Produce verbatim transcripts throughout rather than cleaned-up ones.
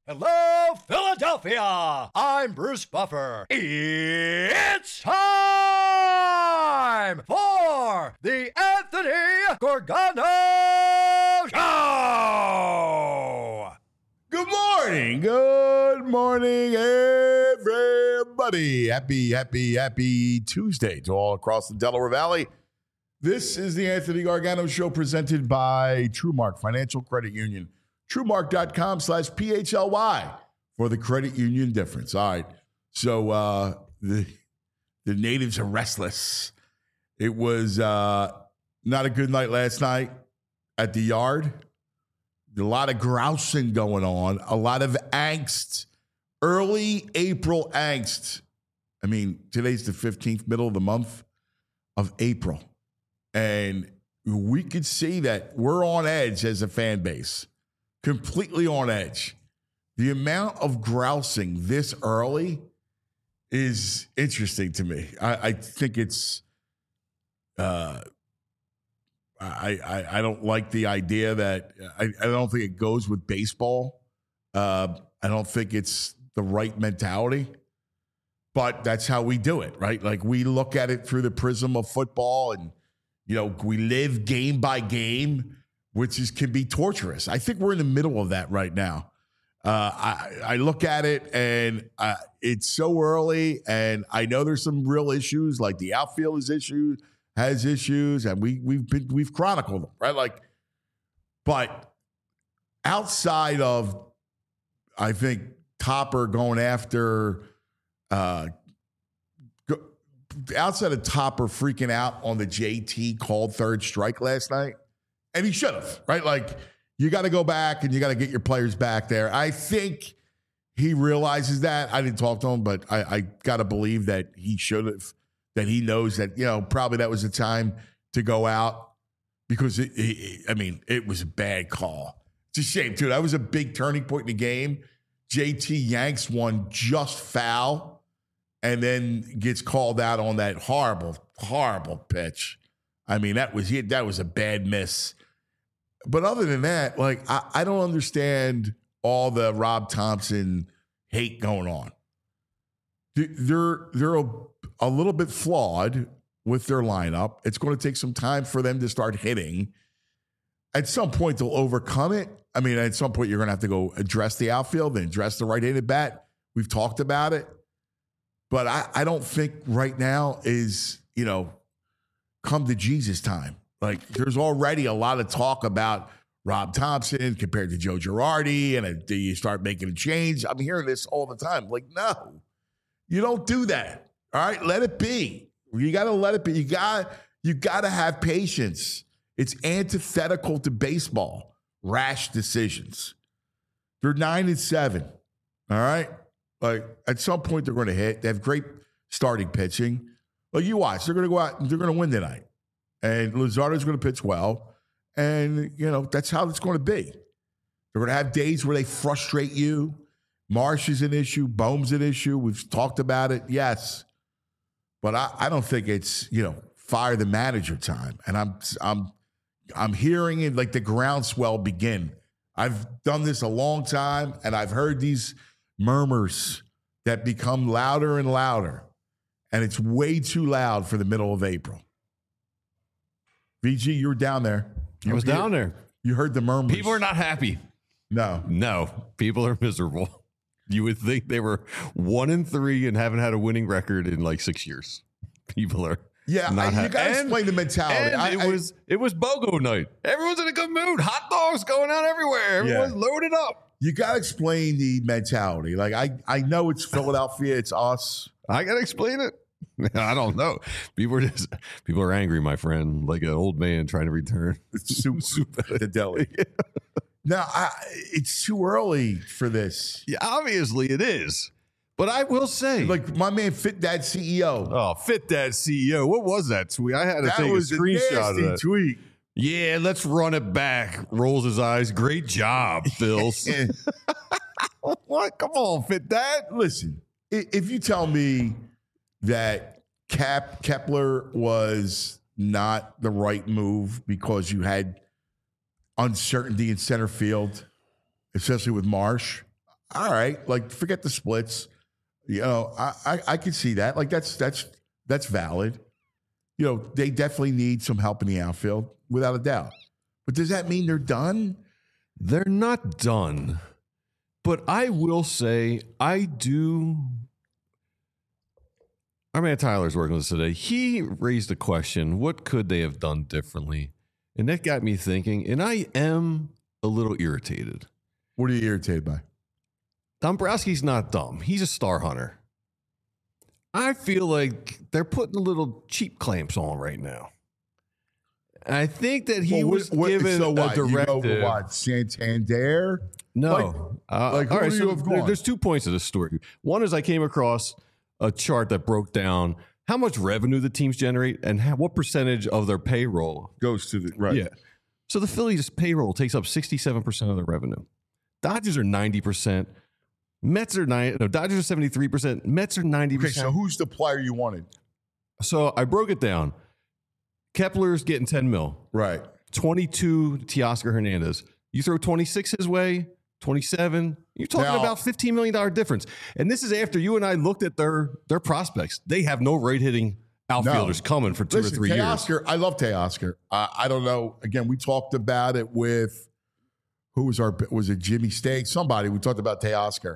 Hello, Philadelphia! I'm Bruce Buffer. It's time for the Anthony Gargano Show! Good morning, good morning, everybody. Happy, happy, happy Tuesday to all across the Delaware Valley. This is the Anthony Gargano Show presented by TrueMark Financial Credit Union. TrueMark.com slash P H L Y for the credit union difference. All right. So uh, the, the natives are restless. It was uh, not a good night last night at the yard. A lot of grousing going on, a lot of angst, early April angst. I mean, today's the fifteenth, middle of the month of April. And we could see that we're on edge as a fan base, completely on edge. The amount of grousing this early is interesting to me. I, I think it's, uh, I, I I don't like the idea that I, I don't think it goes with baseball. Uh, I don't think it's the right mentality, but that's how we do it, right? Like we look at it through the prism of football, and you know we live game by game, which is can be torturous. I think we're in the middle of that right now. Uh, I I look at it and uh, it's so early, and I know there's some real issues, like the outfield is issues. has issues, and we we've been we've chronicled them, right? Like, but outside of, I think Topper going after, uh, go, outside of Topper freaking out on the J T called third strike last night, and he should have, right? Like, you got to go back and you got to get your players back there. I think he realizes that. I didn't talk to him, but I, I got to believe that he should have. That he knows that, you know, probably that was the time to go out because, it, it, I mean, it was a bad call. It's a shame, too. That was a big turning point in the game. J T yanks one just foul and then gets called out on that horrible, horrible pitch. I mean, that was that was a bad miss. But other than that, like, I, I don't understand all the Rob Thompson hate going on. They're, they're a, a little bit flawed with their lineup. It's going to take some time for them to start hitting. At some point, they'll overcome it. I mean, at some point, you're going to have to go address the outfield and address the right-handed bat. We've talked about it. But I, I don't think right now is, you know, come to Jesus time. Like, there's already a lot of talk about Rob Thompson compared to Joe Girardi, and do you start making a change? I'm hearing this all the time. Like, no. You don't do that. All right, let it be. You got to let it be. You got you got to have patience. It's antithetical to baseball. Rash decisions. They're nine and seven. All right, like at some point they're going to hit. They have great starting pitching. Well, you watch. They're going to go out and they're going to win tonight. And Luzardo's going to pitch well. And you know that's how it's going to be. They're going to have days where they frustrate you. Marsh is an issue. Bohm's an issue. We've talked about it. Yes. But I, I don't think it's, you know, fire the manager time. And I'm I'm I'm hearing it like the groundswell begin. I've done this a long time, and I've heard these murmurs that become louder and louder. And it's way too loud for the middle of April. V G, you were down there. You I was hear, down there. You heard the murmurs. People are not happy. No. No. People are miserable. You would think they were one and three and haven't had a winning record in like six years. People are yeah. Not I, you got to and, explain the mentality. And I, it I, was it was BOGO night. Everyone's in a good mood. Hot dogs going out everywhere. Everyone's yeah. loaded up. You got to explain the mentality. Like I, I know it's Philadelphia. It's us. I got to explain it. I don't know. People are just people are angry, my friend, like an old man trying to return soup, soup at the deli. Yeah. Now, I, it's too early for this. Yeah, obviously it is. But I will say, like my man Fit Dad C E O. Oh, Fit Dad C E O. What was that tweet? I had to that take was a screenshot a nasty of that tweet. Yeah, let's run it back. Rolls his eyes. Great job, Bills. What? Come on, Fit Dad. Listen, if you tell me that Cap Kepler was not the right move because you had uncertainty in center field, especially with Marsh, all right, like forget the splits. You know, I, I, I can see that. Like that's that's that's valid. You know, they definitely need some help in the outfield, without a doubt. But does that mean they're done? They're not done. But I will say, I do. Our man Tyler's working with us today. He raised a question: what could they have done differently? And that got me thinking. And I am a little irritated. What are you irritated by? Dombrowski's not dumb. He's a star hunter. I feel like they're putting a little cheap clamps on right now. I think that he well, was what, given so what, a directive. You go, what, Santander? No. Like, uh, like who all right, do so you have there, gone? there's two points of this story. One is I came across a chart that broke down how much revenue the teams generate and how, what percentage of their payroll Goes to the, right. Yeah. So the Phillies' payroll takes up sixty-seven percent of their revenue. Dodgers are ninety percent. Mets are nine. No, Dodgers are seventy-three percent. Mets are ninety Okay, percent. so who's the player you wanted? So I broke it down. Kepler's getting ten mil. Right. twenty-two to Teoscar Hernandez. You throw twenty-six his way, twenty-seven. You're talking Now- about fifteen million dollars difference. And this is after you and I looked at their their prospects. They have no right-hitting outfielders No. coming for two Listen, or three years. Teoscar, I love Teoscar. Uh, I don't know. Again, we talked about it with, who was our, was it Jimmy Stagg? Somebody, we talked about Teoscar.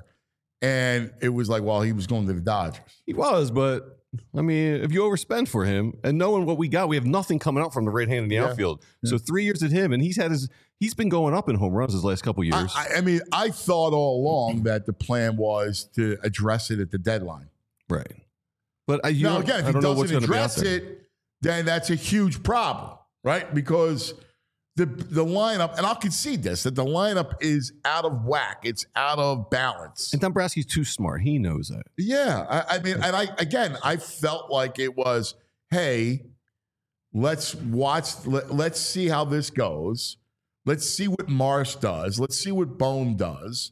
And it was like, well, he was going to the Dodgers. He was, but I mean, if you overspend for him and knowing what we got, we have nothing coming out from the right hand in the Yeah. outfield. Yeah. So three years at him, and he's had his he's been going up in home runs his last couple years. I, I, I mean, I thought all along that the plan was to address it at the deadline. right. But I, you Now, don't, again, if I he don't know what's doesn't going to be out address there. it, then that's a huge problem, right? Because the the lineup, and I'll concede this, that the lineup is out of whack. It's out of balance. And Dombrowski's too smart. He knows that. Yeah, I, I mean, and I again, I felt like it was, hey, let's watch, let, let's see how this goes. Let's see what Marsh does. Let's see what Bohm does.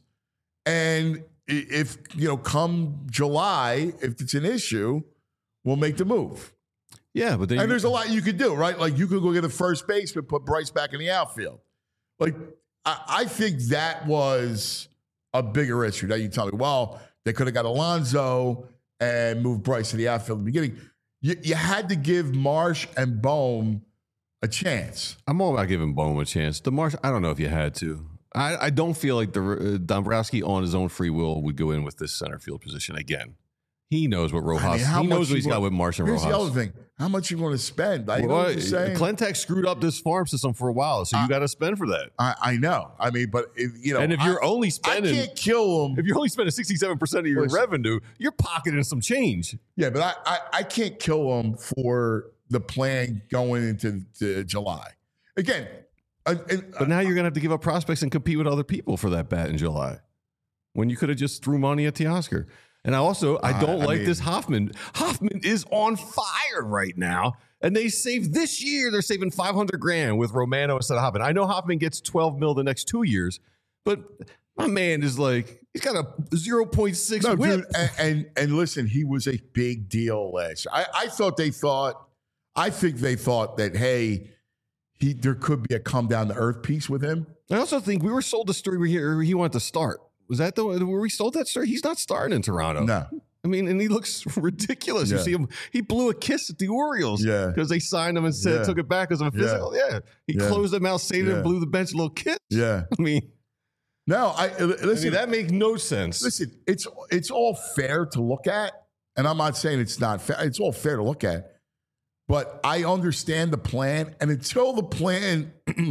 And i- if, you know, come July, if it's an issue, we'll make the move. Yeah, but then And you- there's a lot you could do, right? Like you could go get a first baseman, put Bryce back in the outfield. Like I, I think that was a bigger issue. Now you tell me, well, they could have got Alonso and moved Bryce to the outfield in the beginning. You, you had to give Marsh and Bohm a chance. I'm all about giving Bohm a chance. The Marsh, I don't know if you had to. I, I don't feel like the uh, Dombrowski on his own free will would go in with this center field position again. He knows what Rojas. I mean, how he much knows what you he's got want- with Marsh and Here's Rojas. the other thing. How much you want to spend? I know Well, what you're saying. Clentac screwed up this farm system for a while, so you Uh, got to spend for that. I, I know. I mean, but if, you know, and if you're I, only I spending, can't kill them. if you're only spending sixty-seven percent of your Listen. revenue, you're pocketing some change. Yeah, but I, I, I can't kill them for the plan going into to July. Again, uh, and, But now you're going to have to give up prospects and compete with other people for that bat in July, when you could have just threw money at Teoscar. And I also, I Uh, don't I like mean- this Hoffman. Hoffman is on fire right now. And they saved this year, they're saving five hundred grand with Romano instead of Hoffman. I know Hoffman gets twelve mil the next two years, but my man is like, he's got a zero point six no, whip. dude, and, and and listen, he was a big deal last year. I, I thought they thought, I think they thought that hey, he there could be a come down to earth piece with him. I also think we were sold the story where he, where he wanted to start. Was that the were we sold that story? He's not starting in Toronto. No, I mean, and he looks ridiculous. You Yeah. see him, he blew a kiss at the Orioles Yeah. because they signed him and said, Yeah. took it back as a physical. Yeah. He Yeah. closed them out, saved Yeah. him, blew the bench, a little kiss. yeah, I mean, no. I uh, I listen. mean, that makes no sense. Listen, it's it's all fair to look at, and I'm not saying it's not fair. It's all fair to look at, but I understand the plan, and until the plan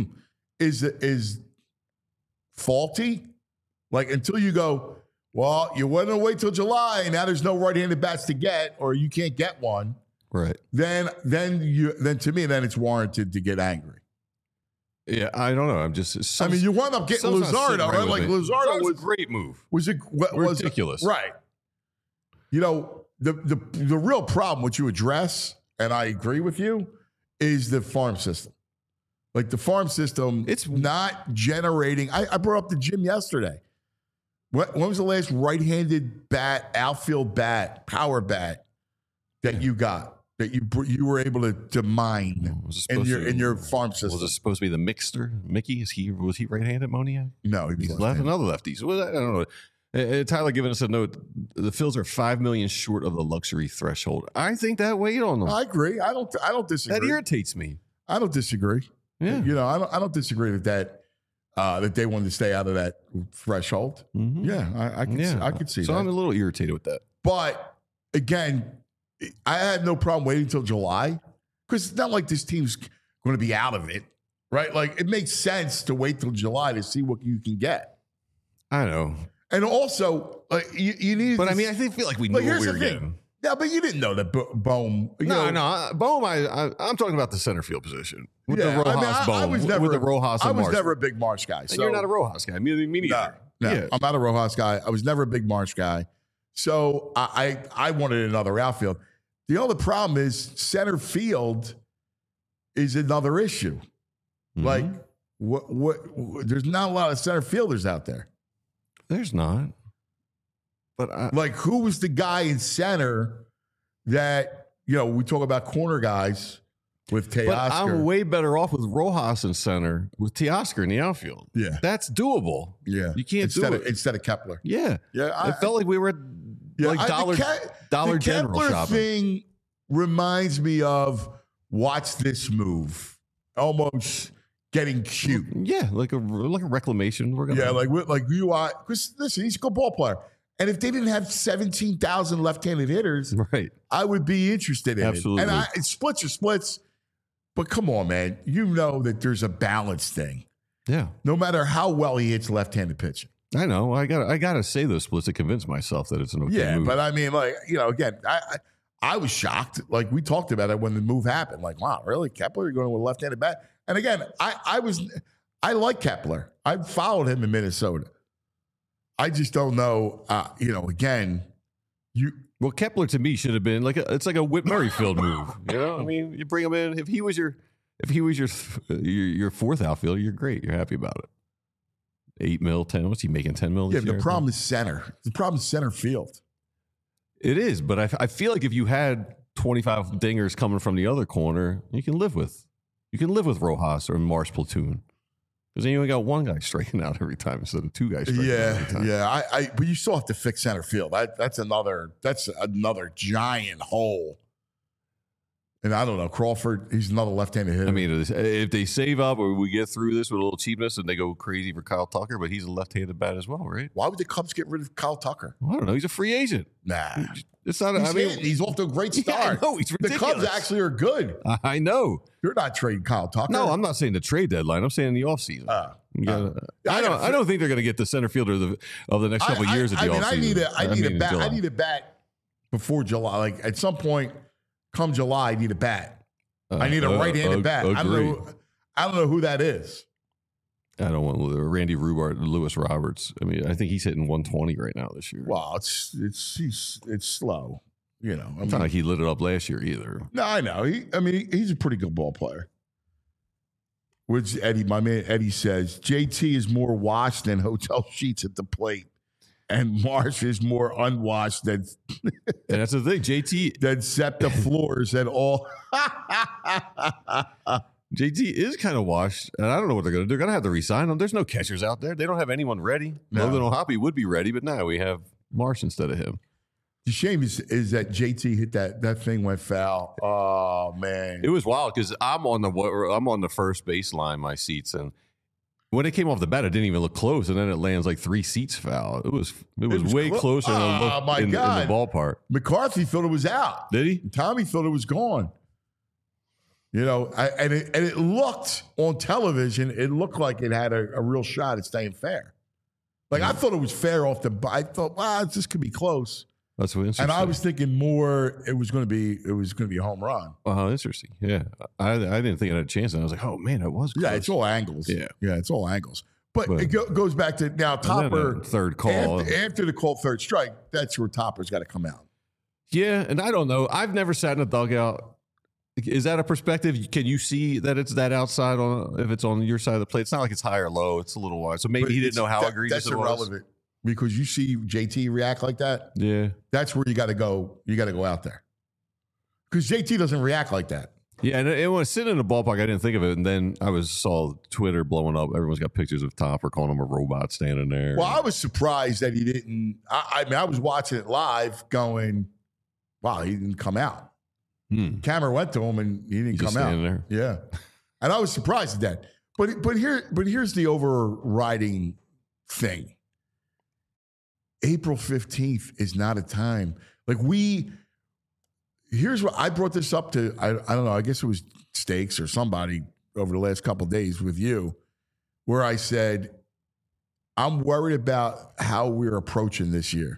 is is faulty, like until you go, well, you want to wait till July, and now there's no right-handed bats to get, or you can't get one. Right. Then then you then to me then it's warranted to get angry. Yeah, I don't know. I'm just. Some, I mean, you wound up getting something's not sitting Luzardo, right? with Like me. Luzardo Luzardo's was a great move. was a was Ridiculous. right? You know the the the real problem which you address, and I agree with you, is the farm system. Like the farm system, It's- it's not generating. I, I brought up the gym yesterday. When, when was the last right-handed bat, outfield bat, power bat that you got that you br- you were able to, to mine Was it in supposed your to- in your farm system? Was it supposed to be the mixer? Mickey? Is he was he right-handed, Moniak? no, he was He's left left-handed. another lefty. So I don't know. Uh, Tyler giving us a note. The Phils are five million short of the luxury threshold. I think that weighed on them. I agree. I don't. I don't disagree. That irritates me. I don't disagree. Yeah. You know, I don't. I don't disagree with that. Uh, that they wanted to stay out of that threshold. Mm-hmm. Yeah, I, I could. Yeah. See, I could see so that. I'm a little irritated with that. But again, I had no problem waiting until July because it's not like this team's going to be out of it, right? Like it makes sense to wait till July to see what you can get. I know. And also, like you, you need. But to, I mean, I think feel like we knew but what here's we the were thing. getting. Yeah, but you didn't know that Bo- Bohm. You No, know, no, I- Bohm. I, I, I'm talking about the center field position with Yeah, the Rojas I mean, I- Bohm. I was never with the a- Rojas and I was Marsh. never a big Marsh guy. And So you're not a Rojas guy. Me, me neither. No, no, Yeah. I'm not a Rojas guy. I was never a big Marsh guy. So I, I, I wanted another outfield. The only problem is center field is another issue. Mhm. Like what, what? What? There's not a lot of center fielders out there. There's not. But I, Like who was the guy in center that you know? We talk about corner guys with but I'm Teoscar. way better off with Rojas in center with Teoscar in the outfield. Yeah, That's doable. yeah. You can't instead do of, it. instead of Kepler. Yeah. Yeah, I, It felt like we were at yeah, like I- the Dollar Ke- Dollar the General Kepler shopping. thing reminds me of watch this move, almost getting cute. Yeah, like a like a reclamation. We're gonna Yeah, like we- like you are. Because listen, he's a good ball player, and if they didn't have seventeen thousand left-handed hitters, right. I would be interested in Absolutely. it. And I, it's splits are splits, but come on, man, you know that there's a balance thing. Yeah. No matter how well he hits left-handed pitching. I know. I got. I got to say those splits to convince myself that it's an okay Yeah, move. but I mean, like you know, again, I, I I was shocked. Like we talked about it when the move happened. Like, wow, really, Kepler, you're going with a left-handed bat? And again, I I was I like Kepler. I followed him in Minnesota. I just don't know. Uh, you know, again, you well, Kepler to me should have been like a, it's like a Whit Merrifield move. You know, I mean, you bring him in. If he was your if he was your your, your fourth outfielder, you're great. You're happy about it. Eight mil, ten. What's he making? Ten mil. yeah. This The year, I problem think? is center. The problem is center field. It is, but I, I feel like if you had twenty-five dingers coming from the other corner, you can live with. You can live with Rojas or Marsh platoon. Because then you only got one guy striking out every time instead of two guys striking out every Yeah, time. yeah. I, I, but you still have to fix center field. That, that's another. That's another giant hole. And I don't know, Crawford. He's another left-handed hitter. I mean, if they save up or we get through this with a little cheapness and they go crazy for Kyle Tucker, but he's a left-handed bat as well, right? why would the Cubs get rid of Kyle Tucker? Well, I don't know. He's a free agent. Nah, It's not. he's I mean, hitting. He's off to a great Yeah, I start. know, he's the ridiculous. Cubs actually are good. I know. You're not trading Kyle Tucker. No, I'm not saying the trade deadline. I'm saying the offseason. Uh, You gotta- uh, I I don't. gotta- I don't think they're going to get the center fielder of the, of the next couple I, of years I, at the I mean, offseason. I need a. I need mean, a bat. July. I need a bat before July. Like at some point, come July, I need a bat. Uh, I need a uh, right-handed ag- bat. I don't agree. know. I don't know who that is. I don't want Randy Rubart, Lewis Roberts. I mean, I think he's hitting one twenty right now this year. Well, it's it's he's, it's slow. You know, I It's mean, not like he lit it up last year either. no, I know. He, I mean, he's a pretty good ball player. Which Eddie, my man Eddie says, J T is more washed than hotel sheets at the plate, and Marsh is more unwashed than And that's the thing. J T than SEPTA floors at all. J T is kind of washed, and I don't know what they're going to do. They're going to have to resign him. There's no catchers out there. They don't have anyone ready. No. Logan O'Hoppe would be ready, but now we have Marsh instead of him. The shame is, is that J T hit that that thing went foul. Oh man, It was wild because I'm on the I'm on the first baseline, my seats, and when it came off the bat, it didn't even look close, and then it lands like three seats foul. It was it was, was way clo- closer than it Oh, looked my in, in the God. ballpark. McCarthy thought it was out. Did he? Tommy thought it was gone. You know, I, and it and it looked on television. It looked like it had a, a real shot at staying fair. Like I thought it was fair off the. I thought, wow, this could be close. That's what interesting. And I was thinking more. It was going to be. It was going to be a home run. Oh, interesting. Yeah, I I didn't think it had a chance, and I was like, oh man, it was. Close. Yeah, it's all angles. Yeah. yeah, it's all angles. But, But- it go, goes back to now. And then Topper a third call. after, after the called third strike. That's where Topper's got to come out. Yeah, and I don't know. I've never sat in a dugout. Is that a perspective? Can you see that it's that outside on if it's on your side of the plate? It's not like it's high or low. It's a little wide. So maybe But he didn't it's- know how that- egregious That's it was. irrelevant because you see J T react like that. Yeah. That's where you got to go. You got to go out there because J T doesn't react like that. Yeah, and it was sitting in the ballpark. I didn't think of it, and then I was saw Twitter blowing up. Everyone's got pictures of Topper calling him a robot standing there. Well, I was surprised that he didn't. I, I mean, I was watching it live, going, "Wow, he didn't come out." Hmm. Camera went to him, and he didn't He's come just out. standing there. Yeah, and I was surprised at that. But but here but here's the overriding thing. April fifteenth is not a time like we. Here's what I brought this up to. I, I don't know. I guess it was Stakes or somebody over the last couple of days with you, where I said, I'm worried about how we're approaching this year.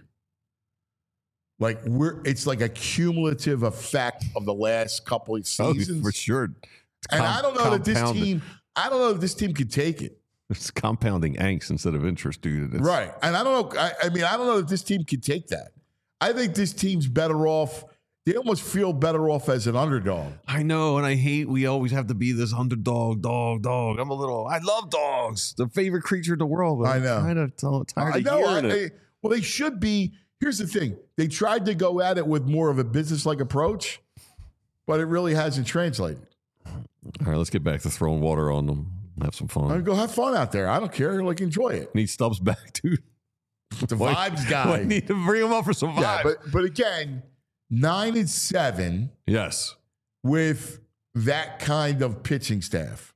Like we're, it's like a cumulative effect of the last couple of seasons. Oh, for sure. It's and com- I don't know that this compounded. team. I don't know if this team could take it. It's compounding angst instead of interest, dude. It's, Right. And I don't know. I, I mean, I don't know if this team could take that. I think this team's better off. They almost feel better off as an underdog. I know, and I hate we always have to be this underdog, dog, dog. I'm a little. I love dogs, the favorite creature in the world. But I know. I'm kind of tired I of know. I, hearing it. I- well, they should be. Here's the thing. They tried to go at it with more of a business-like approach, but it really hasn't translated. All right, let's get back to throwing water on them. Have some fun. I mean, go have fun out there. I don't care. Like, enjoy it. Need Stubbs back, dude. The Why- vibes guy. I need to bring him up for some vibes. Yeah, but but again, nine and seven yes, with that kind of pitching staff.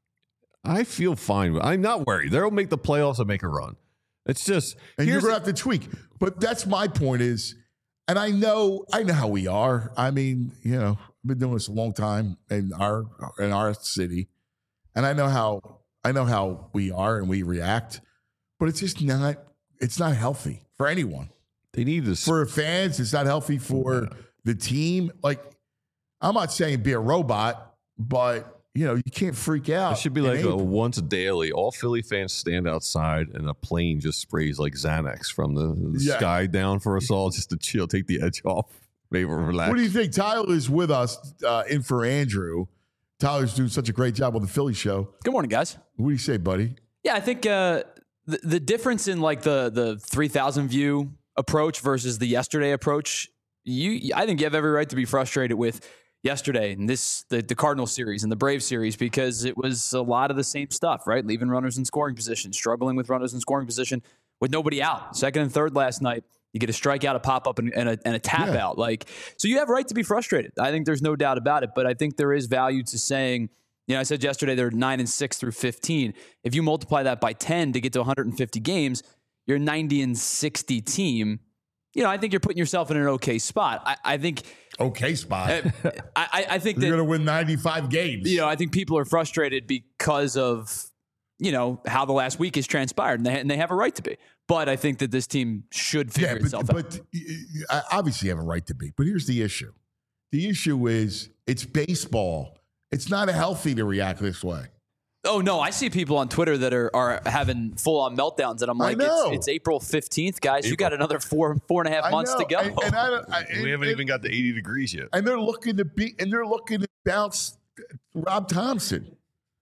I feel fine. with- I'm not worried. They'll make the playoffs and make a run. It's just And you're here's gonna have to tweak. But that's my point is, and I know I know how we are. I mean, you know, I've been doing this a long time in our in our city. And I know how I know how we are and we react, but it's just not it's not healthy for anyone. they need to. For fans, it's not healthy for the team. Like, I'm not saying be a robot, but you know, you can't freak out. It should be in like a April. once daily. All Philly fans stand outside, and a plane just sprays like Xanax from the, the Yeah. sky down for us all, just to chill, take the edge off, maybe relax. What do you think? Tyler is with us uh, in for Andrew. Tyler's doing such a great job on the Philly show. Good morning, guys. What do you say, buddy? Yeah, I think uh, the the difference in like the the three thousand view approach versus the yesterday approach, you I think you have every right to be frustrated with yesterday and this the, the Cardinals series and the Braves series because it was a lot of the same stuff, right? Leaving runners in scoring position, struggling with runners in scoring position with nobody out. Second and third last night. You get a strikeout, a pop up, and, and, a, and a tap Yeah. out. Like, so you have a right to be frustrated. I think there's no doubt about it. But I think there is value to saying, you know, I said yesterday they're nine and six through fifteen. If you multiply that by ten to get to one hundred fifty games, you're a ninety and sixty team. You know, I think you're putting yourself in an okay spot. I, I think, Okay, spot. I, I, I think You're that going to win ninety-five games. you know, I think people are frustrated because of, you know, how the last week has transpired, and they, and they have a right to be. But I think that this team should figure yeah, but, itself out. but uh, obviously you have a right to be. But here's the issue. The issue is it's baseball. It's not healthy to react this way. Oh, no, I see people on Twitter that are, are having full-on meltdowns, and I'm I like, know. it's, it's April fifteenth, guys. You got another four four and a half I months know. to go. And, and, I, don't- I, we and- haven't and- even got to eighty degrees yet. and they're looking to be and they're looking to bounce Rob Thompson.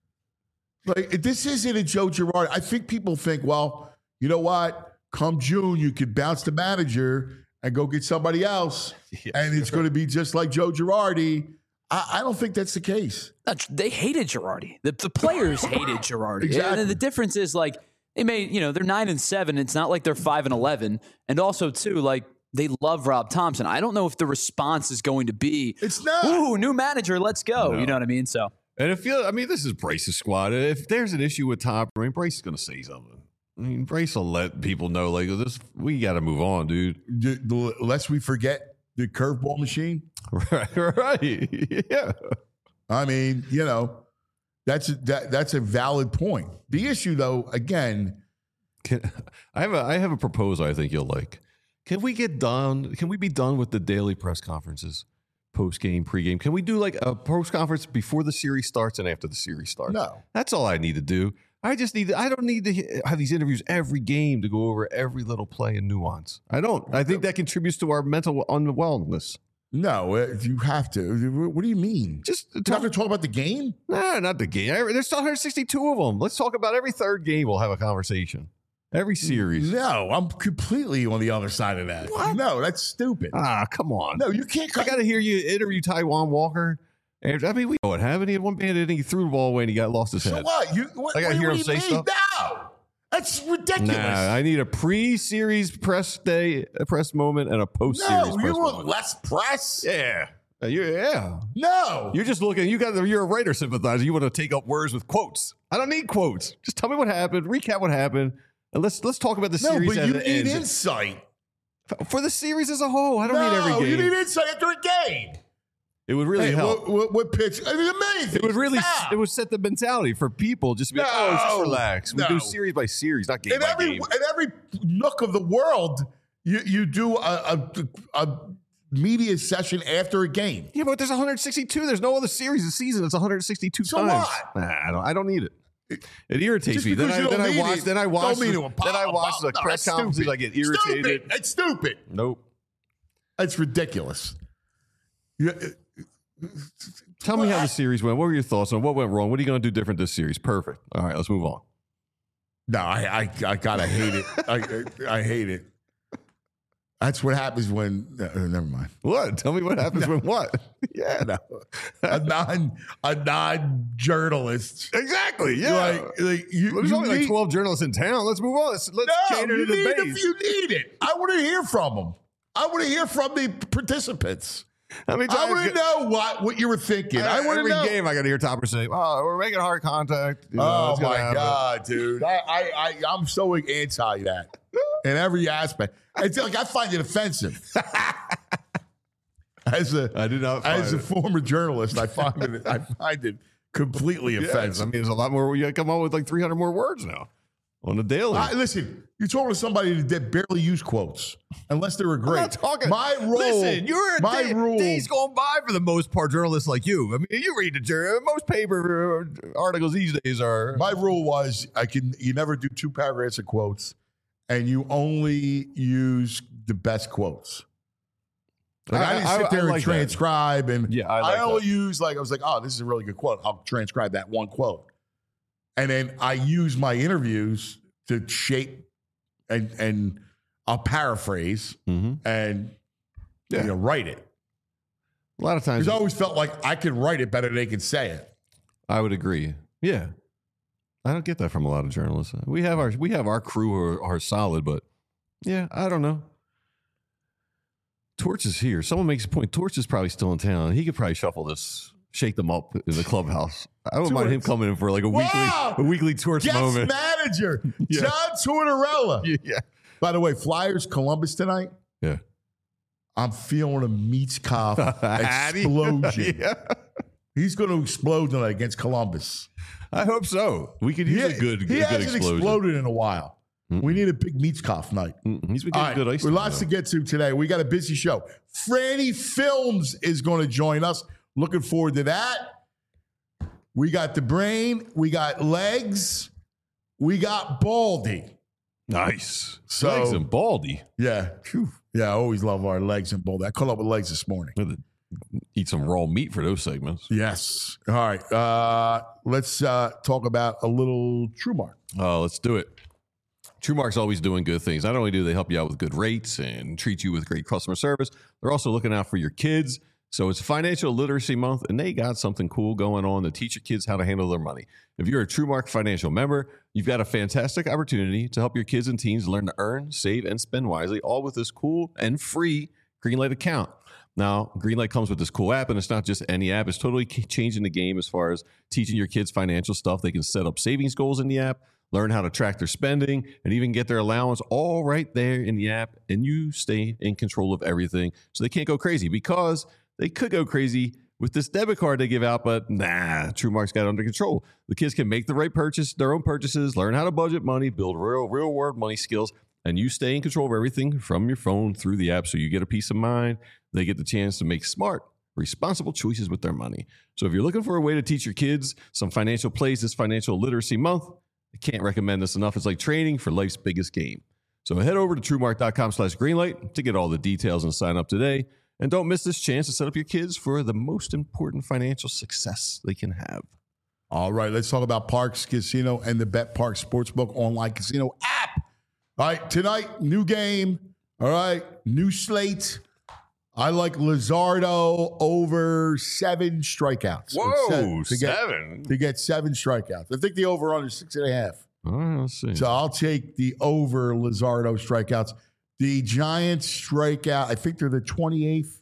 Like, this isn't a Joe Girardi. I think people think, well, you know what? Come June, you could bounce the manager and go get somebody else, Yeah, and it's going to be just like Joe Girardi. I, I don't think that's the case. They hated Girardi. The, the players hated Girardi. Exactly. And the difference is, like, they made, you know, they're nine and seven. It's not like they're five and eleven. And also, too, like, they love Rob Thompson. I don't know if the response is going to be, It's not. ooh, new manager, let's go. No. You know what I mean? So, And if you, I mean, this is Bryce's squad. If there's an issue with Tom, I mean, Bryce is going to say something. I mean, Bryce will let people know, like, this, we got to move on, dude. D- d- Lest we forget the curveball machine. Right, right, yeah. I mean, you know, that's a, that, that's a valid point. The issue, though, again, Can, I have a, I have a proposal. I think you'll like. Can we get done? Can we be done with the daily press conferences, post game, pre game? Can we do like a post conference before the series starts and after the series starts? No. That's all I need to do. I just need to, I don't need to have these interviews every game to go over every little play and nuance. I don't. I think that contributes to our mental unwellness. no, uh, you have to. What do you mean? Just You have talk, to talk about the game? nah, not the game. Every- There's one hundred sixty-two of them. Let's talk about every third game. We'll have a conversation. Every series. No, I'm completely on the other side of that. What? No, that's stupid. Ah, come on. No, you can't. I got to hear you interview Taiwan Walker. And, I mean, we know what happened. He had one bandit and he threw the ball away and he got lost his So head. what? You, what I gotta what hear do him you say mean? stuff. No, that's ridiculous. Nah, I need a pre-series press day, a press moment, and a post-series no, press you want moment. less press? Yeah. Uh, you- yeah. No. You're just looking, you got, you're a writer sympathizer. You want to take up words with quotes. I don't need quotes. Just tell me what happened, recap what happened, and let's let's talk about the no, series but as you it need ends. insight. For the series as a whole. I don't no, need every game. you need insight after a game. It would really Hey, help. what, what, what pitch? I mean, amazing. It would really, Stop. it would set the mentality for people just to be like, No, oh, just relax. We no. do series by series, not game in by every game. in every nook of the world, you you do a, a, a media session after a game. Yeah, but there's one hundred sixty-two. There's no other series this season. It's one hundred sixty-two So times. what? Nah, I don't. I don't need it. It irritates Just me. Then because I you then don't I need watch. it, Then I watch. don't mean the- to Then I watch the no, press that's conferences. stupid. I get irritated. Stupid. It's stupid. Nope. It's ridiculous. You, Tell me how the series went. What were your thoughts on what went wrong? What are you going to do different this series? Perfect. All right, let's move on. no, I, I I gotta hate it. I I hate it. That's what happens when. Uh, never mind. What? Tell me what happens when what? Yeah, No, a non a non journalist. exactly. Yeah. Like, like you, There's you only like need- twelve journalists in town. Let's move on. Let's, let's No, cater you to the need, base. if you need it. I want to hear from them. I want to hear from the participants. How many I times want to get- know what, what you were thinking. I, want to every know. game I got to hear Topper say, "Oh, we're making hard contact." You know, Oh it's gonna my happen. god, dude! I, I, I, I'm so anti that in every aspect. It's like I find it offensive. As a, I do not find as a it. former journalist, I find it, I find it completely Yes, offensive. I mean, there's a lot more. You got to come up with like three hundred more words now on the daily. I, listen, you're talking to somebody that barely use quotes unless they were I'm great. not talking. My role, Listen, you're a my day, rule. days going by for the most part. Journalists like you. I mean, you read the journal. Most paper uh, articles these days are. My rule was I can you never do two paragraphs of quotes, and you only use the best quotes. Like I, I- didn't I- sit I there and like that. transcribe, and Yeah, I like only that. use like I was like, oh, this is a really good quote. I'll transcribe that one quote, and then I use my interviews to shape and and I'll paraphrase Mhm. and Yeah. you know write it. A lot of times, Because I always felt like I could write it better than they could say it. I would agree. Yeah, I don't get that from a lot of journalists. We have our we have our crew who are, are solid, but yeah, I don't know. Torch is here. Someone makes a point. Torch is probably still in town. He could probably shuffle this, shake them up in the clubhouse. I wouldn't mind him Torch. coming in for like a Wow. weekly a weekly Torch Guest moment. manager, Yeah. John Tortorella. Yeah, By the way, Flyers Columbus tonight. yeah. I'm feeling a Meatskoff explosion. Yeah. He's going to explode tonight against Columbus. I hope so. We could use He, a good, he a good hasn't explosion. exploded in a while. We need a big Meatskoff night. Mm, He's been All getting right, good ice. we time, lots though. to get to today. We got a busy show. Franny Films is going to join us. Looking forward to that. We got the brain. We got legs. We got Baldy. Nice. So- Legs and Baldy. Yeah. Phew. Yeah, I always love our legs and Baldy. I caught up with legs this morning. We have to Eat some raw meat for those segments. Yes. All right. Uh, let's uh, talk about a little TrueMark. Oh, let's do it. TrueMark's always doing good things. Not only do they help you out with good rates and treat you with great customer service, they're also looking out for your kids. So it's Financial Literacy Month, and they got something cool going on to teach your kids how to handle their money. If you're a TrueMark financial member, you've got a fantastic opportunity to help your kids and teens learn to earn, save, and spend wisely, all with this cool and free Greenlight account. Now, Greenlight comes with this cool app, and it's not just any app. It's totally changing the game as far as teaching your kids financial stuff. They can set up savings goals in the app, learn how to track their spending, and even get their allowance all right there in the app. And you stay in control of everything so they can't go crazy, because they could go crazy with this debit card they give out, but nah, TrueMark's got it under control. The kids can make the right purchase, their own purchases, learn how to budget money, build real, real world money skills, and you stay in control of everything from your phone through the app, so you get a peace of mind. They get the chance to make smart, responsible choices with their money. So if you're looking for a way to teach your kids some financial plays this Financial Literacy Month, I can't recommend this enough. It's like training for life's biggest game. So head over to TrueMark.com slash Greenlight to get all the details and sign up today. And don't miss this chance to set up your kids for the most important financial success they can have. All right, let's talk about Parx Casino and the Bet Park Sportsbook online casino app. All right, tonight, new game. All right, new slate. I like Luzardo over seven strikeouts. Whoa, seven, to get, seven? To get seven strikeouts. I think the over under six and a half. All right, let's see. So I'll take the over Luzardo strikeouts. The Giants strikeout, I think they're the twenty-eighth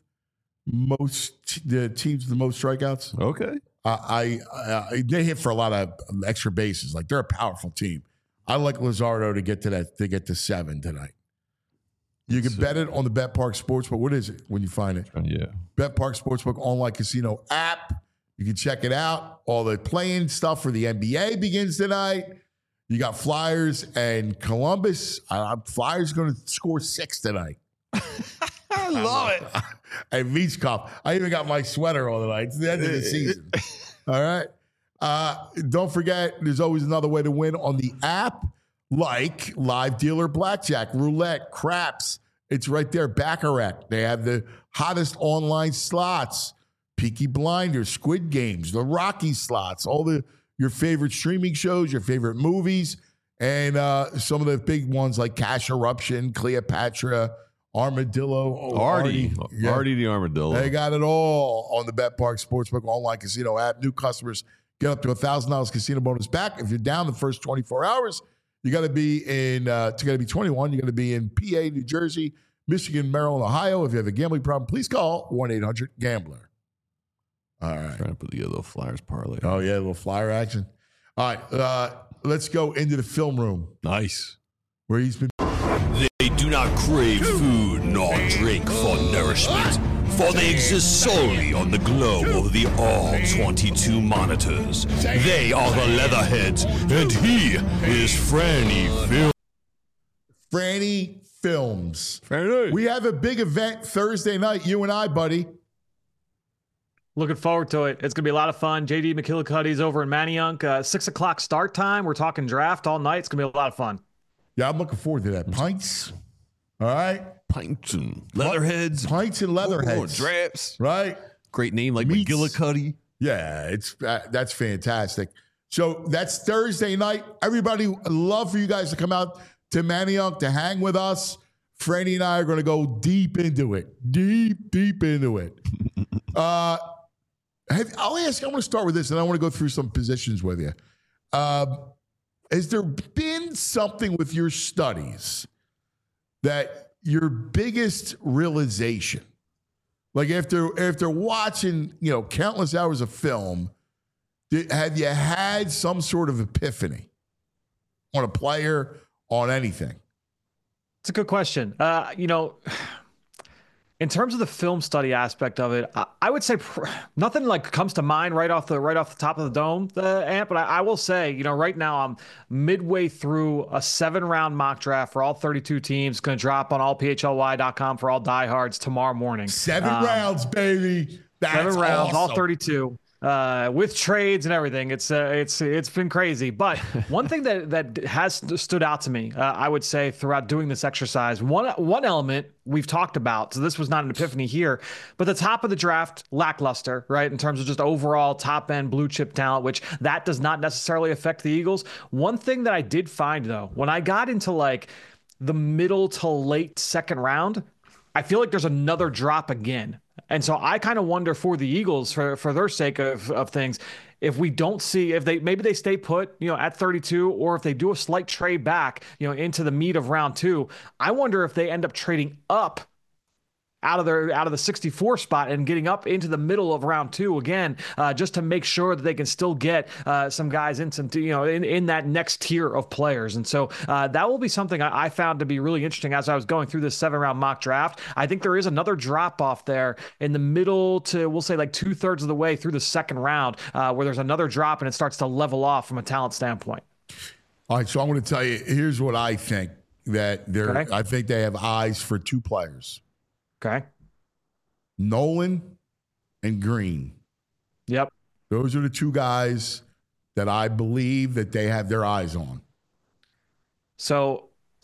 most, the teams with the most strikeouts. Okay. Uh, I, I They hit for a lot of extra bases. Like, they're a powerful team. I like Luzardo to get to that, to get to seven tonight. You can bet it on the Bet Park Sportsbook. What is it when you find it? Uh, yeah. Bet Park Sportsbook online casino app. You can check it out. All the playing stuff for the N B A begins tonight. You got Flyers and Columbus. Uh, Flyers going to score six tonight. I love it. And Vichkov. I even got my sweater on tonight. It's the end of the season. All right. Uh, don't forget, there's always another way to win on the app. Like live dealer blackjack, roulette, craps. It's right there. Baccarat. They have the hottest online slots. Peaky Blinders, Squid Games, the Rocky slots, all the your favorite streaming shows, your favorite movies, and uh, some of the big ones like Cash Eruption, Cleopatra, Armadillo. Oh, Artie. Artie. Yeah. Artie the Armadillo. They got it all on the Bet Park Sportsbook online casino app. New customers get up to one thousand dollars casino bonus back. If you're down the first twenty-four hours, you got to be in, uh, you got to be twenty-one. You got to be in P A, New Jersey, Michigan, Maryland, Ohio. If you have a gambling problem, please call one eight hundred gambler. All right. Trying to put together a Flyers parlay. Oh, yeah, a little flyer action. All right. Uh, let's go into the film room Nice. where he's been. They do not crave food nor drink for nourishment, for they exist solely on the glow of the all twenty-two monitors. They are the Leatherheads, and he is Franny Film. Franny Films. Franny. We have a big event Thursday night, you and I, buddy. Looking forward to it. It's going to be a lot of fun. J D McKillicuddy's over in Manayunk. Uh, six o'clock start time. We're talking draft all night. It's going to be a lot of fun. Yeah, I'm looking forward to that. Pints. All right. Pints and Leatherheads. Pints and Leatherheads. Drafts. Right. Great name like Meats. McGillicuddy. Yeah, it's uh, that's fantastic. So that's Thursday night. Everybody, I'd love for you guys to come out to Manayunk to hang with us. Franny and I are going to go deep into it. Deep, deep into it. uh, have, I'll ask, I want to start with this, and I want to go through some positions with you. Um, has there been something with your studies that your biggest realization, like after after watching, you know, countless hours of film, did, have you had some sort of epiphany on a player, on anything? It's a good question. Uh, you know, in terms of the film study aspect of it, I, I would say pr- nothing like comes to mind right off the right off the top of the dome, the Ant. But I, I will say, you know, right now I'm midway through a seven round mock draft for all thirty-two teams. Going to drop on all P H L Y dot com for all diehards tomorrow morning. Seven um, rounds, baby. That's seven rounds, awesome. all thirty-two. Uh, with trades and everything, it's uh, it's it's been crazy. But one thing that that has stood out to me, uh, I would say, throughout doing this exercise, one one element we've talked about. So this was not an epiphany here, but the top of the draft, lackluster, right? In terms of just overall top end blue chip talent, which that does not necessarily affect the Eagles. One thing that I did find though, when I got into like the middle to late second round, I feel like there's another drop again. And so I kind of wonder for the Eagles, for, for their sake of, of things, if we don't see, if they, maybe they stay put, you know, at thirty-two, or if they do a slight trade back, you know, into the meat of round two, I wonder if they end up trading up out of their out of the sixty-four spot and getting up into the middle of round two again, uh, just to make sure that they can still get uh, some guys in some, you know, in, in that next tier of players. And so uh, that will be something I, I found to be really interesting as I was going through this seven round mock draft. I think there is another drop off there in the middle to, we'll say like two thirds of the way through the second round, uh, where there's another drop and it starts to level off from a talent standpoint. All right, so I'm going to tell you, here's what I think, that they're, Okay. I think they have eyes for two players. Okay. Nolan and Green. Yep. Those are the two guys that I believe that they have their eyes on. So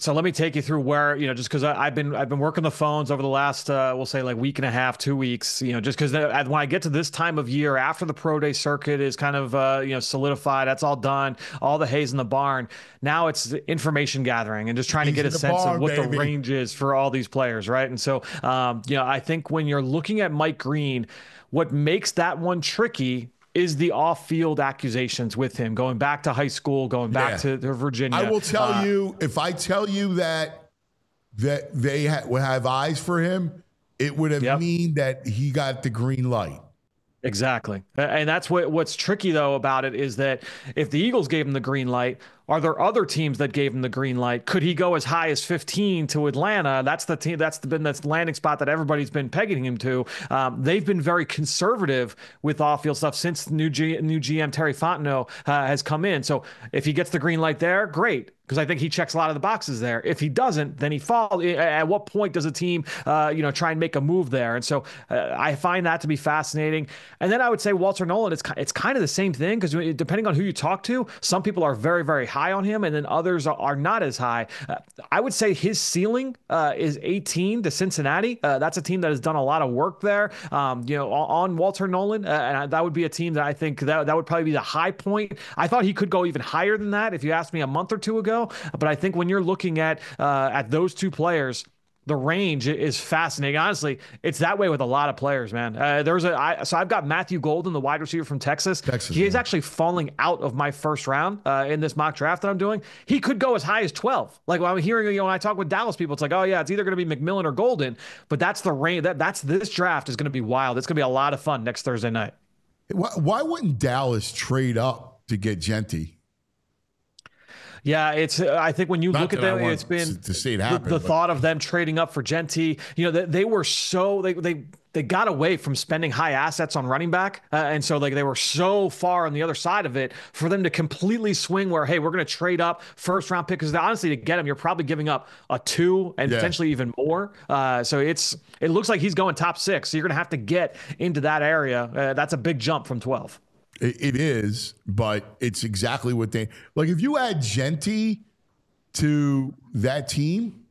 So let me take you through where, you know, just because I've been I've been working the phones over the last, uh, we'll say like week and a half, two weeks, you know, just because when I get to this time of year after the pro day circuit is kind of, uh, you know, solidified, that's all done, all the hay's in the barn. Now it's information gathering and just trying He's to get a sense barn, of what baby. the range is for all these players, right? And so, um, you know, I think when you're looking at Mike Green, what makes that one tricky is the off-field accusations with him, going back to high school, going back Yeah. to, to Virginia. I will tell Uh, you, if I tell you that that they ha- would have eyes for him, it would have Yep. mean that he got the green light. Exactly. And that's what what's tricky though about it is that if the Eagles gave him the green light, are there other teams that gave him the green light? Could he go as high as fifteen to Atlanta? That's the team. That's the, been that's landing spot that everybody's been pegging him to. Um, they've been very conservative with off-field stuff since new G, new G M Terry Fontenot uh, has come in. So if he gets the green light there, great, because I think he checks a lot of the boxes there. If he doesn't, then he falls. At what point does a team, uh, you know, try and make a move there? And so uh, I find that to be fascinating. And then I would say Walter Nolan. It's it's kind of the same thing because depending on who you talk to, some people are very very high on him, and then others are, are not as high. Uh, I would say his ceiling uh, is eighteen to Cincinnati. Uh, that's a team that has done a lot of work there. Um, you know, on, on Walter Nolan, uh, and that would be a team that I think that that would probably be the high point. I thought he could go even higher than that if you asked me a month or two ago. But I think when you're looking at uh, at those two players, the range is fascinating. Honestly, it's that way with a lot of players, man. Uh, there's a I, so I've got Matthew Golden, the wide receiver from Texas. Texas he is yeah. actually falling out of my first round uh, in this mock draft that I'm doing. He could go as high as twelve. Like when I'm hearing, you know, when I talk with Dallas people, it's like, oh yeah, it's either going to be McMillan or Golden. But that's the range. That that's this draft is going to be wild. It's going to be a lot of fun next Thursday night. Why, why wouldn't Dallas trade up to get Genty? Yeah, it's. Uh, I think when you Not look at that I them, want it's been to- to see it the- happen, the, but- thought of them trading up for Genty. You know, they, they were so they they they got away from spending high assets on running back, uh, and so like they were so far on the other side of it for them to completely swing where hey, we're going to trade up first round pick because honestly to get him, you're probably giving up a two and Yeah. potentially even more. Uh, so it's it looks like he's going top six. So you're going to have to get into that area. Uh, that's a big jump from twelve. It, it is, but it's exactly what they like. If you add Genty to that team,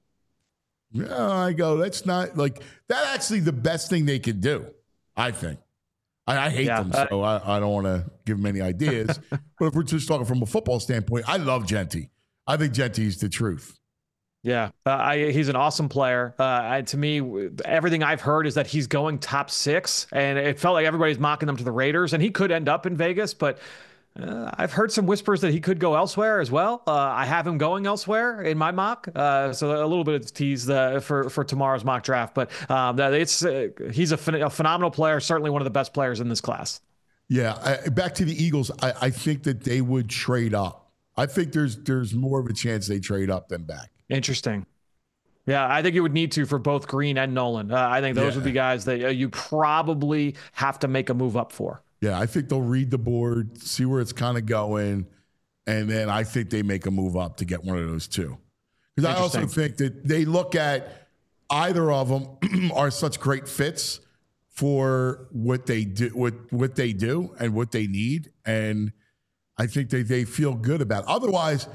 yeah, I go, that's not like that's actually the best thing they could do, I think. I, I hate Yeah, them, uh, so I, I don't want to give them any ideas. But if we're just talking from a football standpoint, I love Genty. I think Genty's the truth. Yeah, uh, I, he's an awesome player. Uh, I, to me, everything I've heard is that he's going top six, and it felt like everybody's mocking them to the Raiders, and he could end up in Vegas, but uh, I've heard some whispers that he could go elsewhere as well. Uh, I have him going elsewhere in my mock, uh, so a little bit of tease uh, for for tomorrow's mock draft. But um, it's uh, he's a, phen- a phenomenal player, certainly one of the best players in this class. Yeah, I, back to the Eagles. I, I think that they would trade up. I think there's there's more of a chance they trade up than back. Interesting. Yeah, I think you would need to for both Green and Nolan. Uh, I think those Yeah. would be guys that uh, you probably have to make a move up for. Yeah, I think they'll read the board, see where it's kind of going, and then I think they make a move up to get one of those two. Because I also Interesting. think that they look at either of them are such great fits for what they do, what what they do, and what they need, and I think they they feel good about it. Otherwise,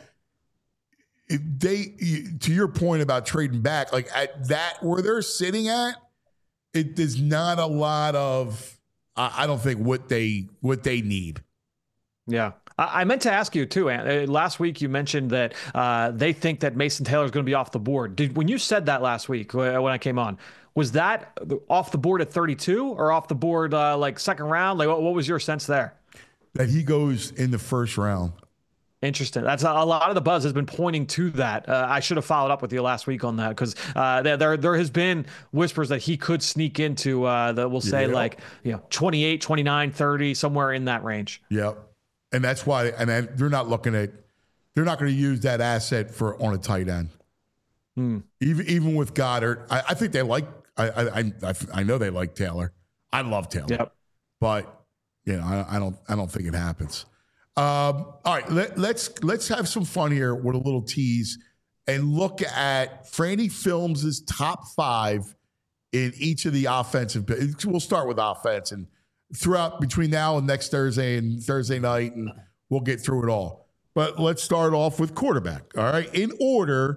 if they to your point about trading back, like at that where they're sitting at, it there's not a lot of. I don't think what they what they need. Yeah. I I meant to ask you too, Ant. Uh, Last week you mentioned that uh, they think that Mason Taylor is going to be off the board. Did when you said that last week uh, when I came on, was that off the board at thirty-two or off the board uh, like second round? Like what, what was your sense there? That he goes in the first round. Interesting. That's a, a lot of the buzz has been pointing to that. Uh, I should have followed up with you last week on that because uh, there, there there has been whispers that he could sneak into uh, the we'll say Yeah. like you know twenty-eight, twenty-nine, thirty somewhere in that range. Yep. And that's why. And then they're not looking at. They're not going to use that asset for on a tight end. Hmm. Even even with Goddard, I, I think they like. I, I I I know they like Taylor. I love Taylor. Yep. But you know, I, I don't. I don't think it happens. Um, all right, let, let's let's have some fun here with a little tease and look at Franny Films' top five in each of the offensive. We'll start with offense, and throughout between now and next Thursday and Thursday night, and we'll get through it all. But let's start off with quarterback. All right, in order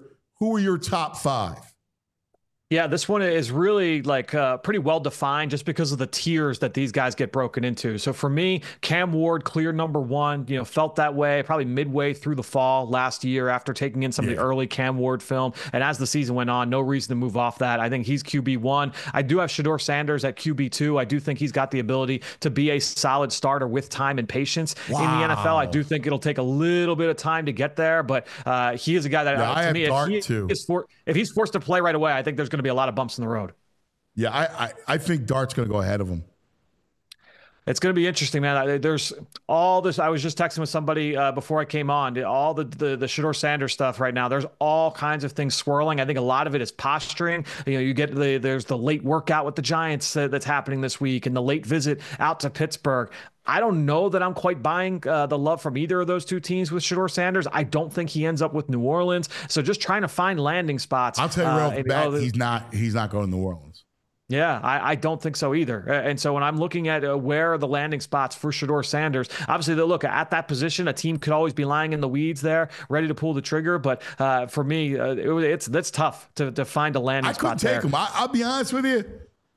who are your top five? Yeah, this one is really like uh, pretty well defined just because of the tiers that these guys get broken into. So for me, Cam Ward, clear number one, you know, felt that way probably midway through the fall last year after taking in some yeah. of the early Cam Ward film. And as the season went on, no reason to move off that. I think he's Q B one. I do have Shedeur Sanders at Q B two. I do think he's got the ability to be a solid starter with time and patience wow. in the N F L. I do think it'll take a little bit of time to get there, but uh, he is a guy that, yeah, uh, to I have me, Dart if, he too. is for, if he's forced to play right away, I think there's going to be a lot of bumps in the road. Yeah, I, I, I think Dart's going to go ahead of him. It's going to be interesting, man. There's all this. I was just texting with somebody uh, before I came on. All the the, the Shedeur Sanders stuff right now. There's all kinds of things swirling. I think a lot of it is posturing. You know, you get the there's the late workout with the Giants uh, that's happening this week, and the late visit out to Pittsburgh. I don't know that I'm quite buying uh, the love from either of those two teams with Shedeur Sanders. I don't think he ends up with New Orleans. So just trying to find landing spots. I'll tell you real uh, bad, oh, he's not he's not going to New Orleans. Yeah, I, I don't think so either. And so when I'm looking at uh, where are the landing spots for Shedeur Sanders, obviously, they look at that position. A team could always be lying in the weeds there, ready to pull the trigger. But uh, for me, uh, it, it's that's tough to, to find a landing I spot couldn't take there. him. I, I'll be honest with you.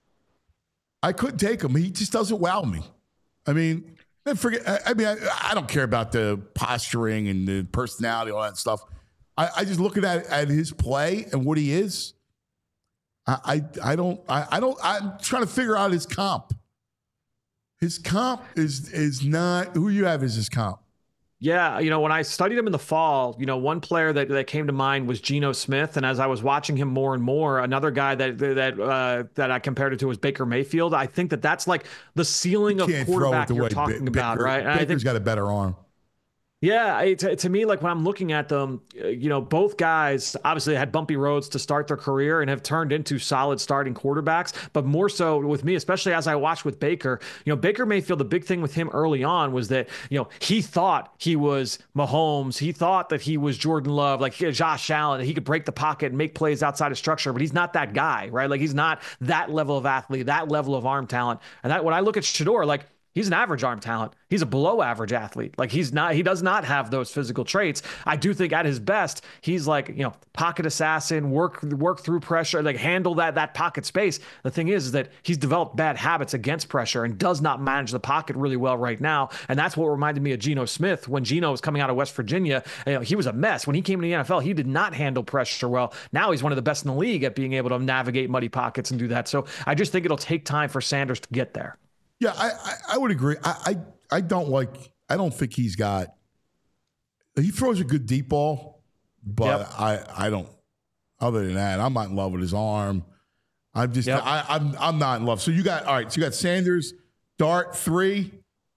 I couldn't take him. He just doesn't wow me. I mean, forget. I, I mean, I, I don't care about the posturing and the personality, all that stuff. I, I just looking at at his play and what he is. I, I I don't I, I don't I'm trying to figure out his comp. His comp is is not who you have as his comp. Yeah, you know, when I studied him in the fall, you know, one player that, that came to mind was Geno Smith, and as I was watching him more and more, another guy that that uh, that I compared it to was Baker Mayfield. I think that that's like the ceiling of quarterback you're talking Baker, about, right? And Baker's I think, got a better arm. Yeah, it, to, to me, like when I'm looking at them, you know, both guys obviously had bumpy roads to start their career and have turned into solid starting quarterbacks. But more so with me, especially as I watched with Baker, you know, Baker Mayfield, the big thing with him early on was that, you know, he thought he was Mahomes. He thought that he was Jordan Love, like Josh Allen, that he could break the pocket and make plays outside of structure. But he's not that guy, right? Like he's not that level of athlete, that level of arm talent. And that when I look at Shedeur, like, he's an average arm talent. He's a below average athlete. Like he's not, he does not have those physical traits. I do think at his best, he's like, you know, pocket assassin, work, work through pressure, like handle that, that pocket space. The thing is, is that he's developed bad habits against pressure and does not manage the pocket really well right now. And that's what reminded me of Geno Smith when Geno was coming out of West Virginia. You know, he was a mess. When he came to the N F L, he did not handle pressure well. Now he's one of the best in the league at being able to navigate muddy pockets and do that. So I just think it'll take time for Sanders to get there. Yeah, I, I, I would agree. I, I I don't like. I don't think he's got. He throws a good deep ball, but yep. I I don't. Other than that, I'm not in love with his arm. I'm just. Yep. I, I'm I'm not in love. So you got all right. So you got Sanders, Dart three.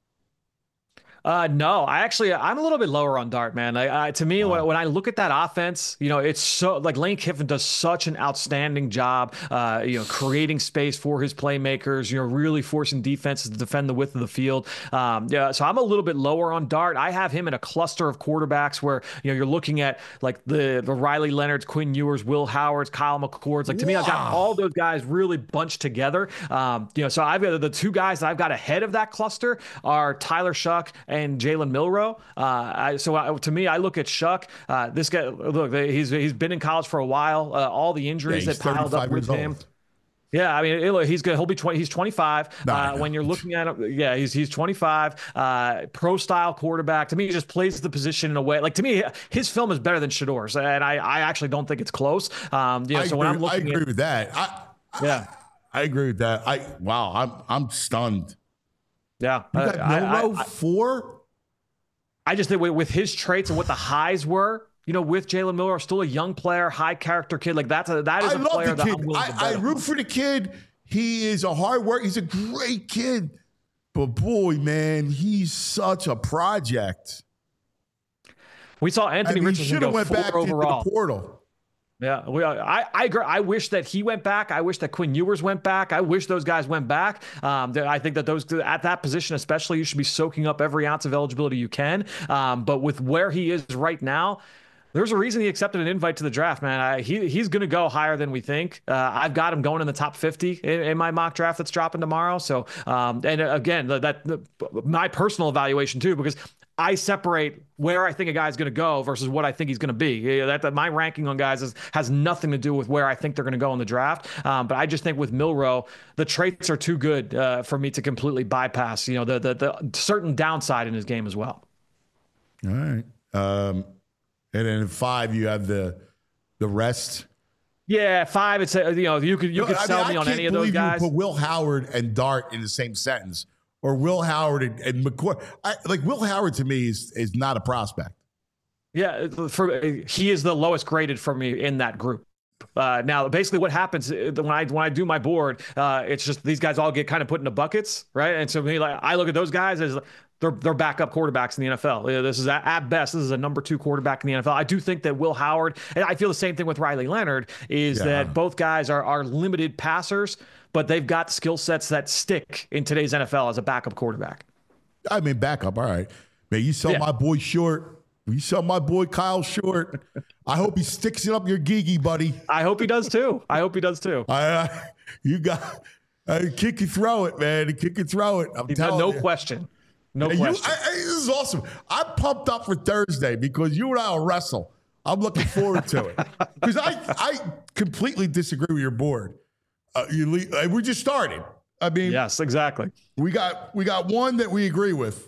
Uh, no, I actually, I'm a little bit lower on Dart, man. I, I, to me, wow. when, when I look at that offense, you know, it's so like Lane Kiffin does such an outstanding job, uh, you know, creating space for his playmakers, you know, really forcing defenses to defend the width of the field. Um, yeah, so I'm a little bit lower on Dart. I have him in a cluster of quarterbacks where, you know, you're looking at like the, the Riley Leonards, Quinn Ewers, Will Howards, Kyle McCords. Like to wow. me, I've got all those guys really bunched together. Um, you know, so I've got the two guys that I've got ahead of that cluster are Tyler Shuck and Jalen Milroe. Uh, I, so I, to me, I look at Shuck. Uh, this guy, look, he's he's been in college for a while. Uh, all the injuries yeah, that piled up with him. Old. Yeah, I mean, it, he's good. He'll be twenty. He's twenty-five. No, uh, no. When you're looking at him, yeah, he's he's twenty-five. Uh, pro style quarterback. To me, he just plays the position in a way. Like to me, his film is better than Shedeur's, and I, I actually don't think it's close. Um, you know, I so agree, when I'm looking, I agree at, with that. I, yeah, I, I agree with that. I wow, I'm I'm stunned. Yeah, you got I, Milroe I, I, four. I just think with his traits and what the highs were, you know, with Jalen Milroe, still a young player, high character kid. Like that's a, that is I a love player the that kid. I'm willing to bet I, I on. root for the kid. He is a hard worker. He's a great kid. But boy, man, he's such a project. We saw Anthony I mean, Richardson go went four back overall. To the portal. Yeah, we, I, I agree. I wish that he went back. I wish that Quinn Ewers went back. I wish those guys went back. Um, I think that those at that position, especially, you should be soaking up every ounce of eligibility you can. Um, but with where he is right now, there's a reason he accepted an invite to the draft, man. I, he he's going to go higher than we think. Uh, I've got him going in the top fifty in, in my mock draft that's dropping tomorrow. So, um, and again, that, that my personal evaluation too, because I separate where I think a guy's going to go versus what I think he's going to be. Yeah, that, that my ranking on guys is, has nothing to do with where I think they're going to go in the draft. Um, but I just think with Milroe, the traits are too good uh, for me to completely bypass, you know, the, the the certain downside in his game as well. All right. Um, and then in five, you have the the rest. Yeah, five. It's a, you know you could you No, could I sell mean, me I on can't any of those believe guys. You put Will Howard and Dart in the same sentence, or Will Howard and, and McCoy. I, like Will Howard to me is is not a prospect. Yeah, for he is the lowest graded for me in that group. Uh, now, basically, what happens when I when I do my board, uh, it's just these guys all get kind of put into buckets, right? And so me, like I look at those guys as they're they're backup quarterbacks in the N F L. This is at, at best, this is a number two quarterback in the N F L. I do think that Will Howard, and I feel the same thing with Riley Leonard, is Yeah. that both guys are are limited passers, but they've got skill sets that stick in today's N F L as a backup quarterback. I mean, backup. All right, man. You sell Yeah. my boy Short. You sell my boy Kyle Short. I hope he sticks it up your gigi, buddy. I hope he does too. I hope he does too. I, uh, you got uh, kick and throw it, man. Kick and throw it. I'm telling No you. question. No You- question. I, I, this is awesome. I'm pumped up for Thursday because you and I will wrestle. I'm looking forward to it because I I completely disagree with your board. Uh, you le- uh, we just started. I mean, Yes, exactly. we got we got one that we agree with.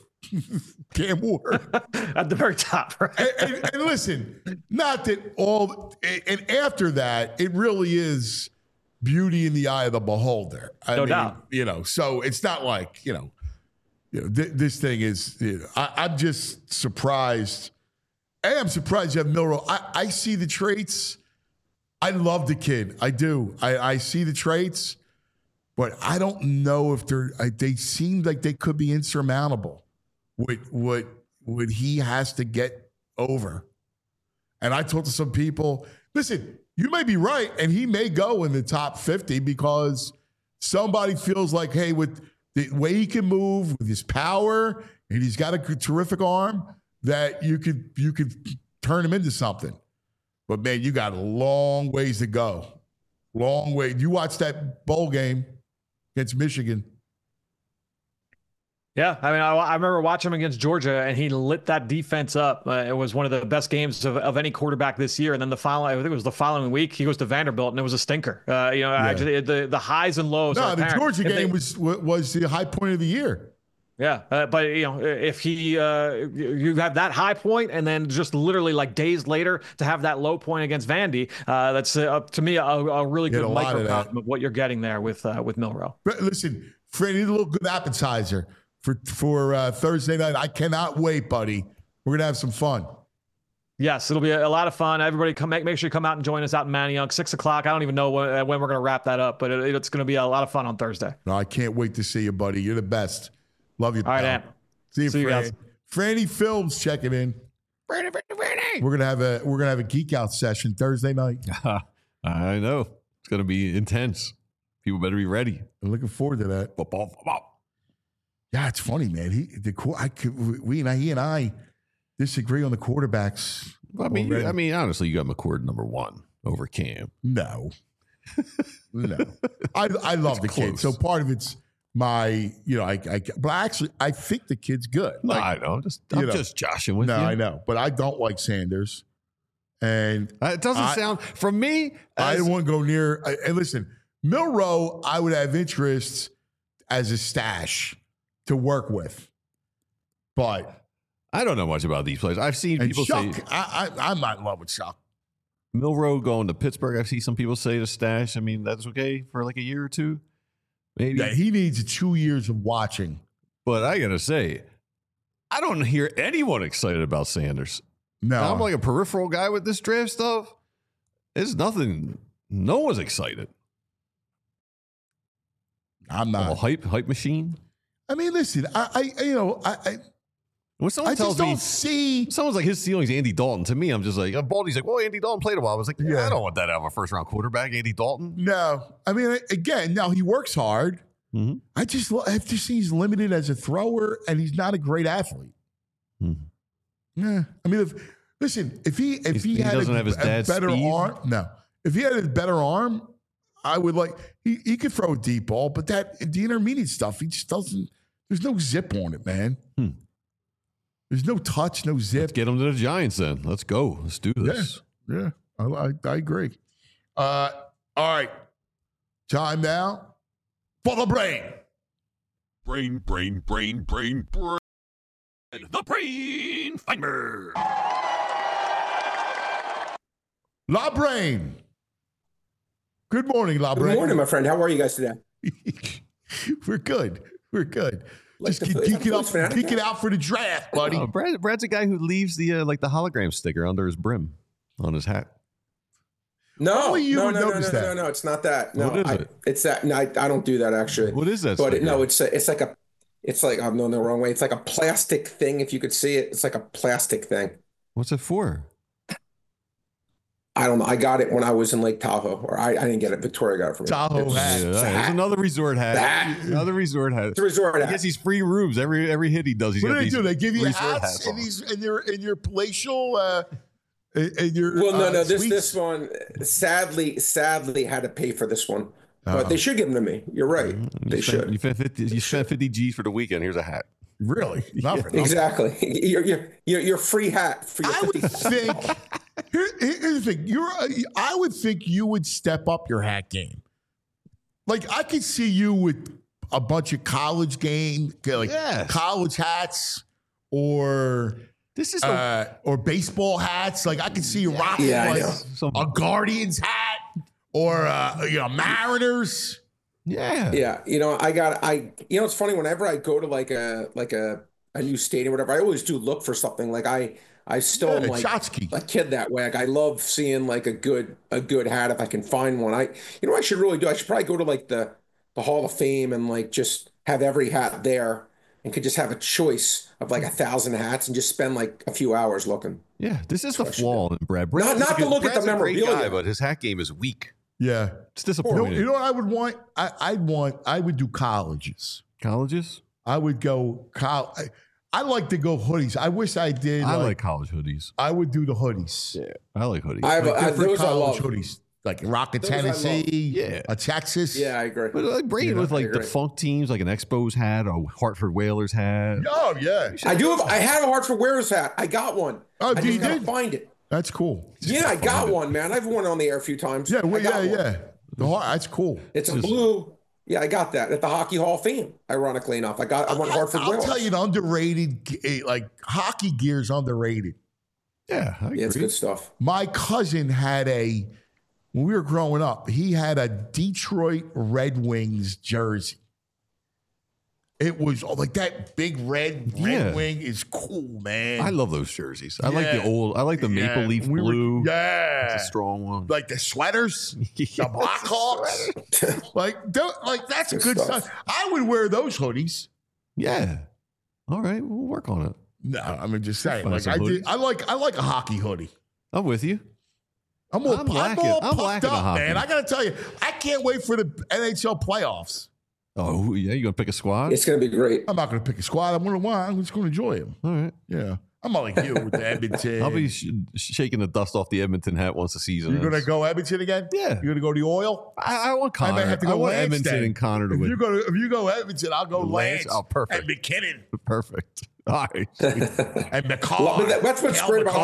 Cam Ward. At the very top, right? and, and, and listen, not that all, and after that, it really is beauty in the eye of the beholder. I No mean, doubt. You know, so it's not like, you know, you know th- this thing is, you know, I, I'm just surprised. A, I'm surprised you have Milroe. I, I see the traits. I love the kid. I do. I, I see the traits, but I don't know if they're, I, they seem like they could be insurmountable. What what what he has to get over. And I talked to some people, listen, you may be right, and he may go in the top fifty because somebody feels like, hey, with the way he can move, with his power, and he's got a terrific arm, that you could you could turn him into something. But man, you got a long ways to go. Long way. You watch that bowl game against Michigan. Yeah, I mean, I, I remember watching him against Georgia, and he lit that defense up. Uh, it was one of the best games of, of any quarterback this year. And then the following, I think it was the following week, he goes to Vanderbilt, and it was a stinker. Uh, you know, Yeah. actually, the the highs and lows. No, are the apparent. Georgia If they- game was was the high point of the year. Yeah, uh, but you know, if he, uh, you have that high point, and then just literally like days later to have that low point against Vandy, uh, that's uh, to me a, a really You had good a lot of microcosm that. of what you're getting there with uh, with Milroe. But listen, Fred, need a little good appetizer for for uh, Thursday night. I cannot wait, buddy. We're gonna have some fun. Yes, it'll be a, a lot of fun. Everybody, come make make sure you come out and join us out in Manayunk, six o'clock. I don't even know when, when we're going to wrap that up, but it, it's going to be a lot of fun on Thursday. No, I can't wait to see you, buddy. You're the best. Love you. All right, pal. Ant. See you, See you Fran. guys. Franny Films checking in. Franny, Franny, Franny. We're gonna have a we're gonna have a geek out session Thursday night. I know. It's going to be intense. People better be ready. I'm looking forward to that. Football, football. Yeah, it's funny, man. He the qu- I could, we and I, he and I disagree on the quarterbacks. I mean, you, already. I mean, honestly, you got McCord number one over Cam. No, no. I I love the kid. close. So part of it's my, you know, I, I but actually I think the kid's good. No, Like, I know. I'm just, you I'm know. just joshing with no, you. I know, but I don't like Sanders, and Uh, It doesn't I- sound from me. I as- don't want to go near. I- And listen, Milroe, I would have interest as a stash to work with, but I don't know much about these players. I've seen and people Shuck, say I, I, I'm not in love with Shuck. Milroe going to Pittsburgh. I've seen some people say to stash. I mean, that's okay for like a year or two, maybe. Yeah, he needs two years of watching. But I gotta say, I don't hear anyone excited about Sanders. No, I'm like a peripheral guy with this draft stuff. It's nothing. No one's excited. I'm I'm a not. hype hype machine. I mean, listen, I, I you know, I, I, When someone I tells just me don't see. someone's like his ceiling's Andy Dalton, to me, I'm just like, uh, Baldy's like, well, Andy Dalton played a while. I was like, yeah, Yeah. I don't want that out of a first round quarterback, Andy Dalton. No, I mean, again, now he works hard. Mhm. I just, lo- I just see he's limited as a thrower, and he's not a great athlete. Mhm. Yeah, I mean, if listen, if he if He's- he, he had doesn't a, have his a dad's better speed? arm, no, if he had a better arm, I would like he he could throw a deep ball, but that the intermediate stuff, he just doesn't. There's no zip on it, man. Hmm. There's no touch, no zip. Let's get them to the Giants then. Let's go. Let's do this. Yeah, yeah, I, I, I agree. Uh, all right, time now for the brain. Brain, brain, brain, brain, brain. The Brain Finder. La Brain. Good morning, La Brain. Good morning, my friend. How are you guys today? We're good. We're good. Like Just the- keep is that geeking Phillies up, fanatic? geeking out for the draft, buddy. Oh, Brad, Brad's a guy who leaves the uh, like the hologram sticker under his brim on his hat. No, Only you no, would no, no, no, notice no, that. no, no. It's not that. No, What is I, it? it's that. No, I, I don't do that actually. What is that? But it, sticker? no, it's a, it's like a, it's like I'm going the wrong way. It's like a plastic thing. If you could see it, it's like a plastic thing. What's it for? I don't know. I got it when I was in Lake Tahoe, or I, I didn't get it. Victoria got it for me. Tahoe It's, hat. Yeah, it's a it's hat. another resort hat. Hat. Another resort hat. It's a resort I hat. guess he's free rooms every every hit he does. He's What got do they these do? They give you resort hats on. in these in your in your palatial uh in in your Well, no, uh, no. This suites? this one, sadly, sadly, had to pay for this one. Uh-oh. But they should give them to me. You're right. You They spent, should. You spent fifty. You spent fifty G's for the weekend. Here's a hat. Really? Not for nothing. Exactly. Your your your your free hat for your I would fifty. think. Here, here's the thing. You're. uh, I would think you would step up your hat game. Like I could see you with a bunch of college game, like Yes. college hats, or This is a, uh, or baseball hats. Like I could see you rocking Yeah, I like know. some, a Guardians hat, or uh, you know Mariners. yeah. Yeah, you know, I got I you know it's funny whenever I go to like a like a a new stadium or whatever, I always do look for something. Like I I still am Yeah, like Chotsky. a kid that way. Like I love seeing like a good a good hat if I can find one. I you know what I should really do? I should probably go to like the the Hall of Fame and like just have every hat there and could just have a choice of like a thousand hats and just spend like a few hours looking. Yeah, this is the what I should flaw in Brad. Brad's not a to good- look at the Brad's a great memorabilia. guy, but his hat game is weak. Yeah. It's You know, disappointing. you know what I would want? I, I'd want. I would do colleges. Colleges? I would go. Col- I, I like to go hoodies. I wish I did. I like, like college hoodies. I would do the hoodies. Yeah, I like hoodies. I have Like a, I, different those I college love. hoodies, like Rocket, Those I love. Tennessee, Yeah. a Texas. Yeah, I agree. but like bring it with like I agree. defunct teams, like an Expos hat or Hartford Whalers hat. Oh yeah. I do have I have a Hartford Whalers hat. I got one. Oh, I you just gotta did? find it. That's cool. Yeah, I got one, man. I've worn it on the air a few times. Yeah. Well, I got yeah. one. Yeah. The heart, that's cool. It's a Just- blue. Yeah, I got that at the Hockey Hall of Fame. Ironically enough, I got I went I, Hartford I'll Whalers. tell you, the underrated, g- eh, like hockey gear is underrated. Yeah, I Yeah, it's agree. good stuff. My cousin had a, when we were growing up, he had a Detroit Red Wings jersey. It was oh, like that big red Red Yeah. Wing is cool, man. I love those jerseys. I like Yeah. the old. I like the maple Yeah, leaf we were- blue. yeah. It's a strong one. Like the sweaters, the Blackhawks. like, don't- like that's Good good stuff. stuff. I would wear those hoodies. Yeah. All right, we'll work on it. No, I mean just saying. Find Like some I, did, hoodies. I like I like a hockey hoodie. I'm with you. I'm all, I'm I'm lacking- all I'm puffed lacking a up, hockey. man. I gotta tell you, I can't wait for the N H L playoffs. Oh yeah, you gonna pick a squad? It's gonna be great. I'm not gonna pick a squad. I'm gonna want. I'm just gonna enjoy them. All right. Yeah, I'm not like you with the Edmonton. I'll be sh- shaking the dust off the Edmonton hat once the season. You're gonna ends. go Edmonton again? Yeah. You're gonna go to the oil? I, I want I Connor. might have to I go want Lance Edmonton then. and Connor to If win. you go to if you go Edmonton, I'll go Lance? Lance. Oh, perfect. And McKinnon Perfect. All right. and McCarr. Well, but that- that's what's Cal great about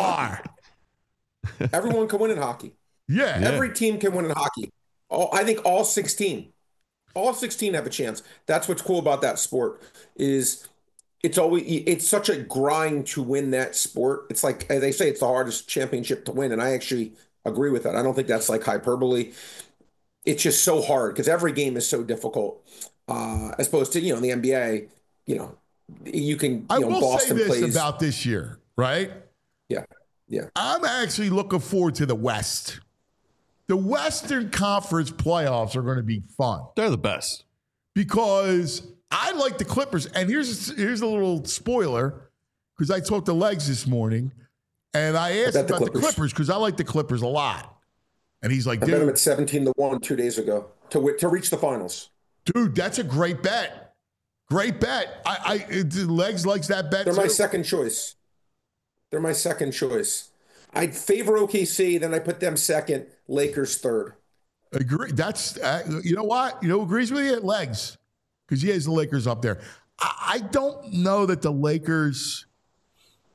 McCarr. Everyone can win in hockey. Yeah. Yeah. Every team can win in hockey. All I think all sixteen. All sixteen have a chance. That's what's cool about that sport is it's always it's such a grind to win that sport. It's like as they say, it's the hardest championship to win, and I actually agree with that. I don't think that's like hyperbole. It's just so hard because every game is so difficult. Uh, as opposed to you know in the N B A, you know you can you I know will Boston say this plays. about this year, right? yeah, yeah. I'm actually looking forward to the West. The Western Conference playoffs are going to be fun They're the best. because I like the Clippers. And here's here's a little spoiler because I talked to Legs this morning and I asked bet the about the Clippers. Clippers because I like the Clippers a lot. And he's like, I bet him dude, at seventeen to one two days ago to wi- to reach the finals. dude, that's a great bet. Great bet. I, I it, Legs likes that bet They're too. my second choice. They're my second choice. I'd favor O K C, then I put them second, Lakers third. Agree. That's uh, you know what? You know who agrees with you? Legs. Because he has the Lakers up there. I, I don't know that the Lakers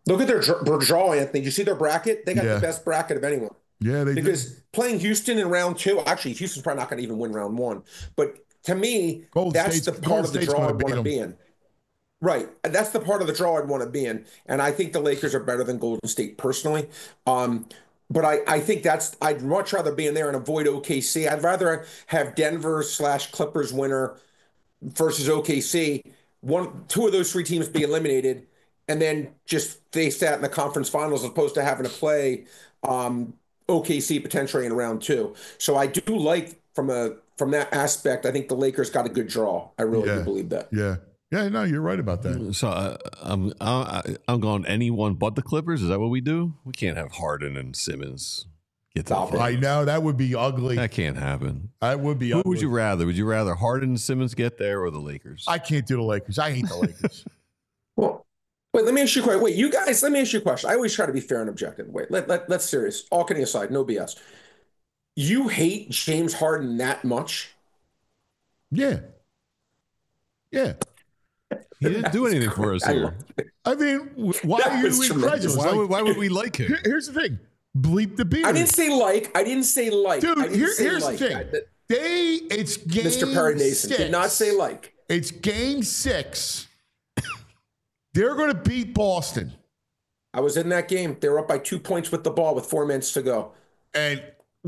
Look at their, their draw, Anthony. Did you see their bracket? They got Yeah. the best bracket of anyone. Yeah, they Because do. playing Houston in round two, actually, Houston's probably not going to even win round one. But to me, Golden that's State's- the part Golden of the State's draw gonna I'd beat want to them. be in. Right. That's the part of the draw I'd want to be in. And I think the Lakers are better than Golden State personally. Um, but I, I think that's, I'd much rather be in there and avoid O K C. I'd rather have Denver slash Clippers winner versus O K C. One, two of those three teams be eliminated and then just face that in the conference finals as opposed to having to play um, O K C potentially in round two. So I do like from a from that aspect, I think the Lakers got a good draw. I really Yeah. do believe that. Yeah. Yeah, no, you're right about that. So uh, I'm I, I'm going anyone but the Clippers. Is that what we do? We can't have Harden and Simmons get to the Stop it. I know that would be ugly. That can't happen. That would be Who ugly. would you rather? Would you rather Harden and Simmons get there or the Lakers? I can't do the Lakers. I hate the Lakers. Well, wait, let me ask you a question. Wait, you guys, let me ask you a question. I always try to be fair and objective. Wait, let, let, let's serious. All kidding aside, no B S. You hate James Harden that much? Yeah. Yeah. He didn't do anything for us I here. love it. I mean, w- why That are you was tremendous. incredulous? Why Like, would, why would we like him? here- here's the thing. Bleep the beard. I didn't say like. I didn't say like. Dude, I didn't here- say here's like. the thing. I- that- They, it's game Mister Perry Mason six. did not say like. It's game six. They're going to beat Boston. I was in that game. They were up by two points with the ball with four minutes to go. And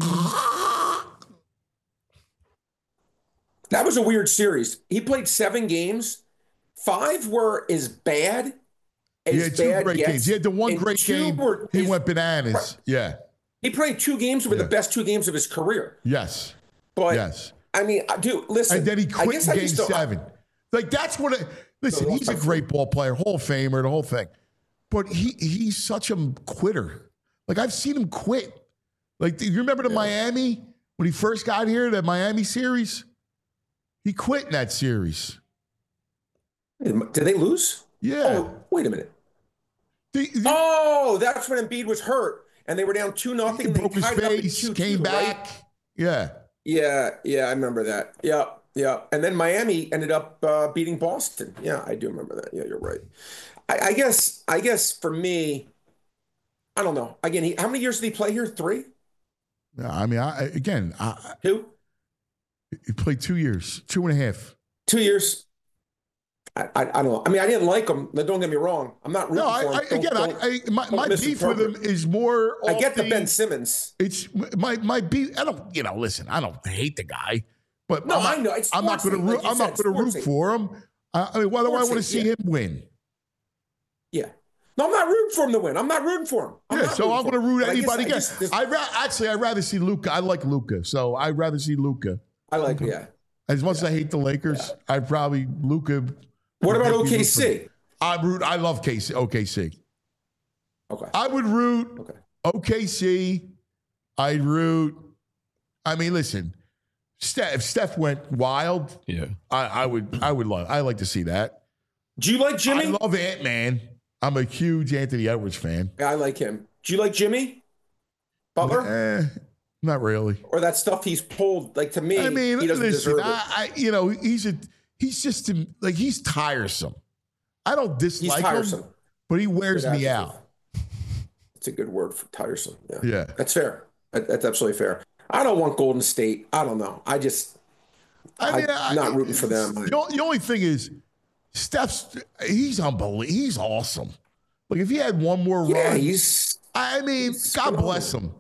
That was a weird series. He played seven games. Five were as bad as he had two bad great gets, games. He had the one and great two game. were He his- went bananas. Yeah. He played two games that were Yeah. the best two games of his career. Yes. But Yes. I mean, I- dude, listen. And then he I quit guess in I game just don't- seven. Like, that's what I, listen, No, he's a that's great ball player, Hall of Famer, the whole thing. But he he's such a quitter. Like, I've seen him quit. Like, do you remember the Miami, when he first got here, that Miami series? He quit in that series. Did they lose? Yeah. Oh, wait a minute. The- the- Oh, that's when Embiid was hurt and they were down two he nothing. broke his face, came back. Yeah. Yeah, yeah, I remember that. Yeah, yeah. And then Miami ended up uh, beating Boston. Yeah, I do remember that. Yeah, you're right. I, I guess. I guess for me, I don't know. Again, he, how many years did he play here? Three, Yeah, I mean, I, again, I, two, he played two years, two and a half. two years. I, I, I don't know. I mean, I didn't like him. Don't get me wrong. I'm not rooting No, I, for him. I, Don't- again, don't- I, I, my, don't my beef with him misinterpret. is more. I off get the the Ben Simmons. It's my my beef. I don't, you know. Listen, I don't hate the guy, but No, I'm not, I know. It's I'm not going to. sportsy, like you I'm not said, going to root sportsy. for him. I, I mean, why do I want to Sportsy, see yeah. him win? Yeah. No, I'm not rooting for him to win. I'm not rooting for him. I'm yeah, not so rooting I'm for going to him. root But I guess anybody I against. just- just- I ra- actually, I'd rather see Luca. I like Luca, so I'd rather see Luca. I like, yeah. As much as I hate the Lakers, I'd probably Luca. What about O K C? I root. I love K C, O K C. Okay. I would root Okay. O K C. I'd root. I mean, listen. Steph, if Steph went wild, Yeah. I, I would. I would love. I like to see that. Do you like Jimmy? I love Ant Man. I'm a huge Anthony Edwards fan. Yeah, I like him. Do you like Jimmy Butler? Eh, not really. Or that stuff he's pulled? Like to me, I mean, he doesn't listen. deserve it. I, I, you know, he's a. He's just like he's tiresome. I don't He's dislike tiresome. him, but he wears Good me adjective. out. It's a good word for tiresome. Yeah, Yeah. that's fair. That, that's absolutely fair. I don't want Golden State. I don't know. I just, I mean, I'm not rooting for them. The, o- the only thing is, Steph's he's unbelievable. He's awesome. Like if he had one more yeah, run, he's I mean, he's God phenomenal. bless him.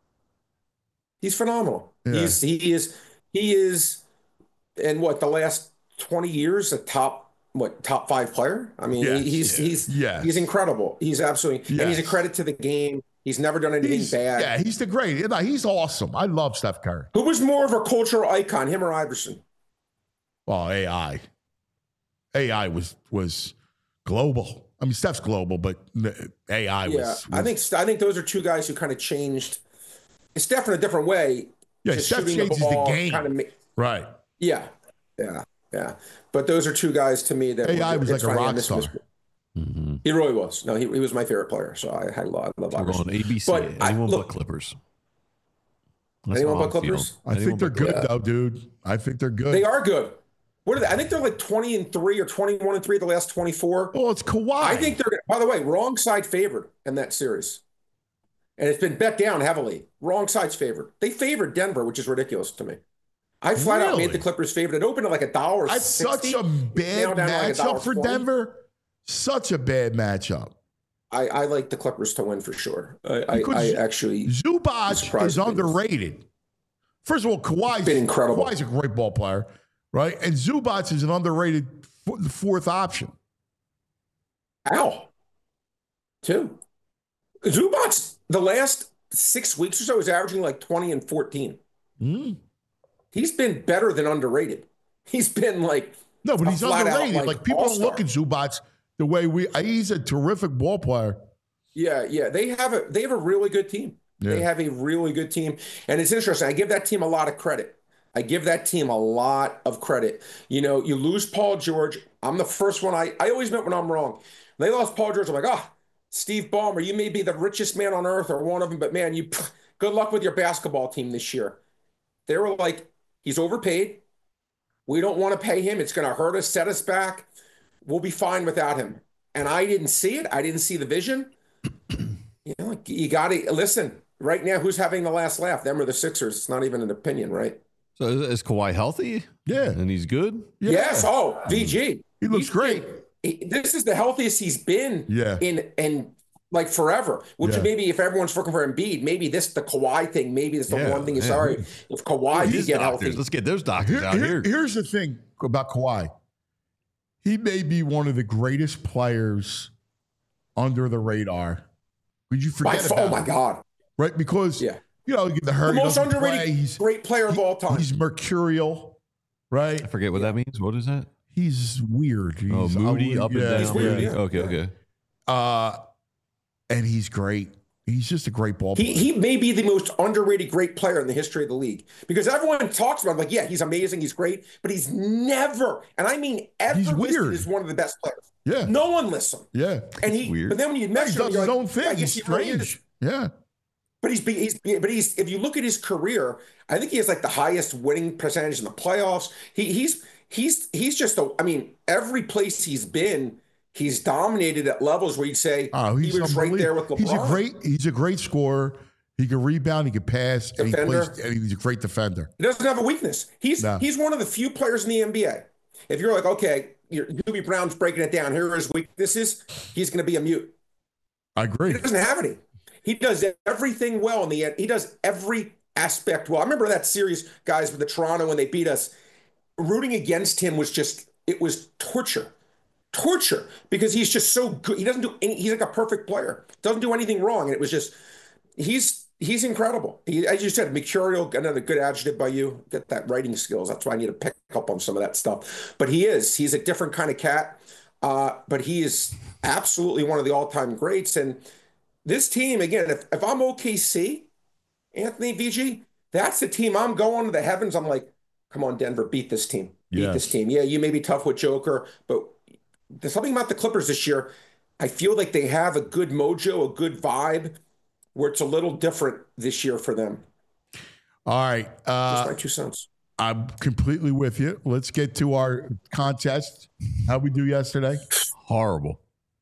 he's phenomenal. Yeah. He's he is he is, in what the last twenty years, a top what top five player. I mean, Yes, he, he's yes, he's yes. he's incredible. He's absolutely and he's a Yes. credit to the game. He's never done anything He's, bad. yeah, he's the great. No, he's awesome. I love Steph Curry. Who was more of a cultural icon, him or Iverson? Well, A I, A I was was global. I mean, Steph's global, but A I Yeah, was, I was- think I think those are two guys who kind of changed. Steph in a different way. Yeah, just Steph shooting changes the ball, game. Kind of, ma- right. yeah, yeah, yeah. But those are two guys to me that A I were- was it's like a funny, I rock miss him. star. Mm-hmm. He really was. No, he, he was my favorite player. So I had a lot. I love We're Iverson. going A B C. But I- Anyone look- but Clippers. That's Anyone how but I'm feeling. Clippers? I Anyone think they're but good Clippers. though, dude. I think they're good. They are good. What are they? I think they're like twenty and three or twenty-one and three the last twenty-four. Well, it's Kawhi. I think they're gonna. by the way, wrong side favored in that series. And it's been bet down heavily. Wrong side's favored. They favored Denver, which is ridiculous to me. I flat really? out made the Clippers favorite. It opened at like a dollar. That's such a bad matchup like for Denver. Such a bad matchup. I, I like the Clippers to win for sure. I, I, I actually Zubac is underrated. First of all, Kawhi's been incredible. Kawhi's a great ball player, right? And Zubac is an underrated fourth option. Ow. Two. Zubac, the last six weeks or so, is averaging like twenty and fourteen. Mm. He's been better than underrated. He's been like no, but he's underrated. Out, like, like people all-star. Don't look at Zubac the way we. He's a terrific ball player. Yeah, yeah. They have a they have a really good team. Yeah. They have a really good team, and it's interesting. I give that team a lot of credit. I give that team a lot of credit. You know, you lose Paul George. I'm the first one. I I always admit when I'm wrong. When they lost Paul George, I'm like, ah, oh, Steve Ballmer, you may be the richest man on earth or one of them, but man, you good luck with your basketball team this year. They were like, he's overpaid. We don't want to pay him. It's going to hurt us, set us back. We'll be fine without him. And I didn't see it. I didn't see the vision. You know, you got to listen. Right now, who's having the last laugh? Them or the Sixers? It's not even an opinion, right? So is, is Kawhi healthy? Yeah. And he's good? Yeah. Yes. Oh, V G. He looks he's great. Been, he, this is the healthiest he's been yeah. in in like forever. Which yeah. maybe if everyone's looking for Embiid, maybe this the Kawhi thing. Maybe this the yeah, one thing. Is sorry if Kawhi can get doctors. healthy. Let's get those doctors here, out here, here. Here's the thing about Kawhi. He may be one of the greatest players under the radar. Would you forget my, about Oh my him? God! Right, because yeah. you know, the hurt. The most underrated he's, great player of all time. He's mercurial, right? I forget what that means. What is that? He's weird. He's oh, moody, up and yeah, down. He's weird, yeah. yeah. Okay, okay. Uh, and he's great. He's just a great ball player. He, he may be the most underrated great player in the history of the league because everyone talks about him like, yeah, he's amazing, he's great, but he's never, and I mean ever, he's weird. As one of the best players. Yeah. No one lists him. Yeah. And he, weird. But then when you measure he does his like, own thing. Yeah, he's he strange. Really yeah. But he's, he's, but he's, if you look at his career, I think he has like the highest winning percentage in the playoffs. He, he's, he's, he's just a, I mean, every place he's been, he's dominated at levels where you'd say oh, he's he was right there with LeBron. He's a great, he's a great scorer. He can rebound, he can pass, and, he plays, and he's a great defender. He doesn't have a weakness. He's no. he's one of the few players in the N B A. If you're like, okay, you're, Doobie Brown's breaking it down. Here are his weaknesses. He's going to be a mute. I agree. He doesn't have any. He does everything well in the end. He does every aspect well. I remember that series, guys, with the Toronto when they beat us. Rooting against him was just, it was torture. Torture. Because he's just so good. He doesn't do any, he's like a perfect player. Doesn't do anything wrong. And it was just, he's, He's incredible. He, as you said, mercurial, another good adjective by you. Get that writing skills. That's why I need to pick up on some of that stuff. But he is. He's a different kind of cat. Uh, but he is absolutely one of the all-time greats. And this team, again, if, if I'm O K C, Anthony V G, that's the team I'm going to the heavens. I'm like, come on, Denver, beat this team. Beat yes. this team. Yeah, you may be tough with Joker, but there's something about the Clippers this year. I feel like they have a good mojo, a good vibe, where it's a little different this year for them. All right. Uh, Just my two cents. I'm completely with you. Let's get to our contest. How'd we do yesterday? Horrible.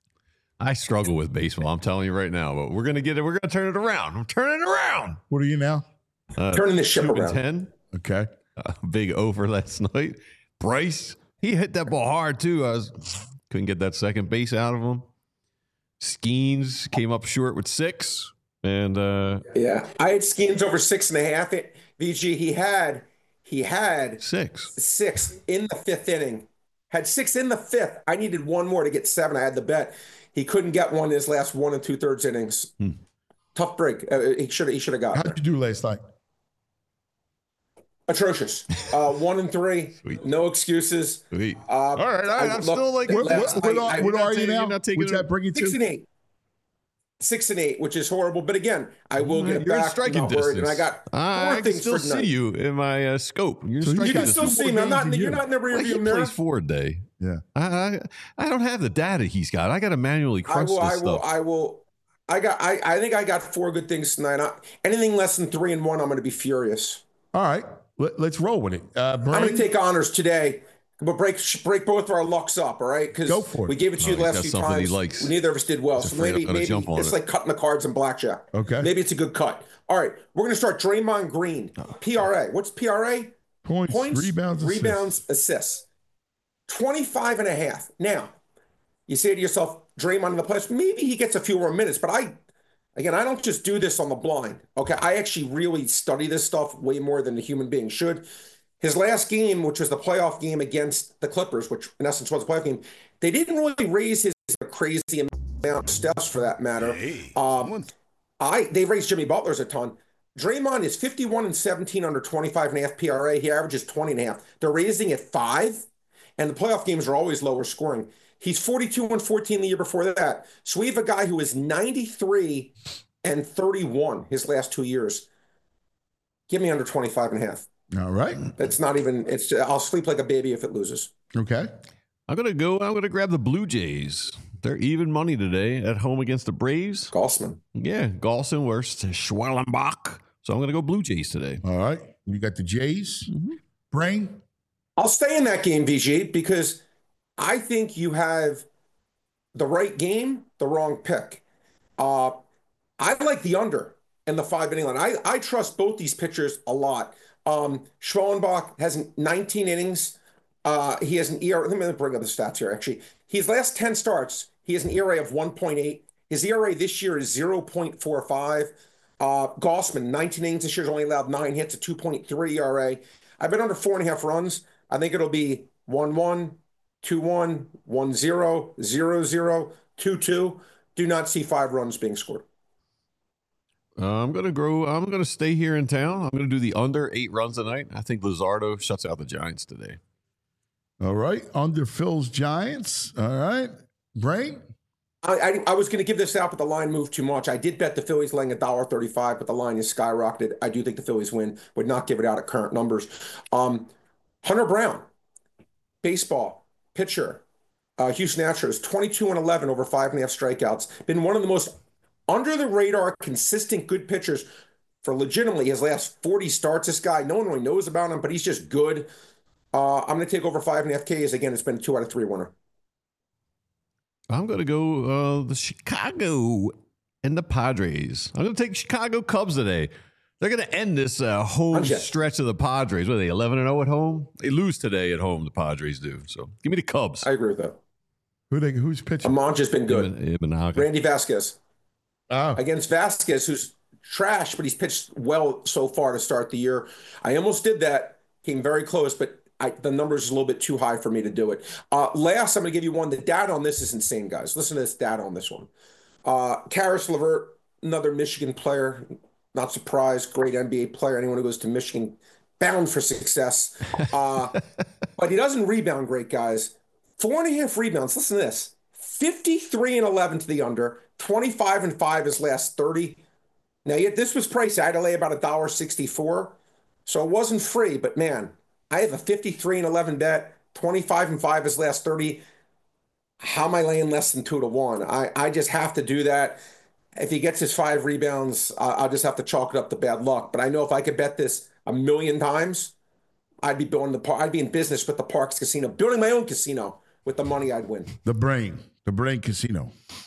I struggle with baseball. I'm telling you right now, but we're going to get it. We're going to turn it around. I'm turning it around. What are you now? Uh, Turning the ship around. ten. Okay. Uh, big over last night. Bryce, he hit that ball hard too. I was couldn't get that second base out of him. Skeens came up short with six. And uh, yeah, I had Skeens over six and a half. V G, he had he had six six in the fifth inning. Had six in the fifth. I needed one more to get seven. I had the bet. He couldn't get one in his last one and two thirds innings. Hmm. Tough break. Uh, he should he should have got. How did you do last night? Atrocious. Uh, one and three. Sweet. No excuses. Sweet. Uh, all right, all right. I'm look, still like, what, last, what, what, I, what I, are you now? What's that bring you to? Six and eight. Six and eight, which is horrible. But again, I will get it You're back. in striking distance. And I got four I can things still for see tonight. you in my uh, scope. You're in So striking you can distance. still see me. I'm not. In the, you're not in the rear Well, view he mirror. plays four a day. Yeah. I, I I don't have the data he's got. I got to manually I crunch will. this I will. stuff. I will. I got. I. I think I got four good things tonight. I, anything less than three and one, I'm going to be furious. All right. Let, let's roll with it. Uh, I'm going to take honors today. But break break both of our lucks up, all right? Because Go for it. we gave it to Oh, you the he's last got few something he times. likes. Neither of us did well. He's So afraid I'm maybe gonna maybe jump on it's it. like cutting the cards in blackjack. Okay. Maybe it's a good cut. All right. We're gonna start Draymond Green. P R A. What's P R A? Points, Points, rebounds, assists. rebounds, assists. twenty-five and a half. Now, you say to yourself, Draymond in the playoffs, maybe he gets a few more minutes, but I, again, I don't just do this on the blind. Okay. I actually really study this stuff way more than a human being should. His last game, which was the playoff game against the Clippers, which in essence was a playoff game, they didn't really raise his crazy amount of steps for that matter. Hey, um, I they raised Jimmy Butler's a ton. Draymond is fifty-one and seventeen under twenty-five and a half P R A. He averages twenty and a half. They're raising at five, and the playoff games are always lower scoring. He's forty-two and fourteen the year before that. So we have a guy who is ninety-three and thirty-one his last two years. Give me under twenty-five and a half. All right. It's not even, it's, I'll sleep like a baby if it loses. Okay. I'm going to go, I'm going to grab the Blue Jays. They're even money today at home against the Braves. Gossman. Yeah, Golson versus Schwellenbach. So I'm going to go Blue Jays today. All right. You got the Jays. Mm-hmm. Brain. I'll stay in that game, V G, because I think you have the right game, the wrong pick. Uh, I like the under and the five inning line. I, I trust both these pitchers a lot. Um, Schwellenbach has nineteen innings. Uh, he has an E R A. Let me bring up the stats here, actually. His last ten starts, he has an E R A of one point eight. His E R A this year is zero point four five. Uh, Gossman, nineteen innings this year, has only allowed nine hits, a two point three E R A. I've been under four and a half runs. I think it'll be one one, two one, one zero, zero zero, two two. Do not see five runs being scored. Uh, I'm going to grow. I'm going to stay here in town. I'm going to do the under eight runs tonight. I think Luzardo shuts out the Giants today. All right. Under Phil's Giants. All right. Brain. I, I, I was going to give this out, but the line moved too much. I did bet the Phillies laying one dollar thirty-five, but the line is skyrocketed. I do think the Phillies win. Would not give it out at current numbers. Um, Hunter Brown, baseball, pitcher, uh, Houston Astros, twenty-two and eleven over five and a half strikeouts. Been one of the most under-the-radar, consistent, good pitchers for legitimately his last forty starts. This guy, no one really knows about him, but he's just good. Uh, I'm going to take over five and a half Ks. Again, it's been a two out of three winner. I'm going to go uh, the Chicago and the Padres. I'm going to take Chicago Cubs today. They're going to end this uh, home stretch of the Padres. What are they, eleven and oh at home? They lose today at home, the Padres do. So give me the Cubs. I agree with that. Who they, who's pitching? Amanja's been good. Ibn, Ibn Randy Vasquez. Oh. Against Vasquez, who's trash, but he's pitched well so far to start the year. I almost did that. Came very close, but I, the number's a little bit too high for me to do it. Uh, last, I'm going to give you one. The data on this is insane, guys. Listen to this data on this one. Uh, Karis LeVert, another Michigan player. Not surprised. Great N B A player. Anyone who goes to Michigan, bound for success. Uh, but he doesn't rebound great, guys. Four and a half rebounds. Listen to this. fifty-three and eleven to the under. twenty-five and five his last thirty. Now, yet this was pricey. I had to lay about one dollar sixty-four. So it wasn't free, but man, I have a fifty-three and eleven bet, twenty-five and five his last thirty. How am I laying less than two to one? I, I just have to do that. If he gets his five rebounds, uh, I'll just have to chalk it up to bad luck. But I know if I could bet this a million times, I'd be building the par- I'd be in business with the Parks Casino, building my own casino with the money I'd win. The Brain, the Brain Casino.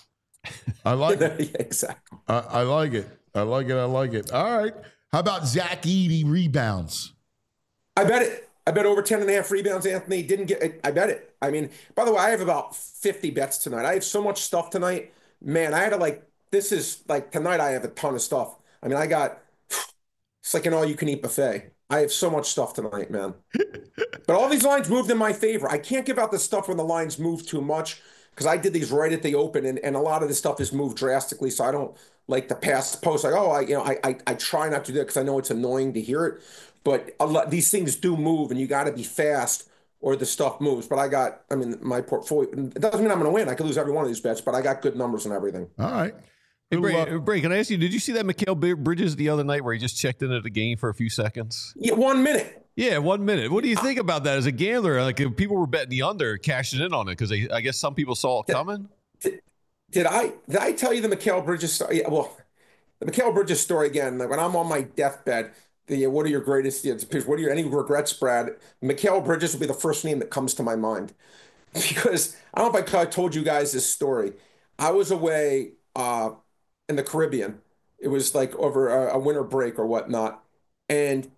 I like it. Yeah, exactly. I, I like it. I like it. I like it. All right. How about Zach Edey rebounds? I bet it. I bet over ten and a half rebounds, Anthony. Didn't get it. I bet it. I mean, by the way, I have about fifty bets tonight. I have so much stuff tonight. Man, I had to like, this is like tonight I have a ton of stuff. I mean, I got, it's like an all-you-can-eat buffet. I have so much stuff tonight, man. But all these lines moved in my favor. I can't give out the stuff when the lines move too much because I did these right at the open, and, and a lot of this stuff has moved drastically, so I don't like the past post. Like, oh, I you know, I I, I try not to do it because I know it's annoying to hear it. But a lot, these things do move, and you got to be fast or the stuff moves. But I got, I mean, my portfolio, it doesn't mean I'm going to win. I could lose every one of these bets, but I got good numbers and everything. All right. Hey, Bray, Bray, can I ask you, did you see that Mikal Bridges the other night where he just checked in at the game for a few seconds? Yeah, one minute. Yeah, one minute. What do you think about that as a gambler? Like, if people were betting the under, cashing in on it because I guess some people saw it coming. Did, did I did I tell you the Mikal Bridges story? Yeah, well, the Mikal Bridges story again. Like when I'm on my deathbed, the what are your greatest? What are your any regrets, Brad? Mikal Bridges will be the first name that comes to my mind because I don't know if I told you guys this story. I was away uh, in the Caribbean. It was like over a, a winter break or whatnot, and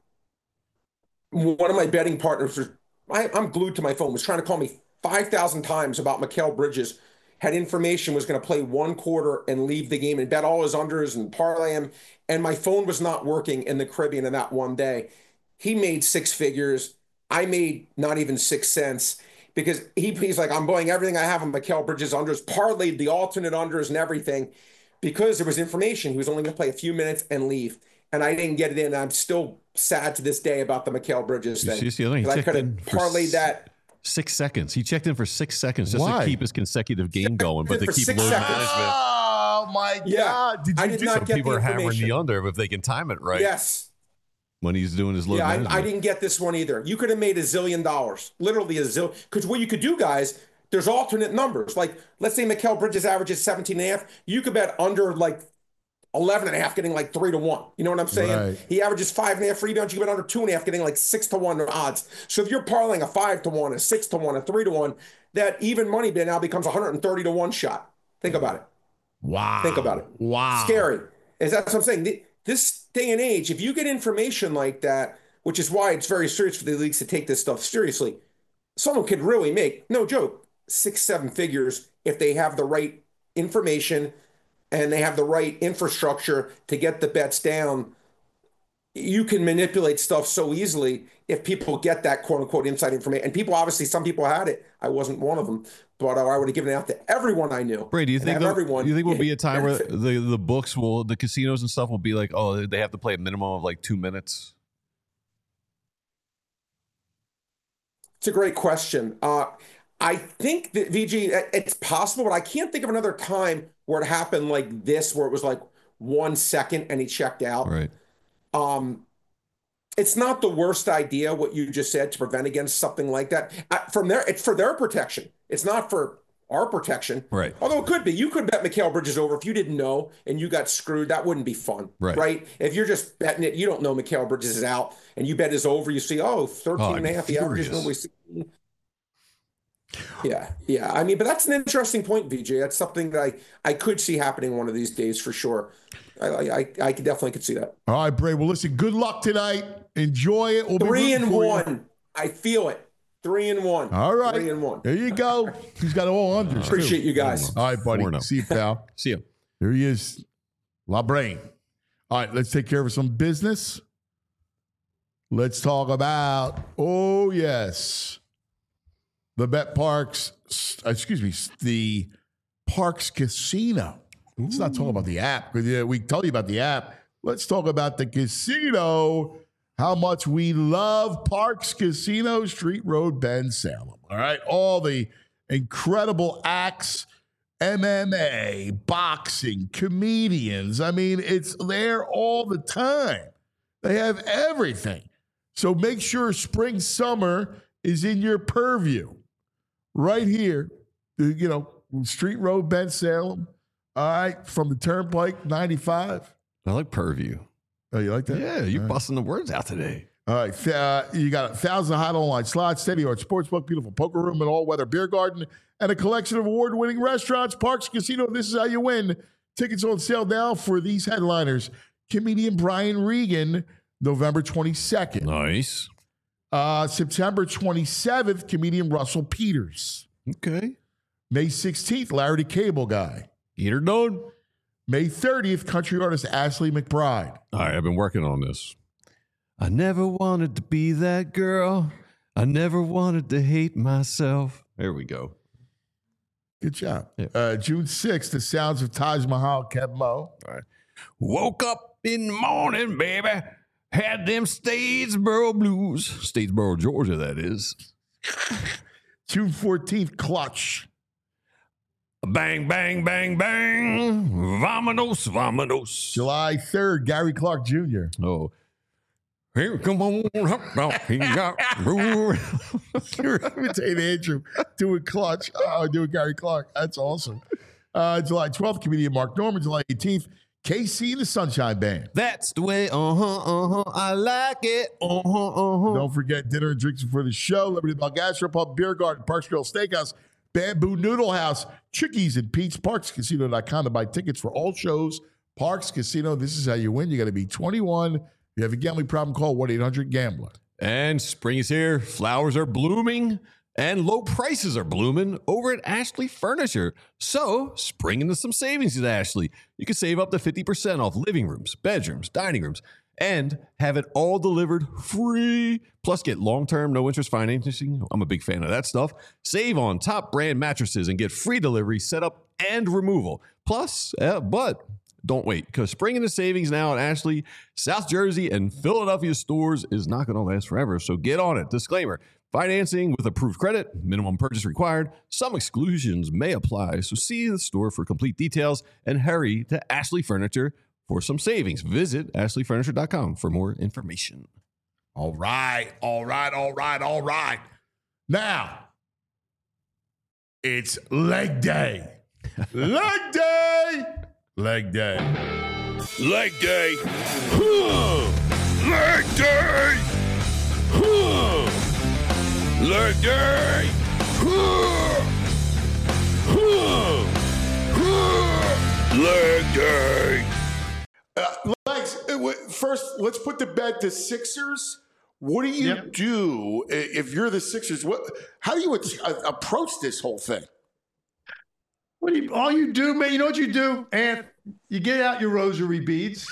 one of my betting partners was I, I'm glued to my phone. Was trying to call me five thousand times about Mikal Bridges. Had information was going to play one quarter and leave the game and bet all his unders and parlay him. And my phone was not working in the Caribbean in that one day. He made six figures. I made not even six cents because he, he's like, I'm buying everything I have on Mikal Bridges unders, parlayed the alternate unders and everything because there was information. He was only going to play a few minutes and leave. And I didn't get it in. I'm still sad to this day about the Mikal Bridges thing. You see, you see, I could have parlayed that. Six seconds. He checked in for six seconds just Why? to keep his consecutive game going, but they keep load seconds. management. Oh my Yeah. God! Did you I did do not Some get people the are hammering information. the under if they can time it right. Yes. When he's doing his load Yeah, management. I, I didn't get this one either. You could have made a zillion dollars, literally a zillion. Because what you could do, guys, there's alternate numbers. Like, let's say Mikal Bridges averages seventeen and a half. You could bet under like eleven and a half, getting like three to one. You know what I'm saying? Right. He averages five and a half rebounds. You can bet under two and a half, getting like six to one odds. So if you're parlaying a five to one, a six to one, a three to one, that even money bet now becomes one hundred thirty to one shot. Think about it. Wow. Think about it. Wow. Scary. Is that what I'm saying? This day and age, if you get information like that, which is why it's very serious for the leagues to take this stuff seriously, someone could really make, no joke, six, seven figures if they have the right information and they have the right infrastructure to get the bets down. You can manipulate stuff so easily if people get that quote unquote inside information. And people, obviously, some people had it. I wasn't one of them, but I would have given it out to everyone I knew. Brady, do you think have everyone you think will be a time where benefit. the, the books will, the casinos and stuff will be like, oh, they have to play a minimum of like two minutes? It's a great question. Uh, I think that V G, it's possible, but I can't think of another time where it happened like this, where it was like one second and he checked out. Right. Um, it's not the worst idea what you just said to prevent against something like that. Uh, from there, it's for their protection. It's not for our protection. Right. Although it could be. You could bet Mikal Bridges over if you didn't know and you got screwed. That wouldn't be fun. Right. Right. If you're just betting it, you don't know Mikal Bridges is out and you bet is over. You see, oh, thirteen Oh, and a half. The average is furious. normally sixteen. Yeah, yeah. I mean, but that's an interesting point, V J. That's something that I, I could see happening one of these days for sure. I I, I could definitely could see that. All right, Bray. Well, listen, good luck tonight. Enjoy it. We'll be Three rooting and for you. one. I feel it. Three and one. All right. Three and one. There you go. He's got all unders. Appreciate too. you guys. All right, buddy. Four and oh. See you, pal. See you. There he is. La Brain. All right, let's take care of some business. Let's talk about, oh, yes, the Bet Parks, excuse me, the Parks Casino. Let's not talk about the app, because yeah, we tell you about the app. Let's talk about the casino, how much we love Parks Casino, Street Road, Bend, Salem. All right, all the incredible acts, M M A, boxing, comedians. I mean, it's there all the time. They have everything. So make sure spring, summer is in your purview. Right here, you know, Street Road, Bend, Salem. All right, from the Turnpike, ninety-five. I like Purview. Oh, you like that? Yeah, you're All right. busting the words out today. All right, th- uh, you got a thousand hot online slots, steady yard sportsbook, beautiful poker room, and all-weather beer garden, and a collection of award-winning restaurants. Parks Casino, this is how you win. Tickets on sale now for these headliners. Comedian Brian Regan, November twenty-second. Nice. Uh, September twenty-seventh, comedian Russell Peters. Okay. May sixteenth, Larry the Cable Guy. Get her done. May thirtieth, country artist Ashley McBride. All right, I've been working on this. I never wanted to be that girl. I never wanted to hate myself. There we go. Good job. Yeah. Uh, June sixth, the sounds of Taj Mahal, Kev Mo. All right. Woke up in the morning, baby. Had them Statesboro blues. Statesboro, Georgia, that is. June fourteenth, Clutch. Bang, bang, bang, bang. Vamonos, vamonos. July third, Gary Clark Junior Oh. Here, come on. Up, now. He got rule. You're imitating Andrew doing Clutch. Oh, doing Gary Clark. That's awesome. Uh, July twelfth, comedian Mark Norman. July eighteenth, K C and the Sunshine Band. That's the way, uh-huh, uh-huh, I like it, uh-huh, uh-huh. Don't forget dinner and drinks before the show. Liberty Bell Gastropub, Beer Garden, Parks Grill Steakhouse, Bamboo Noodle House, Chickies and Pete's, parks casino dot com to buy tickets for all shows. Parks Casino, this is how you win. You got to be twenty-one. If you have a gambling problem, call one eight hundred gambler. And spring is here. Flowers are blooming and low prices are blooming over at Ashley Furniture. So spring into some savings at Ashley. You can save up to fifty percent off living rooms, bedrooms, dining rooms, and have it all delivered free. Plus, get long-term, no-interest financing. I'm a big fan of that stuff. Save on top brand mattresses and get free delivery, setup, and removal. Plus, uh, but don't wait, because spring into savings now at Ashley, South Jersey, and Philadelphia stores is not going to last forever. So get on it. Disclaimer. Financing with approved credit, minimum purchase required. Some exclusions may apply, so see the store for complete details and hurry to Ashley Furniture for some savings. Visit ashley furniture dot com for more information. All right, all right, all right, all right. Now, it's leg day. Leg day. Leg day. Leg day. Huh. Leg day. Huh. Leg day. Huh. Huh. Huh. Leg day. Uh, Legs, first, let's put the bet to Sixers. What do you yep. do if you're the Sixers? What? How do you approach this whole thing? What do you, all you do, man, you know what you do? And you get out your rosary beads.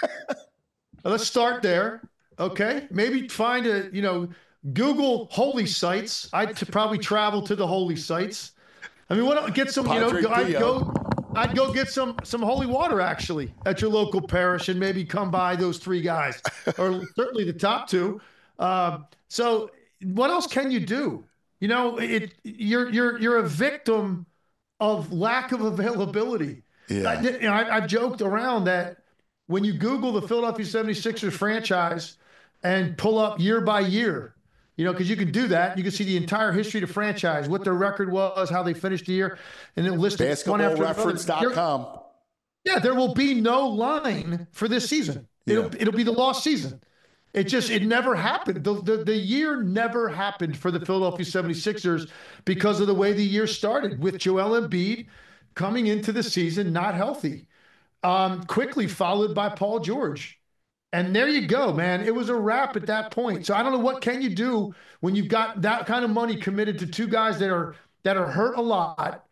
Let's start there. Okay. Maybe find a, you know, Google holy sites. I'd t- probably travel to the holy sites. I mean, what, get some, you know, go, I'd go, I'd go get some, some holy water actually at your local parish and maybe come by those three guys or certainly the top two. Uh, so what else can you do? You know, it, you're, you're, you're a victim of lack of availability. Yeah. I, you know, I, I've joked around that when you Google the Philadelphia seventy-sixers franchise and pull up year by year, you know, because you can do that. You can see the entire history of the franchise, what their record was, how they finished the year, and then list it one after reference dot com. Yeah, there will be no line for this season. It'll yeah. it'll be the lost season. It just, it never happened. The, the, the year never happened for the Philadelphia seventy-sixers because of the way the year started with Joel Embiid coming into the season not healthy, um, quickly followed by Paul George. And there you go, man. It was a wrap at that point. So I don't know, what can you do when you've got that kind of money committed to two guys that are that are hurt a lot?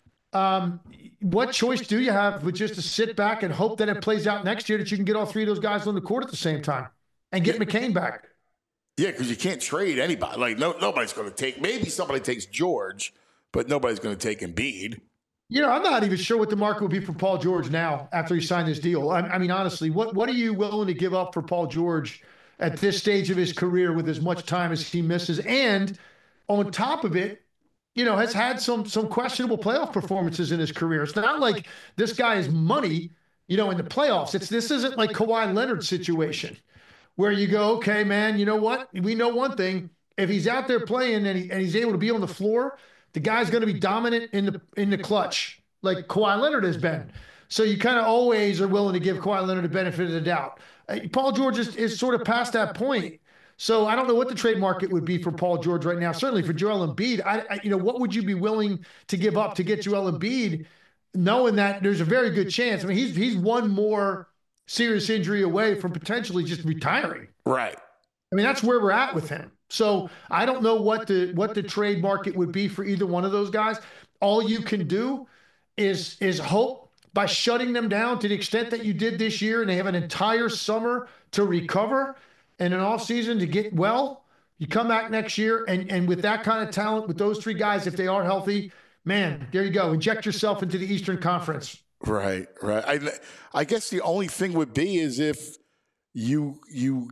Um, what choice do you have but just to sit back and hope that it plays out next year that you can get all three of those guys on the court at the same time? And get McCain back. Yeah, because you can't trade anybody. Like, no, nobody's going to take, maybe somebody takes George, but nobody's going to take Embiid. You know, I'm not even sure what the market would be for Paul George now after he signed this deal. I, I mean, honestly, what, what are you willing to give up for Paul George at this stage of his career with as much time as he misses? And on top of it, you know, has had some some questionable playoff performances in his career. It's not like this guy is money, you know, in the playoffs. It's This isn't like Kawhi Leonard's situation, where you go, okay, man, you know what? We know one thing. If he's out there playing and, he, and he's able to be on the floor, the guy's going to be dominant in the in the clutch, like Kawhi Leonard has been. So you kind of always are willing to give Kawhi Leonard the benefit of the doubt. Uh, Paul George is, is sort of past that point. So I don't know what the trade market would be for Paul George right now. Certainly for Joel Embiid, I, I, you know, what would you be willing to give up to get Joel Embiid, knowing that there's a very good chance? I mean, he's he's one more serious injury away from potentially just retiring. Right. I mean, that's where we're at with him. So I don't know what the what the trade market would be for either one of those guys. All you can do is is hope by shutting them down to the extent that you did this year, and they have an entire summer to recover and an off season to get well. You come back next year, and and with that kind of talent, with those three guys, if they are healthy, man, there you go. Inject yourself into the Eastern Conference. Right, right. I, I guess the only thing would be is if you you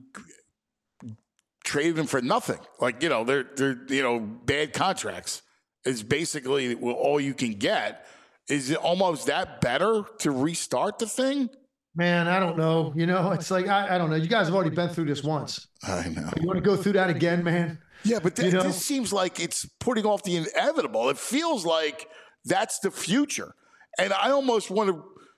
traded them for nothing. Like, you know, they're they're you know bad contracts is basically all you can get. Is it almost that better to restart the thing? Man, I don't know. You know, it's like I, I don't know. You guys have already been through this once. I know. You want to go through that again, man? Yeah, but th- you know? This seems like it's putting off the inevitable. It feels like that's the future. And I almost want to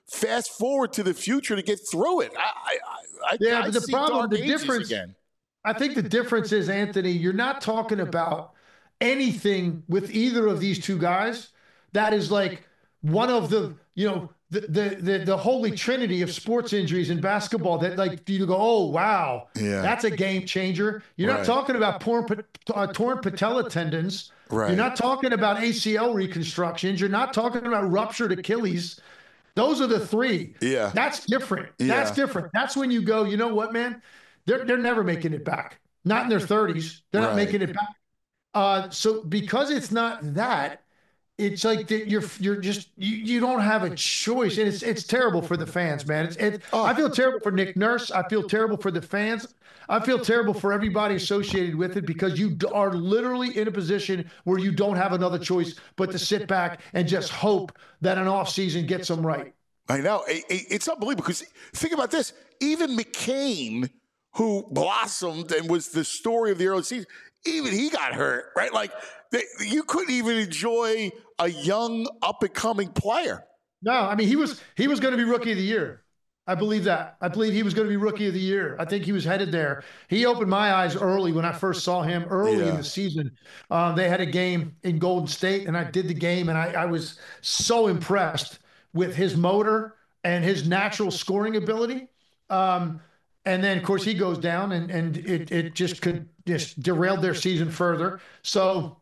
fast forward to the future to get through it. I, I, I yeah, I but the see problem, dark the ages difference, again. I think the difference is, Anthony, you're not talking about anything with either of these two guys that is like one of the, you know, the the the, the holy trinity of sports injuries in basketball that like you go, oh wow, yeah. that's a game changer. You're right. not talking about torn, uh, torn patella tendons. Right. You're not talking about A C L reconstructions. You're not talking about ruptured Achilles. Those are the three. Yeah. That's different. Yeah. That's different. That's when you go, you know what, man? They're they're never making it back. Not in their thirties. They're not right. making it back. Uh, so because it's not that, it's like that you're you're just you, you don't have a choice, and it's it's terrible for the fans, man. It's it. Oh. I feel terrible for Nick Nurse. I feel terrible for the fans. I feel terrible for everybody associated with it because you are literally in a position where you don't have another choice but to sit back and just hope that an offseason gets them right. I know. It's unbelievable because think about this. Even McCain, who blossomed and was the story of the early season, even he got hurt, right? Like they, you couldn't even enjoy a young up-and-coming player. No, I mean, he was he was going to be rookie of the year. I believe that. I believe he was going to be rookie of the year. I think he was headed there. He opened my eyes early when I first saw him early yeah. in the season. Um, they had a game in Golden State, and I did the game, and I, I was so impressed with his motor and his natural scoring ability. Um, and then, of course, he goes down, and, and it, it just could just derailed their season further. So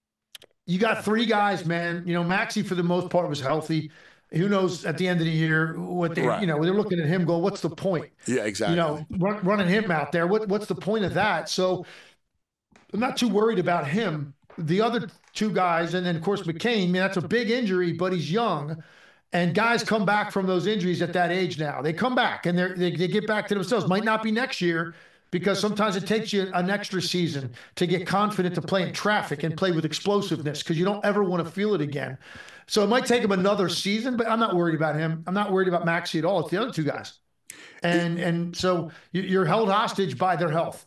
you got three guys, man. You know, Maxey, for the most part, was healthy. Who knows at the end of the year what they, right. you know, they're looking at him go, what's the point? Yeah, exactly. You know, run, running him out there. What, what's the point of that? So I'm not too worried about him. The other two guys, and then, of course, McCain, I mean, that's a big injury, but he's young. And guys come back from those injuries at that age now. They come back, and they're, they they get back to themselves. Might not be next year, because sometimes it takes you an extra season to get confident to play in traffic and play with explosiveness because you don't ever want to feel it again. So it might take him another season, but I'm not worried about him. I'm not worried about Maxey at all. It's the other two guys. And and so you're held hostage by their health.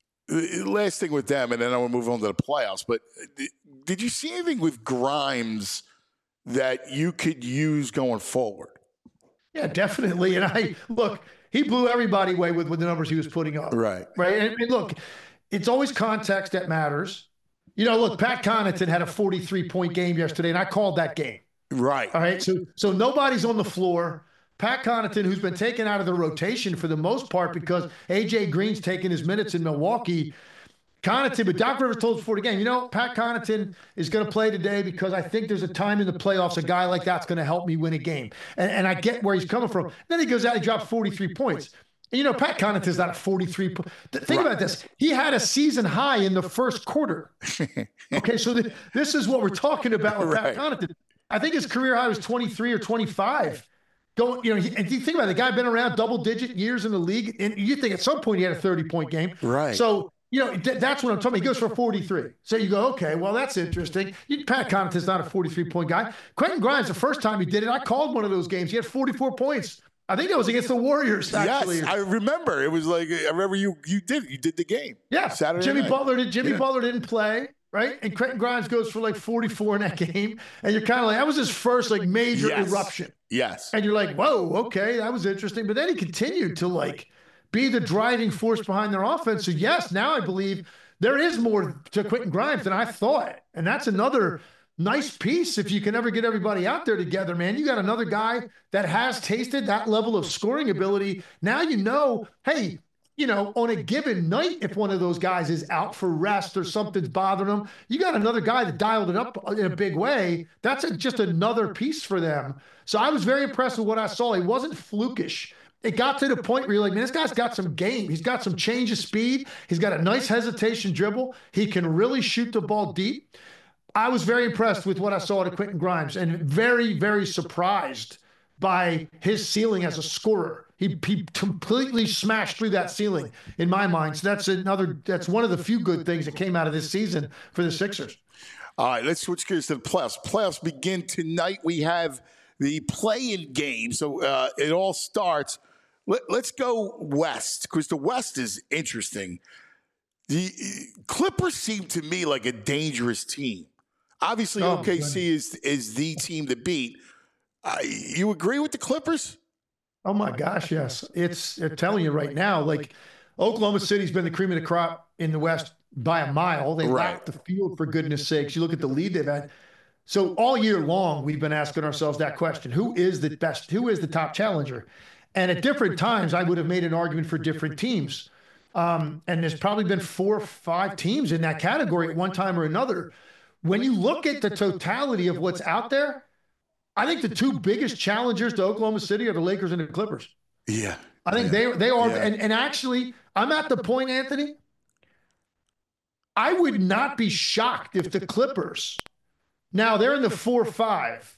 Last thing with them, and then I will move on to the playoffs, but did you see anything with Grimes that you could use going forward? Yeah, definitely. And I, look, he blew everybody away with, with the numbers he was putting up. Right. Right. And, and look, it's always context that matters. You know, look, Pat Connaughton had a forty-three point game yesterday, and I called that game. Right. All right. So, so nobody's on the floor. Pat Connaughton, who's been taken out of the rotation for the most part because A J Green's taking his minutes in Milwaukee. Connaughton, but Doc Rivers told us before the game, you know, Pat Connaughton is going to play today because I think there's a time in the playoffs a guy like that's going to help me win a game. And, and I get where he's coming from. Then he goes out and drops forty-three points. And, you know, Pat Connaughton's not a forty-three. Po- Think right. about this. He had a season high in the first quarter. Okay, so the, this is what we're talking about with right. Pat Connaughton. I think his career high was twenty-three or twenty-five. Going, you know, he, and you think about it, the guy been around double-digit years in the league, and you think at some point he had a thirty-point game. Right. So, you know, th- that's what I'm talking about. He goes for forty-three. So you go, okay, well, that's interesting. You, Pat Connaughton's not a forty-three point guy. Quentin Grimes, the first time he did it, I called one of those games. He had forty-four points. I think that was against the Warriors, actually. Yes, I remember. It was like, I remember you you did you did the game. Yeah. Saturday Jimmy night. Butler did. Jimmy yeah. Butler didn't play, right? And Quentin Grimes goes for like forty-four in that game. And you're kind of like, that was his first like major yes. eruption. Yes. And you're like, whoa, okay, that was interesting. But then he continued to like be the driving force behind their offense. So yes, now I believe there is more to Quentin Grimes than I thought. And that's another nice piece if you can ever get everybody out there together, man. You got another guy that has tasted that level of scoring ability. Now you know, hey, you know, on a given night, if one of those guys is out for rest or something's bothering them, you got another guy that dialed it up in a big way. That's a, just another piece for them. So I was very impressed with what I saw. He wasn't flukish. It got to the point where you're like, man, this guy's got some game. He's got some change of speed. He's got a nice hesitation dribble. He can really shoot the ball deep. I was very impressed with what I saw to Quentin Grimes and very, very surprised by his ceiling as a scorer. He, he completely smashed through that ceiling in my mind. So that's another, that's one of the few good things that came out of this season for the Sixers. All right, let's switch gears to the playoffs. Playoffs begin tonight. We have the play-in game. So uh, it all starts. Let, let's go west because the West is interesting. The Clippers seem to me like a dangerous team. Obviously, oh, O K C is is the team to beat. I, you agree with the Clippers? Oh my gosh, yes. It's I'm telling you right now, like Oklahoma City's been the cream of the crop in the West by a mile. They Right. lack the field, for goodness sakes. You look at the lead they've had. So all year long, we've been asking ourselves that question: Who is the best? Who is the top challenger? And at different times, I would have made an argument for different teams. Um, and there's probably been four or five teams in that category at one time or another. When you look at the totality of what's out there, I think the two biggest challengers to Oklahoma City are the Lakers and the Clippers. Yeah. I think yeah. they they are. Yeah. And, and actually, I'm at the point, Anthony, I would not be shocked if the Clippers, now they're in the four five.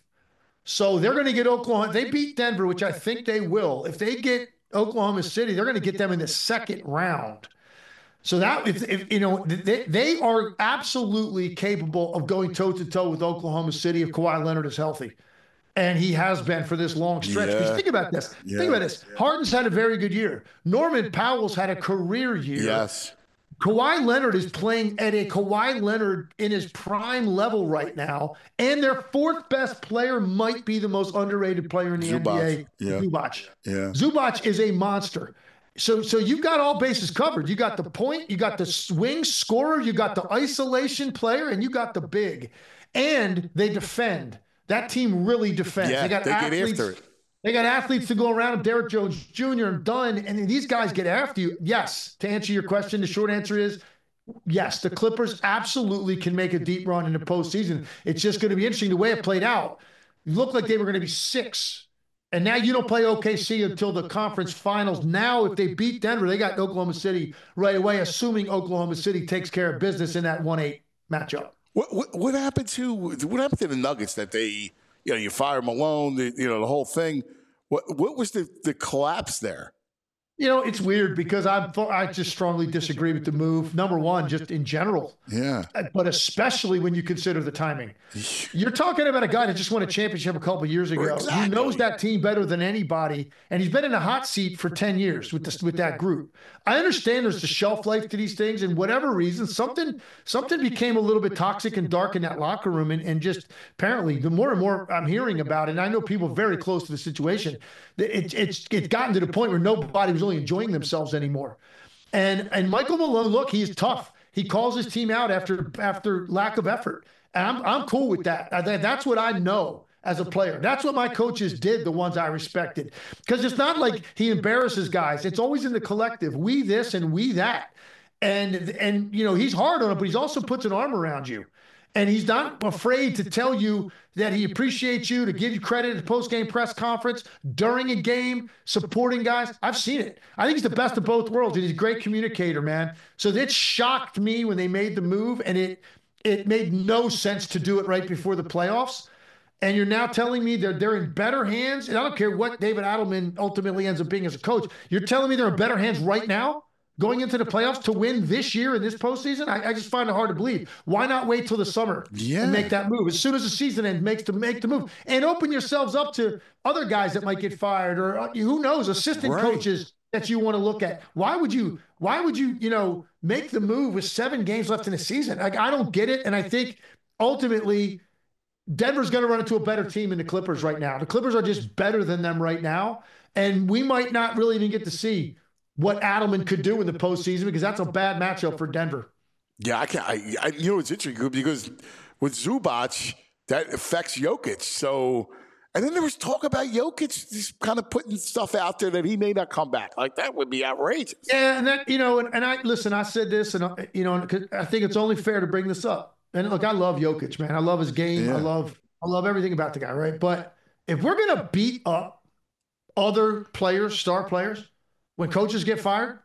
So they're going to get Oklahoma. They beat Denver, which I think they will. If they get Oklahoma City, they're going to get them in the second round. So that, if, if you know, they, they are absolutely capable of going toe to toe with Oklahoma City if Kawhi Leonard is healthy. And he has been for this long stretch. Because Yeah. think about this. Yeah. Think about this. Harden's had a very good year. Norman Powell's had a career year. Yes. Kawhi Leonard is playing at a Kawhi Leonard in his prime level right now. And their fourth best player might be the most underrated player in the Zubac. N B A, Yeah. Zubac. Yeah. Zubac is a monster. So, so you've got all bases covered. You got the point, you got the swing scorer, you got the isolation player, and you got the big. And they defend. That team really defends. Yeah, they got they get athletes. after it. They got athletes to go around them. Derrick Jones Junior and Dunn, and these guys get after you. Yes, to answer your question, the short answer is yes. The Clippers absolutely can make a deep run in the postseason. It's just going to be interesting the way it played out. It looked like they were going to be six. And now you don't play O K C until the conference finals. Now, if they beat Denver, they got Oklahoma City right away, assuming Oklahoma City takes care of business in that one eight matchup. What, what what happened to what happened to the Nuggets that they you know you fire Malone, the, you know the whole thing? What what was the, the collapse there? You know, it's weird because I I just strongly disagree with the move. Number one, just in general, Yeah. but especially when you consider the timing. You're talking about a guy that just won a championship a couple of years ago. Exactly. He knows that team better than anybody, and he's been in a hot seat for ten years with this with that group. I understand there's a shelf life to these things, and whatever reason, something something became a little bit toxic and dark in that locker room, and, and just apparently, the more and more I'm hearing about it, and I know people very close to the situation, it, it's it's gotten to the point where nobody was really enjoying themselves anymore. And and Michael Malone, look, he's tough. He calls his team out after after lack of effort. And I'm I'm cool with that. I, that's what I know as a player. That's what my coaches did, the ones I respected. Because it's not like he embarrasses guys. It's always in the collective. We this and we that. And and you know, he's hard on it, but he's also puts an arm around you. And he's not afraid to tell you that he appreciates you, to give you credit at the post-game press conference, during a game, supporting guys. I've seen it. I think he's the best of both worlds, and he's a great communicator, man. So it shocked me when they made the move, and it it made no sense to do it right before the playoffs. And you're now telling me they're they're in better hands, and I don't care what David Adelman ultimately ends up being as a coach. You're telling me they're in better hands right now, going into the playoffs to win this year in this postseason? I, I just find it hard to believe. Why not wait till the summer Yeah. and make that move? As soon as the season ends, makes to make the move. And open yourselves up to other guys that might get fired, or uh, who knows, assistant Right. coaches that you want to look at. Why would you, why would you, you know, make the move with seven games left in the season? Like, I don't get it. And I think ultimately Denver's going to run into a better team than the Clippers right now. The Clippers are just better than them right now. And we might not really even get to see what Adelman could do in the postseason, because that's a bad matchup for Denver. Yeah, I can. I, I you know it's interesting because with Zubac that affects Jokic. So, and then there was talk about Jokic just kind of putting stuff out there that he may not come back. Like that would be outrageous. Yeah, and that, you know, and, and I listen. I said this, and I- you know, 'cause I think it's only fair to bring this up. And look, I love Jokic, man. I love his game. Yeah. I love, I love everything about the guy, right? But if we're gonna beat up other players, star players, when coaches get fired,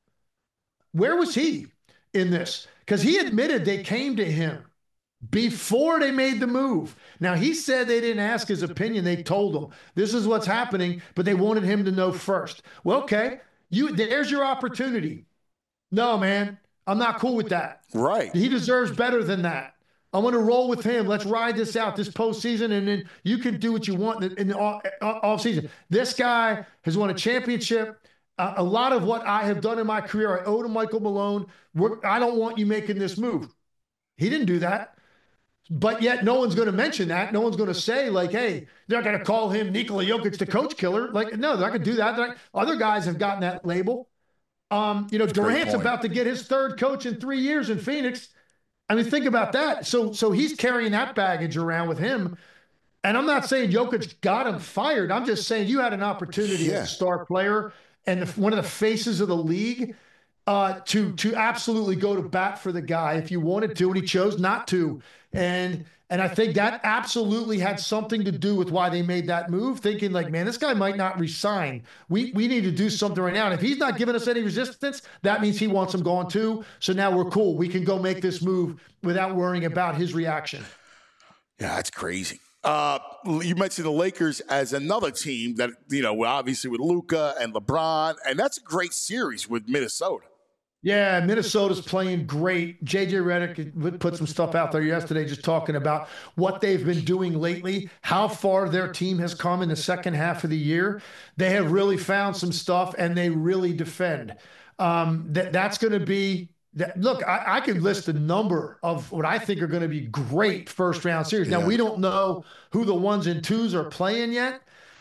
where was he in this? Because he admitted they came to him before they made the move. Now, he said they didn't ask his opinion. They told him this is what's happening, but they wanted him to know first. Well, okay, you there's your opportunity. No, man, I'm not cool with that. Right. He deserves better than that. I want to roll with him. Let's ride this out this postseason, and then you can do what you want in the off, off season. This guy has won a championship. Uh, a lot of what I have done in my career, I owe to Michael Malone. We're, I don't want you making this move. He didn't do that. But yet no one's going to mention that. No one's going to say, like, hey, they're not going to call him Nikola Jokic the coach killer. Like, no, they're not going to do that. Not, other guys have gotten that label. Um, you know, That's Durant's about to get his third coach in three years in Phoenix. I mean, think about that. So, so he's carrying that baggage around with him. And I'm not saying Jokic got him fired. I'm just saying you had an opportunity yeah. as a star player and the, one of the faces of the league uh, to to absolutely go to bat for the guy if you wanted to, and he chose not to. And and I think that absolutely had something to do with why they made that move, thinking like, man, this guy might not resign. We we need to do something right now. And if he's not giving us any resistance, that means he wants him gone too. So now we're cool. We can go make this move without worrying about his reaction. Yeah, that's crazy. Uh, you mentioned the Lakers as another team that, you know, obviously with Luka and LeBron, and that's a great series with Minnesota. Yeah, Minnesota's playing great. J J Redick put some stuff out there yesterday just talking about what they've been doing lately, how far their team has come in the second half of the year. They have really found some stuff, and they really defend. Um, that that's going to be that. Look, I, I could list a number of what I think are going to be great first-round series. Now, yeah. we don't know who the ones and twos are playing yet.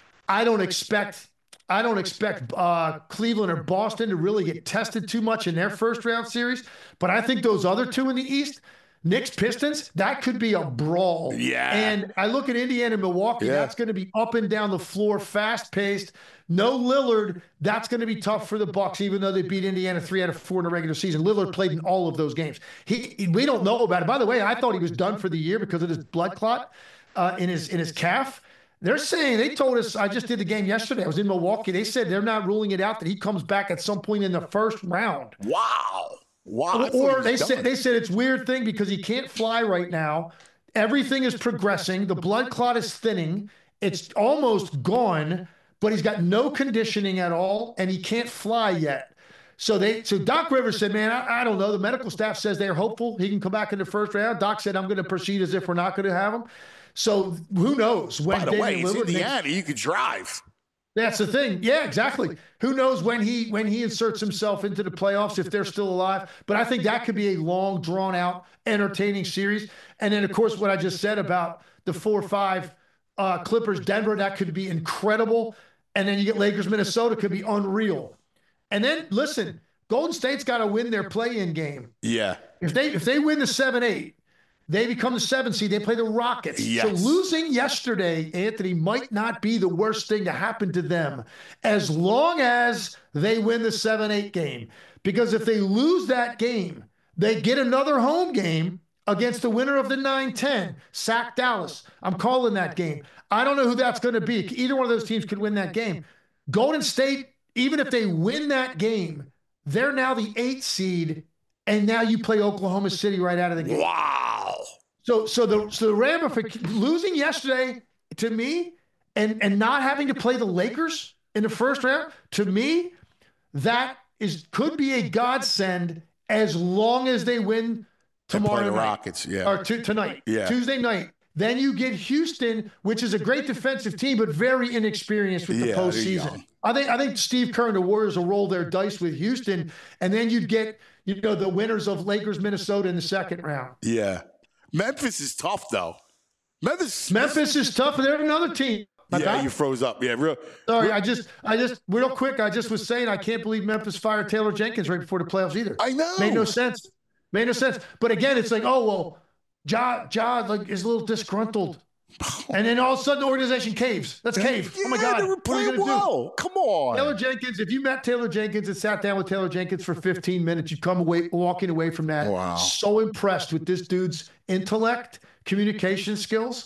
I don't expect – I don't expect uh, Cleveland or Boston to really get tested too much in their first round series, but I think those other two in the East, Knicks, Pistons, that could be a brawl. Yeah. And I look at Indiana and Milwaukee, yeah. that's going to be up and down the floor, fast-paced. No Lillard, that's going to be tough for the Bucks, even though they beat Indiana three out of four in the regular season. Lillard played in all of those games. He, we don't know about it. By the way, I thought he was done for the year because of his blood clot uh, in his in his calf. They're saying, they told us, I just did the game yesterday, I was in Milwaukee, they said they're not ruling it out that he comes back at some point in the first round. Wow. Wow. Or, or they done. said they said it's a weird thing because he can't fly right now. Everything is progressing. The blood clot is thinning. It's almost gone, but he's got no conditioning at all, and he can't fly yet. So they, so Doc Rivers said, man, I, I don't know. The medical staff says they're hopeful he can come back in the first round. Doc said, I'm going to proceed as if we're not going to have him. So who knows when? By the Damian way, it's Lillard Indiana. makes, you could drive. That's the thing. Yeah, exactly. Who knows when he when he inserts himself into the playoffs if they're still alive? But I think that could be a long, drawn out, entertaining series. And then, of course, what I just said about the four or five uh, Clippers, Denver, that could be incredible. And then you get Lakers, Minnesota, could be unreal. And then listen, Golden State's got to win their play-in game. Yeah. If they if they win the seven eight. They become the seventh seed. They play the Rockets. Yes. So losing yesterday, Anthony, might not be the worst thing to happen to them as long as they win the seven eight game. Because if they lose that game, they get another home game against the winner of the nine ten, Sac Dallas. I'm calling that game. I don't know who that's going to be. Either one of those teams could win that game. Golden State, even if they win that game, they're now the eighth seed, and now you play Oklahoma City right out of the game. Wow. So, so the so the ramification, losing yesterday to me, and and not having to play the Lakers in the first round, to me, that is could be a godsend as long as they win tomorrow play the night. Rockets, yeah, or t- tonight, yeah, Tuesday night. Then you get Houston, which is a great defensive team, but very inexperienced with the yeah, postseason. I think I think Steve Kerr and the Warriors will roll their dice with Houston, and then you'd get you know the winners of Lakers, Minnesota in the second round. Yeah. Memphis is tough, though. Memphis, Memphis is tough. They're another team. My yeah, bad. You froze up. Yeah, real. Sorry, real, I just, I just, real quick. I just was saying, I can't believe Memphis fired Taylor Jenkins right before the playoffs either. I know. Made no sense. Made no sense. But again, it's like, oh well, Ja, Ja, like is a little disgruntled, and then all of a sudden the organization caves. Let's cave. Yeah, oh my God, they were playing well. Do? Come on, Taylor Jenkins. If you met Taylor Jenkins and sat down with Taylor Jenkins for fifteen minutes, you'd come away walking away from that. Wow. So impressed with this dude's intellect, communication skills.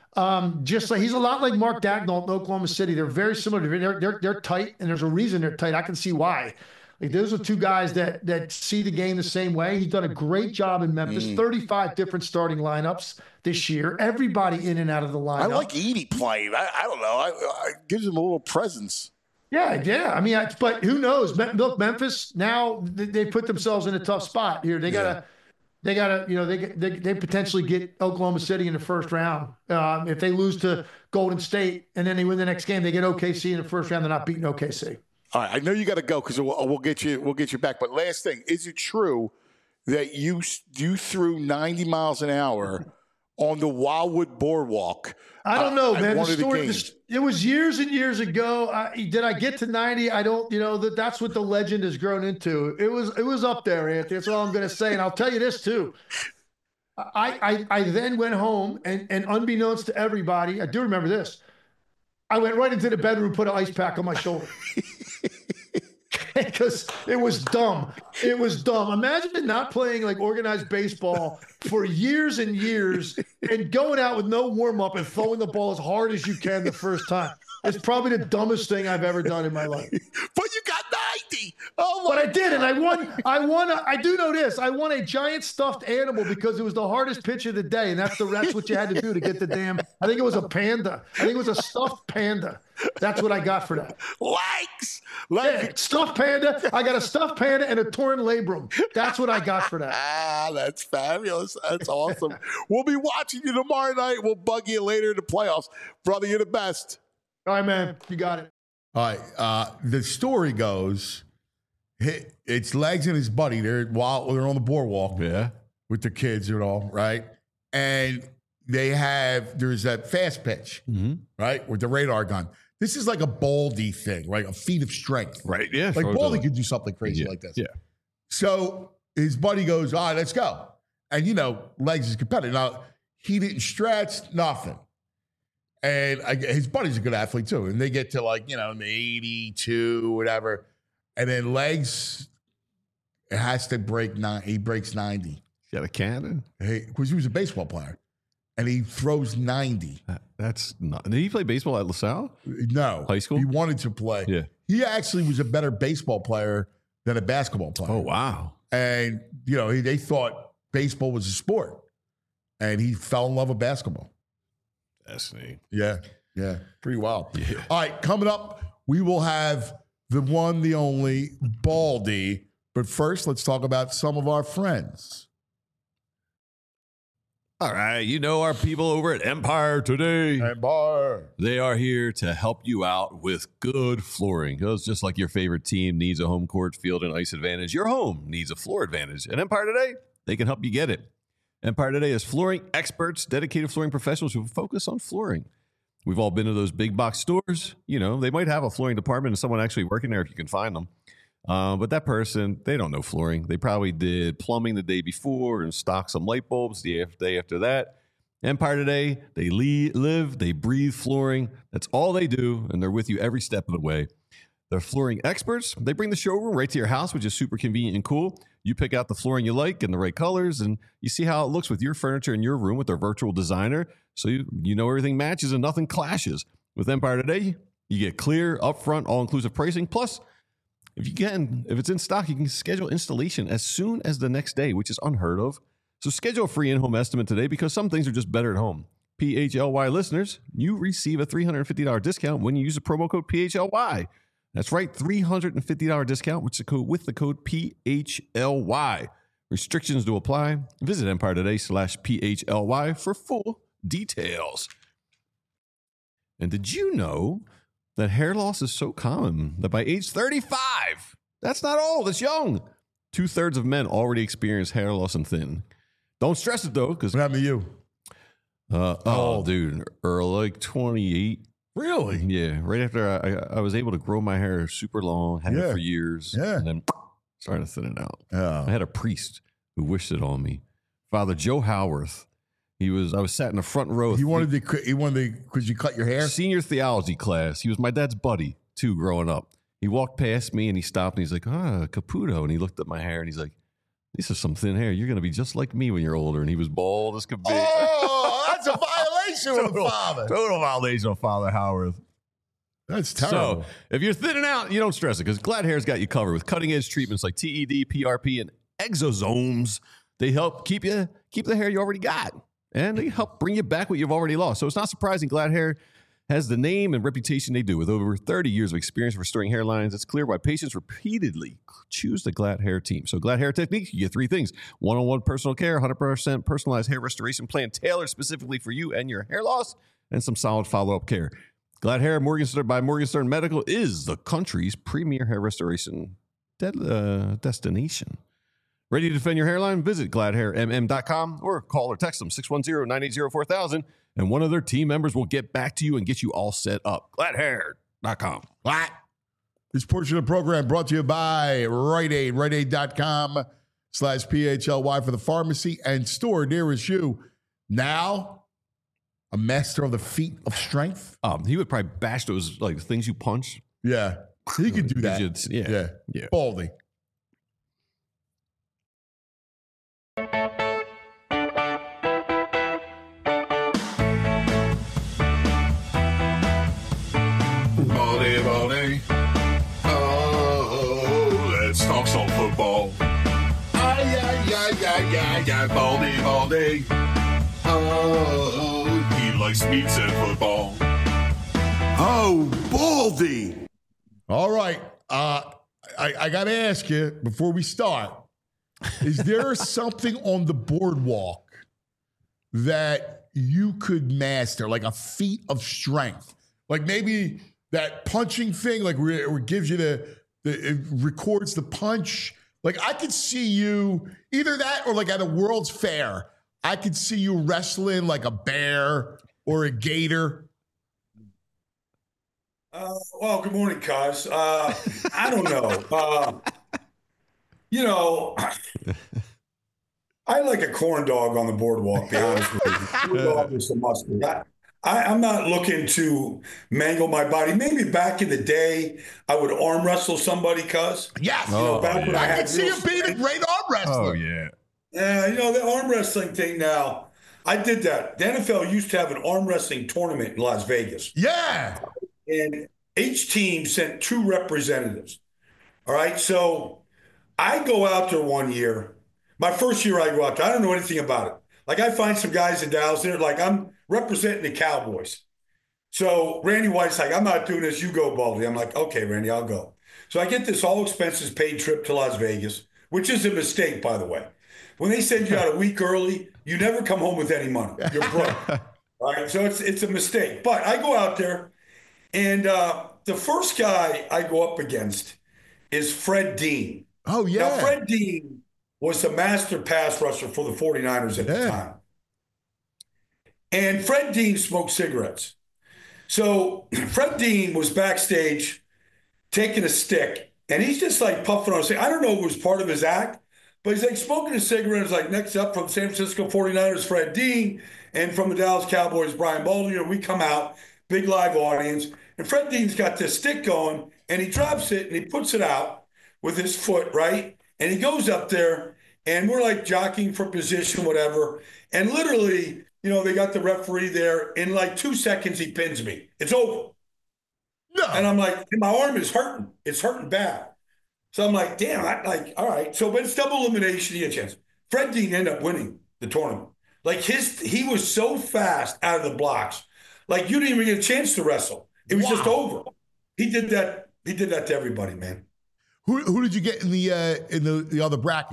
Um, just like he's a lot like Mark Dagnall in Oklahoma City. They're very similar. They're, they're, they're tight, and there's a reason they're tight. I can see why. Like those are two guys that that see the game the same way. He's done a great job in Memphis. Mm. thirty-five different starting lineups this year. Everybody in and out of the lineup. I like Edie playing. I, I don't know. I, I gives him a little presence. Yeah, yeah. I mean, I, but who knows? Look, Memphis now they, they put themselves in a tough spot here. They gotta. Yeah. They got to, you know, they, they they potentially get Oklahoma City in the first round. Um, if they lose to Golden State and then they win the next game, they get O K C in the first round. They're not beating O K C. All right, I know you got to go because we'll, we'll get you we'll get you back. But last thing, is it true that you you threw ninety miles an hour on the Wildwood Boardwalk. I don't know, uh, man. The one of the story, games. the, it was years and years ago. I, did I get to ninety? I don't, you know, that that's what the legend has grown into. It was, it was up there, Anthony. That's all I'm going to say. And I'll tell you this too. I, I, I then went home and, and unbeknownst to everybody, I do remember this. I went right into the bedroom, put an ice pack on my shoulder. Because it was dumb. It was dumb. Imagine not playing like organized baseball for years and years and going out with no warm-up and throwing the ball as hard as you can the first time. It's probably the dumbest thing I've ever done in my life. But you got ninety. Oh, my But I did, and I won. I won. A, I do know this. I won a giant stuffed animal because it was the hardest pitch of the day, and that's the that's what you had to do to get the damn. I think it was a panda. I think it was a stuffed panda. That's what I got for that. Legs. Legs. Yeah, stuffed panda. I got a stuffed panda and a torn labrum. That's what I got for that. Ah, that's fabulous. That's awesome. We'll be watching you tomorrow night. We'll bug you later in the playoffs. Brother, you're the best. All right, man. You got it. All right. Uh, the story goes, it's Legs and his buddy. They're while they're on the boardwalk, Yeah. with their kids and all, right? And they have there's that fast pitch, Mm-hmm. right, with the radar gun. This is like a Baldy thing, right? A feat of strength, Right. Yeah. Like sure, Baldy totally. could do something crazy Yeah, like this. yeah. So his buddy goes, all right, let's go. And you know, Legs is competitive. Now he didn't stretch, nothing. And I, his buddy's a good athlete too. And they get to like, you know, eighty-two, whatever. And then Legs has to break nine. He breaks ninety. Got a cannon? Because he was a baseball player. And he throws ninety. That, that's not. Did he play baseball at LaSalle? No. High school? He wanted to play. Yeah. He actually was a better baseball player than a basketball player. Oh, wow. And, you know, he, they thought baseball was a sport. And he fell in love with basketball. That's neat. Yeah. Yeah. Pretty wild. Yeah. All right. Coming up, we will have the one, the only Baldy. But first, let's talk about some of our friends. All right. You know our people over at Empire Today. And bar. They are here to help you out with good flooring. Because just like your favorite team needs a home court, field, and ice advantage, your home needs a floor advantage. At Empire Today, they can help you get it. Empire Today is flooring experts, dedicated flooring professionals who focus on flooring. We've all been to those big box stores. You know, they might have a flooring department and someone actually working there if you can find them. Uh, but that person, they don't know flooring. They probably did plumbing the day before and stocked some light bulbs the day after that. Empire Today, they lead, live, they breathe flooring. That's all they do, and they're with you every step of the way. They're flooring experts. They bring the showroom right to your house, which is super convenient and cool. You pick out the flooring you like and the right colors, and you see how it looks with your furniture in your room with their virtual designer. So you, you know everything matches and nothing clashes. With Empire Today, you get clear, upfront, all-inclusive pricing. Plus, if you can, if it's in stock, you can schedule installation as soon as the next day, which is unheard of. So schedule a free in-home estimate today because some things are just better at home. P H L Y listeners, you receive a three hundred fifty dollars discount when you use the promo code P H L Y. That's right, three hundred fifty dollars discount with the code, with the code P H L Y. Restrictions to apply. Visit Empire Today slash P H L Y for full details. And did you know that hair loss is so common that by age thirty-five, that's not old, it's young. Two-thirds of men already experience hair loss and thin. Don't stress it, though, because... What happened to you? Uh, oh, dude, Earl, like twenty-eight. Really? Yeah, right after I, I was able to grow my hair super long, had Yeah. it for years, Yeah. and then started to thin it out. Yeah. I had a priest who wished it on me, Father Joe Howarth. He was, I was sat in the front row. He wanted to, he wanted to, because you cut your hair? Senior theology class. He was my dad's buddy, too, growing up. He walked past me and he stopped and he's like, ah, Caputo. And he looked at my hair and he's like, this is some thin hair. You're going to be just like me when you're older. And he was bald as could be. Oh, that's a violation of the father. Total violation of Father Howarth. That's terrible. So if you're thinning out, you don't stress it because Glad Hair's got you covered with cutting edge treatments like T E D, P R P, and exosomes. They help keep you keep the hair you already got, and they help bring you back what you've already lost. So it's not surprising Glad Hair has the name and reputation they do. With over thirty years of experience restoring hairlines, it's clear why patients repeatedly choose the Glad Hair team. So Glad Hair Technique, you get three things: one-on-one personal care, one hundred percent personalized hair restoration plan tailored specifically for you and your hair loss, and some solid follow-up care. Glad Hair Morgenstern by Morgenstern Medical is the country's premier hair restoration de- uh, destination. Ready to defend your hairline? Visit glad hair m m dot com or call or text them six one zero, nine eight zero, four thousand, and one of their team members will get back to you and get you all set up. glad hair dot com. What? This portion of the program brought to you by Rite Aid, rite aid dot com slash P H L Y for the pharmacy and store nearest you. Now, a master of the feat of strength. Um, he would probably bash those like things you punch. Yeah, he could do that. Should, yeah. yeah, yeah. Baldy. Baldy, Baldy. Oh, let's talk some football. Ay, ay, ay, ay, ay, ay, Baldy, Baldy. Oh, he likes meats and football. Oh, Baldy. All right. Uh, I, I got to ask you before we start, is there something on the boardwalk that you could master, like a feat of strength? Like maybe that punching thing, like where it gives you the, the, it records the punch. Like I could see you either that or like at a World's Fair, I could see you wrestling like a bear or a gator. Uh, well, good morning, cuz. Uh, I don't know. Uh, you know, I like a corn dog on the boardwalk, to be honest with you. Corn dog is a mustard. I, I, I'm not looking to mangle my body. Maybe back in the day, I would arm wrestle somebody, cuz. Yes. You know, Oh, back when yeah. I I had could see real you being a strength. great arm wrestler. Oh, yeah. Yeah, you know, the arm wrestling thing now, I did that. The N F L used to have an arm wrestling tournament in Las Vegas. Yeah. And each team sent two representatives. All right. So I go out there one year. My first year I go out there, I don't know anything about it. Like I find some guys in Dallas, they're like, I'm representing the Cowboys. So Randy White's like, I'm not doing this. You go, Baldy. I'm like, okay, Randy, I'll go. So I get this all expenses paid trip to Las Vegas, which is a mistake, by the way. When they send you out a week early, you never come home with any money. You're broke. All right. So it's it's a mistake. But I go out there. And uh, the first guy I go up against is Fred Dean. Oh, yeah. Now, Fred Dean was the master pass rusher for the 49ers at Yeah. the time. And Fred Dean smoked cigarettes. So Fred Dean was backstage taking a stick, and he's just like puffing on a cigarette. I don't know if it was part of his act, but he's like smoking a cigarette. It's like, next up from San Francisco 49ers, Fred Dean, and from the Dallas Cowboys, Brian Baldy. And we come out, big live audience. And Fred Dean's got this stick going, and he drops it, and he puts it out with his foot, right? And he goes up there, and we're like jockeying for position, whatever. And literally, you know, they got the referee there. In like two seconds, he pins me. It's over. No. And I'm like, and my arm is hurting. It's hurting bad. So I'm like, damn, I like, all right. So, but it's double elimination, he had a chance. Fred Dean ended up winning the tournament. Like his, he was so fast out of the blocks. Like you didn't even get a chance to wrestle. It was Wow. just over. He did that. He did that to everybody, man. Who who did you get in the uh, in the, the other bracket?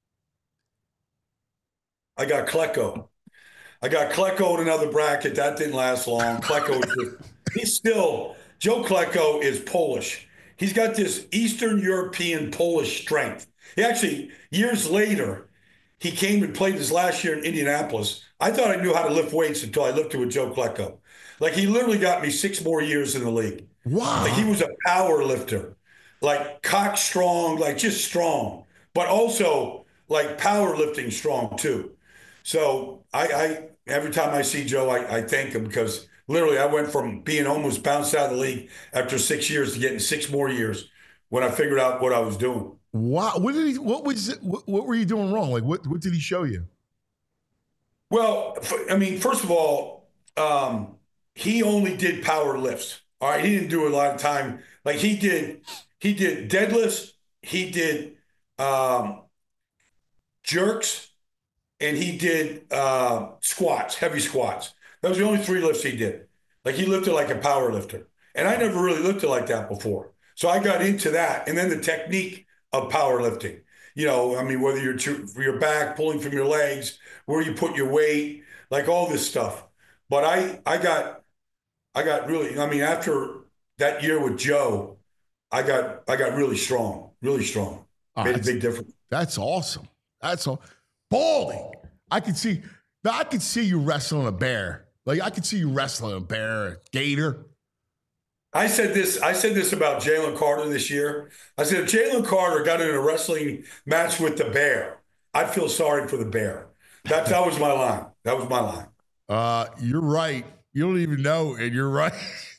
I got Klecko. I got Klecko in another bracket. That didn't last long. Klecko, is just, he's still, Joe Klecko is Polish. He's got this Eastern European Polish strength. He actually, years later, he came and played his last year in Indianapolis. I thought I knew how to lift weights until I lifted with Joe Klecko. Like he literally got me six more years in the league. Wow. Like he was a power lifter, like cock strong, like just strong, but also like powerlifting strong too. So I, I every time I see Joe, I, I thank him because literally I went from being almost bounced out of the league after six years to getting six more years when I figured out what I was doing. Wow. What did he? What was? It, what, what were you doing wrong? Like what? What did he show you? Well, I mean, first of all, um, he only did power lifts. All right, he didn't do a lot of time. Like he did, he did deadlifts, he did um, jerks, and he did uh, squats, heavy squats. Those were the only three lifts he did. Like he lifted like a power lifter, and I never really lifted like that before. So I got into that, and then the technique of powerlifting. You know, I mean, whether you're to, your back pulling from your legs, where you put your weight, like all this stuff. But I, I got, I got really. I mean, after that year with Joe, I got, I got really strong, really strong. Oh, Made a that's- big difference. That's awesome. That's all. Baldy. I could see. Now I could see you wrestling a bear. Like I could see you wrestling a bear, a gator. I said this. I said this about Jalen Carter this year. I said if Jalen Carter got in a wrestling match with the bear, I'd feel sorry for the bear. That that was my line. That was my line. Uh, you're right. You don't even know, and you're right.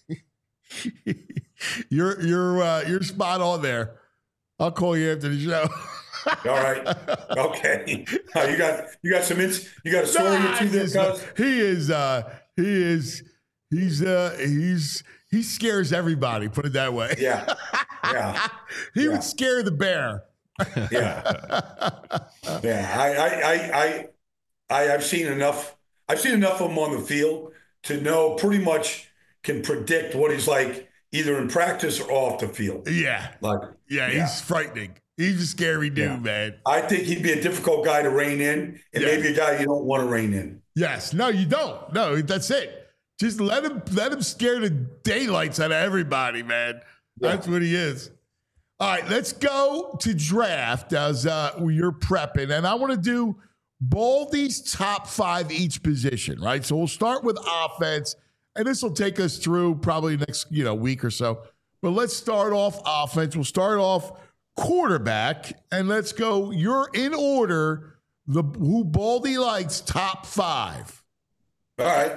you're you're uh, you're spot on there. I'll call you after the show. All right. Okay. Uh, you got you got some ins- you got a story or two there, cuz? He is uh he is he's uh he's he scares everybody, put it that way. Yeah. Yeah. he yeah. would scare the bear. yeah. Yeah. I I I I I I've seen enough I've seen enough of him on the field to know pretty much can predict what he's like either in practice or off the field. Yeah. Like yeah, yeah. he's frightening. He's a scary dude, yeah. man. I think he'd be a difficult guy to rein in, and yeah. maybe a guy you don't want to rein in. Yes. No, you don't. No, that's it. Just let him let him scare the daylights out of everybody, man. Yeah. That's what he is. All right, let's go to draft as uh, you're prepping. And I want to do Baldy's top five each position, right? So we'll start with offense, and this will take us through probably next you know week or so. But let's start off offense. We'll start off quarterback, and let's go. You're in order. The who Baldy likes top five. All right.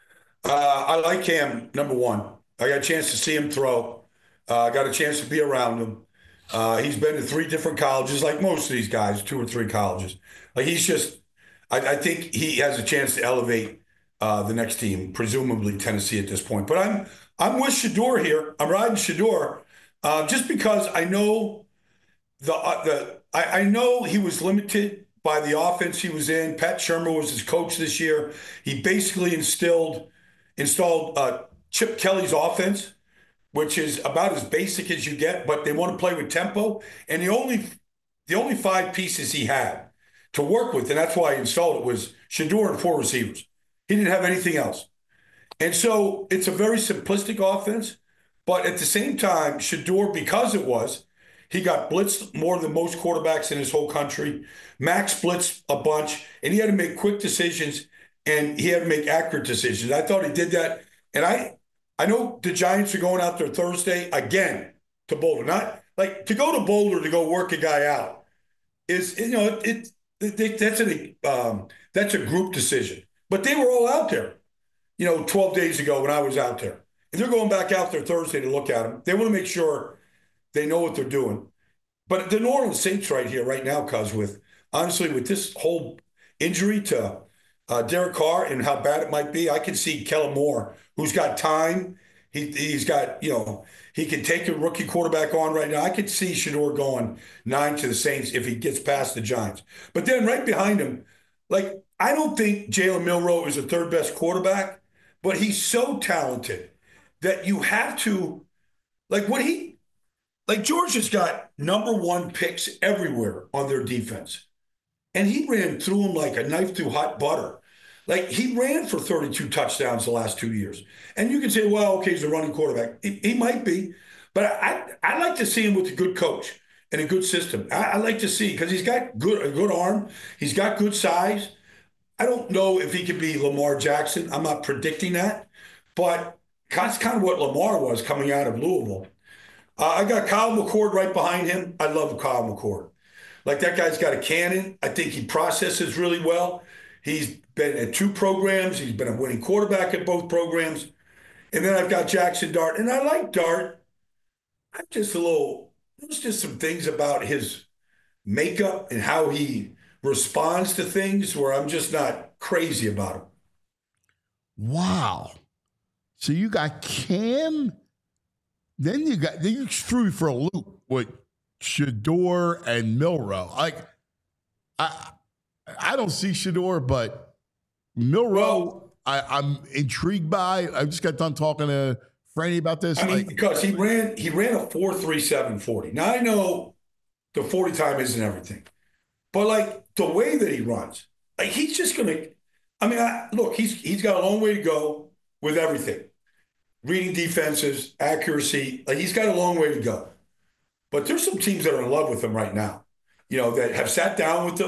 Uh, I like Cam number one. I got a chance to see him throw. I uh, got a chance to be around him. Uh, he's been to three different colleges, like most of these guys, two or three colleges. Like he's just. I, I think he has a chance to elevate uh, the next team, presumably Tennessee at this point. But I'm I'm with Shedeur here. I'm riding Shedeur uh, just because I know. The uh, the I, I know he was limited by the offense he was in. Pat Shermer was his coach this year. He basically instilled installed uh, Chip Kelly's offense, which is about as basic as you get. But they want to play with tempo, and the only the only five pieces he had to work with, and that's why he installed it, was Shedeur and four receivers. He didn't have anything else, and so it's a very simplistic offense. But at the same time, Shedeur, because it was. He got blitzed more than most quarterbacks in his whole country. Max blitzed a bunch, and he had to make quick decisions, and he had to make accurate decisions. I thought he did that. And I I know the Giants are going out there Thursday again to Boulder. Not like to go to Boulder to go work a guy out is, you know, it, it, it that's a um, that's a group decision. But they were all out there, you know, twelve days ago when I was out there. And they're going back out there Thursday to look at him. They want to make sure they know what they're doing. But the New Orleans Saints right here, right now, cuz with, honestly, with this whole injury to uh, Derek Carr and how bad it might be, I can see Kellen Moore, who's got time. He, he's got, you know, he can take a rookie quarterback on right now. I could see Shedeur going nine to the Saints if he gets past the Giants. But then right behind him, like, I don't think Jalen Milroe is the third best quarterback, but he's so talented that you have to, like, what he, Like Georgia's got number one picks everywhere on their defense. And he ran through them like a knife through hot butter. Like he ran for thirty-two touchdowns the last two years. And you can say, well, okay, he's a running quarterback. He, he might be. But I I like to see him with a good coach and a good system. I, I like to see because he's got good a good arm. He's got good size. I don't know if he could be Lamar Jackson. I'm not predicting that. But that's kind of what Lamar was coming out of Louisville. Uh, I got Kyle McCord right behind him. I love Kyle McCord. Like that guy's got a cannon. I think he processes really well. He's been at two programs. He's been a winning quarterback at both programs. And then I've got Jackson Dart. And I like Dart. I'm just a little, there's just some things about his makeup and how he responds to things where I'm just not crazy about him. Wow. So you got Cam. Then you got, then you threw me for a loop with Shedeur and Milroe. Like, I I don't see Shedeur, but Milroe, well, I, I'm intrigued by. I just got done talking to Franny about this. I mean, like, because he ran he ran a four three seven forty. Now I know the forty time isn't everything, but like the way that he runs, like he's just gonna. I mean, I, look, he's he's got a long way to go with everything. Reading defenses, accuracy, like he's got a long way to go. But there's some teams that are in love with him right now, you know, that have sat down with him,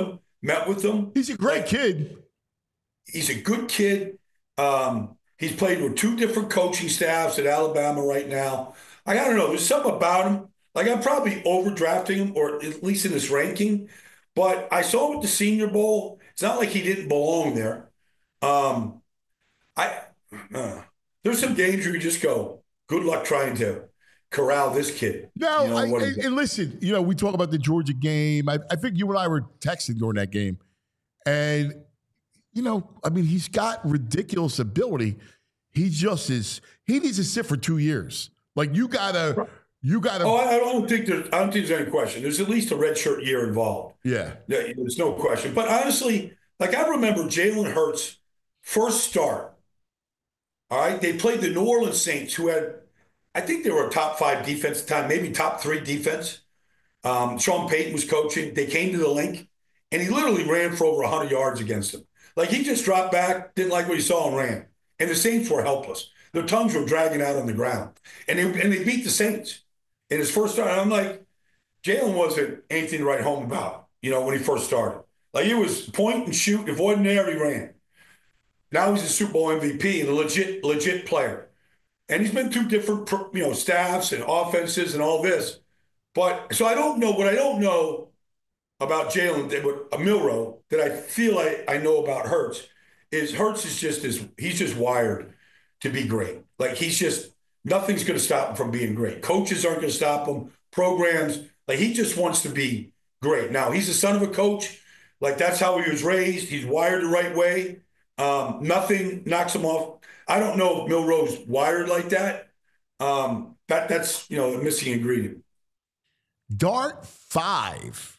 met with him. He's a great like, kid. He's a good kid. Um, he's played with two different coaching staffs at Alabama right now. I, I don't know. There's something about him. Like, I'm probably overdrafting him, or at least in this ranking. But I saw him at the Senior Bowl. It's not like he didn't belong there. Um, I uh, there's some games where you just go, good luck trying to corral this kid. No, you know, I, and, and listen, you know, we talk about the Georgia game. I, I think you and I were texting during that game. And, you know, I mean, he's got ridiculous ability. He just is, he needs to sit for two years. Like, you got to, you got to. Oh, I don't think there's, I don't think there's any question. There's at least a redshirt year involved. Yeah. There's no question. But honestly, like, I remember Jalen Hurts' first start. All right. They played the New Orleans Saints, who had, I think they were a top five defense at the time, maybe top three defense. Um, Sean Payton was coaching. They came to the link, and he literally ran for over one hundred yards against them. Like, he just dropped back, didn't like what he saw, and ran. And the Saints were helpless. Their tongues were dragging out on the ground. And they, and they beat the Saints in his first start. And I'm like, Jalen wasn't anything to write home about, you know, when he first started. Like, it was point and shoot, avoid an air, he ran. Now he's a Super Bowl M V P and a legit, legit player. And he's been through different, you know, staffs and offenses and all this. But so I don't know what I don't know about Jalen, what a Milroe, that I feel I, I know about Hurts is Hurts is just is he's just wired to be great. Like, he's just nothing's going to stop him from being great. Coaches aren't going to stop him. Programs, like, he just wants to be great. Now, he's the son of a coach. Like, that's how he was raised. He's wired the right way. Um, nothing knocks him off. I don't know if Milroe's wired like that. Um, that that's, you know, the missing ingredient. Dart five.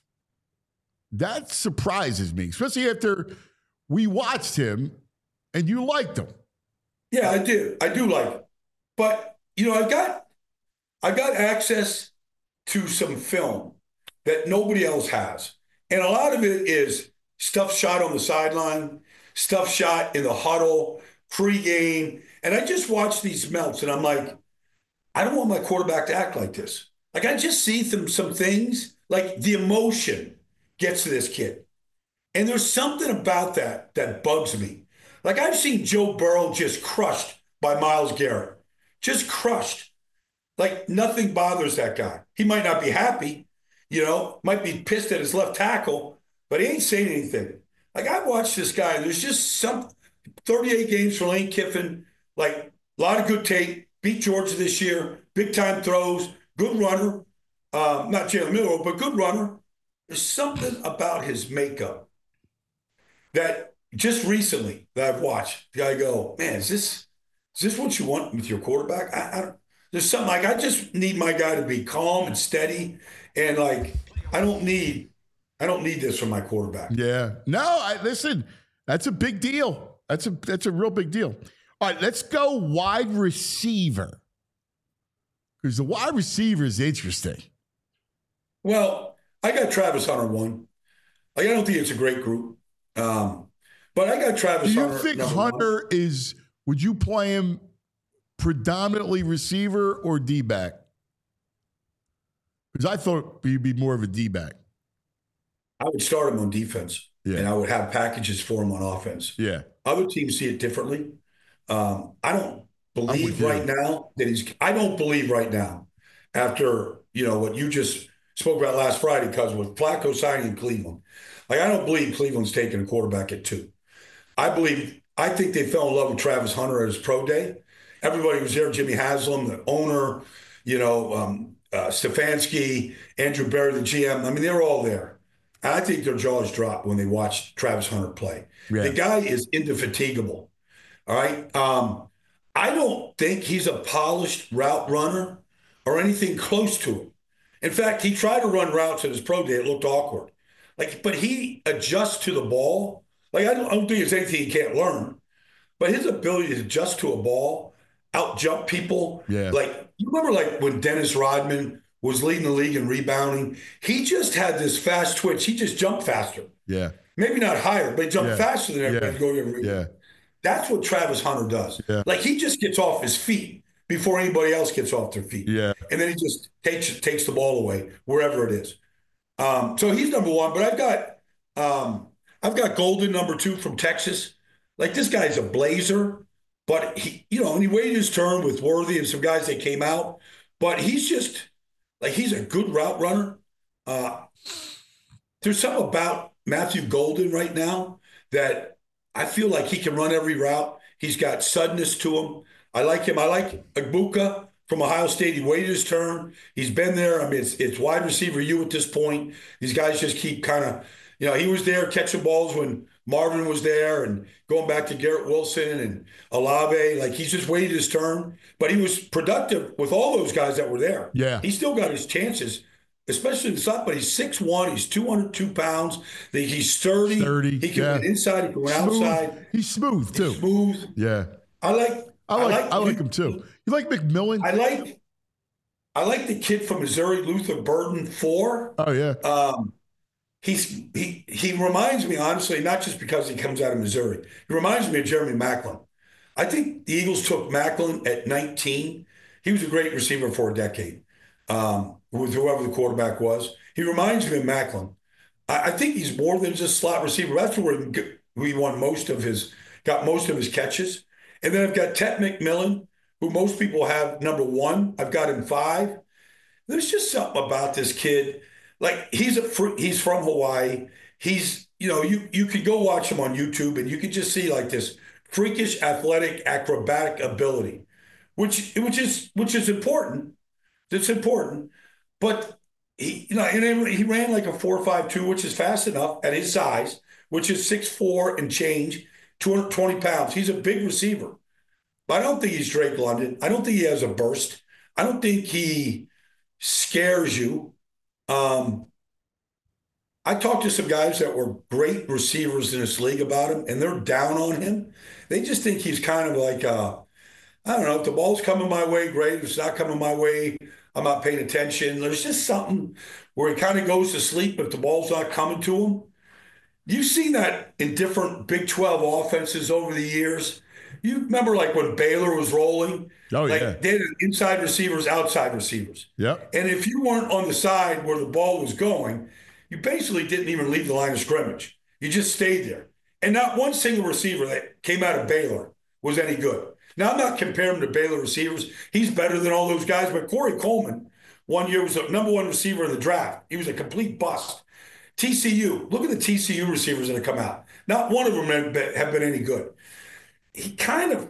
That surprises me, especially after we watched him and you liked him. Yeah, I do. I do like him. But, you know, I've got I've got access to some film that nobody else has. And a lot of it is stuff shot on the sideline, stuff shot in the huddle, pregame. And I just watch these melts and I'm like, I don't want my quarterback to act like this. Like, I just see some, some things, like the emotion gets to this kid. And there's something about that that bugs me. Like, I've seen Joe Burrow just crushed by Myles Garrett, just crushed. Like, nothing bothers that guy. He might not be happy, you know, might be pissed at his left tackle, but he ain't saying anything. Like, I watched this guy. There's just some thirty-eight games for Lane Kiffin, like a lot of good tape, beat Georgia this year, big time throws, good runner. Um, not Jalen Milroe, but good runner. There's something about his makeup that just recently that I've watched, the guy go, man, is this is this what you want with your quarterback? I, I don't, there's something like, I just need my guy to be calm and steady, and like I don't need I don't need this from my quarterback. Yeah. No, I listen, that's a big deal. That's a that's a real big deal. All right, let's go wide receiver. Because the wide receiver is interesting. Well, I got Travis Hunter one. Like, I don't think it's a great group. Um, but I got Travis Do you Hunter. think Hunter one. is, would you play him predominantly receiver or D-back? Because I thought he'd be more of a D-back. I would start him on defense, yeah. and I would have packages for him on offense. Yeah. Other teams see it differently. Um, I don't believe right now that he's – I don't believe right now after, you know, what you just spoke about last Friday, because with Flacco signing in Cleveland, like, I don't believe Cleveland's taking a quarterback at two. I believe – I think they fell in love with Travis Hunter at his pro day. Everybody was there, Jimmy Haslam, the owner, you know, um, uh, Stefanski, Andrew Berry, the G M. I mean, they were all there. And I think their jaws dropped when they watched Travis Hunter play. Yeah. The guy is indefatigable. All right. Um, I don't think he's a polished route runner or anything close to it. In fact, he tried to run routes at his pro day. It looked awkward. Like, but he adjusts to the ball. Like, I don't, I don't think it's anything he can't learn. But his ability to adjust to a ball, out jump people. Yeah. Like, you remember like when Dennis Rodman was leading the league in rebounding? He just had this fast twitch. He just jumped faster. Yeah. Maybe not higher, but he jumped yeah. faster than everybody yeah. going every Yeah. That's what Travis Hunter does. Yeah. Like, he just gets off his feet before anybody else gets off their feet. Yeah. And then he just takes takes the ball away wherever it is. Um, so he's number one. But I've got um, I've got Golden number two from Texas. Like this guy's a blazer, but he, you know, and he waited his turn with Worthy and some guys that came out. But he's just like he's a good route runner. Uh, there's something about Matthew Golden right now that I feel like he can run every route. He's got suddenness to him. I like him. I like Agbuka from Ohio State. He waited his turn. He's been there. I mean, it's, it's wide receiver you at this point. These guys just keep kind of, you know, he was there catching balls when Marvin was there and going back to Garrett Wilson and Olave. Like he's just waited his turn. But he was productive with all those guys that were there. Yeah. He still got his chances, especially in the slot, but he's six one, he's two hundred two pounds, he's sturdy. sturdy he can yeah. win inside, he can win smooth. outside. He's smooth, too. He's smooth. Yeah. I like I like I like, I like him, too. You like McMillan? I like I like the kid from Missouri, Luther Burden, four. Oh, yeah. Um, he's he he reminds me, honestly, not just because he comes out of Missouri. He reminds me of Jeremy Maclin. I think the Eagles took Maclin at nineteen. He was a great receiver for a decade. Um, with whoever the quarterback was. He reminds me of Maclin. I, I think he's more than just slot receiver. That's where we won most of his, got most of his catches. And then I've got Ted McMillan, who most people have number one. I've got him five. There's just something about this kid. Like he's a he's from Hawaii. He's, you know, you you could go watch him on YouTube and you could just see like this freakish athletic acrobatic ability, which which is which is important. That's important. But he, you know, and he ran like a four five two, which is fast enough at his size, which is six four and change, two hundred twenty pounds. He's a big receiver. But I don't think he's Drake London. I don't think he has a burst. I don't think he scares you. Um, I talked to some guys that were great receivers in this league about him, and they're down on him. They just think he's kind of like, uh, I don't know, if the ball's coming my way, great. If it's not coming my way, I'm not paying attention. There's just something where he kind of goes to sleep if the ball's not coming to him. You've seen that in different Big twelve offenses over the years. You remember like when Baylor was rolling? Oh, like yeah. They had inside receivers, outside receivers. Yep. And if you weren't on the side where the ball was going, you basically didn't even leave the line of scrimmage. You just stayed there. And not one single receiver that came out of Baylor was any good. Now, I'm not comparing him to Baylor receivers. He's better than all those guys. But Corey Coleman, one year, was the number one receiver in the draft. He was a complete bust. T C U, look at the T C U receivers that have come out. Not one of them have been, have been any good. He kind of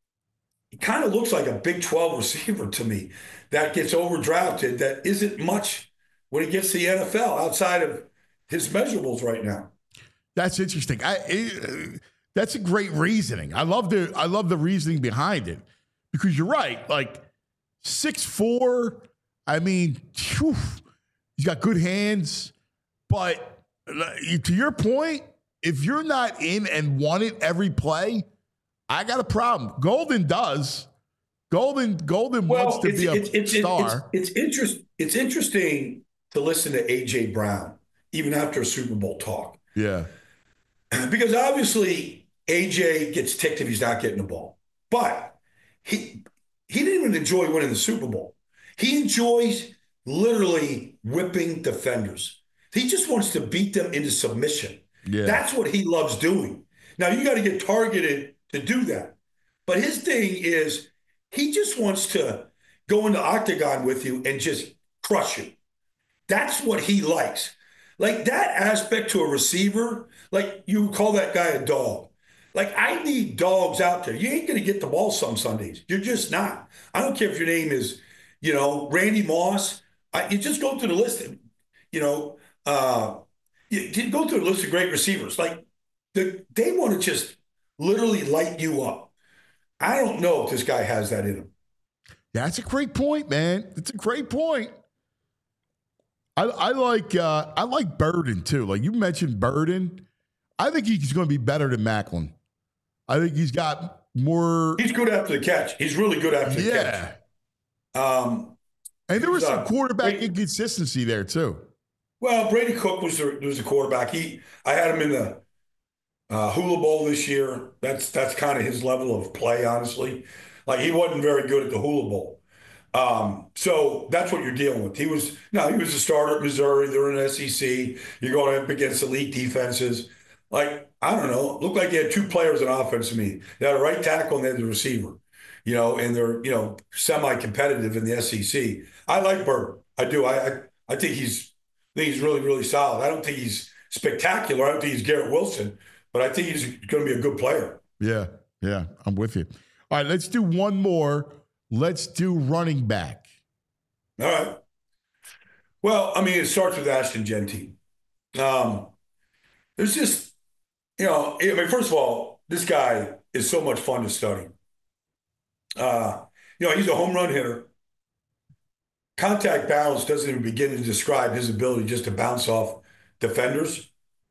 he kind of looks like a Big twelve receiver to me that gets overdrafted, that isn't much when he gets to the N F L outside of his measurables right now. That's interesting. I, it, that's a great reasoning. I love the I love the reasoning behind it because you're right. Like six four, I mean, whew, he's got good hands. But to your point, if you're not in and want it every play, I got a problem. Golden does. Golden Golden well, wants to be a it's, it's, star. It's, it's, interest, it's interesting to listen to A J Brown, even after a Super Bowl talk. Yeah. Because obviously A J gets ticked if he's not getting the ball. But he he didn't even enjoy winning the Super Bowl. He enjoys literally whipping defenders. He just wants to beat them into submission. Yeah. That's what he loves doing. Now, you got to get targeted to do that. But his thing is he just wants to go into octagon with you and just crush you. That's what he likes. Like that aspect to a receiver, like you call that guy a dog. Like I need dogs out there. You ain't going to get the ball some Sundays. You're just not. I don't care if your name is, you know, Randy Moss. I, you just go through the list, you know, uh, you, you go through the list of great receivers. Like the, they want to just literally light you up. I don't know if this guy has that in him. That's a great point, man. It's a great point. I, I like uh, I like Burden too. Like you mentioned Burden. I think he's going to be better than Maclin. I think he's got more. He's good after the catch. He's really good after the yeah. catch. Um, and there was some uh, quarterback Brady, inconsistency there too. Well, Brady Cook was the, was the quarterback. He I had him in the uh, Hula Bowl this year. That's that's kind of his level of play, honestly. Like he wasn't very good at the Hula Bowl. Um, so that's what you're dealing with. He was no, he was a starter at Missouri. They're in the S E C. You're going up against elite defenses. like, I don't know, looked like they had two players on offense to me. They had a right tackle and they had the receiver, you know, and they're, you know, semi-competitive in the S E C. I like Burton. I do. I, I, I think he's, I think he's really, really solid. I don't think he's spectacular. I don't think he's Garrett Wilson, but I think he's going to be a good player. Yeah, yeah, I'm with you. All right, let's do one more. Let's do running back. All right. Well, I mean, it starts with Ashton Jeanty. Um, there's just, you know, I mean, first of all, this guy is so much fun to study. Uh, you know, he's a home run hitter. Contact balance doesn't even begin to describe his ability just to bounce off defenders.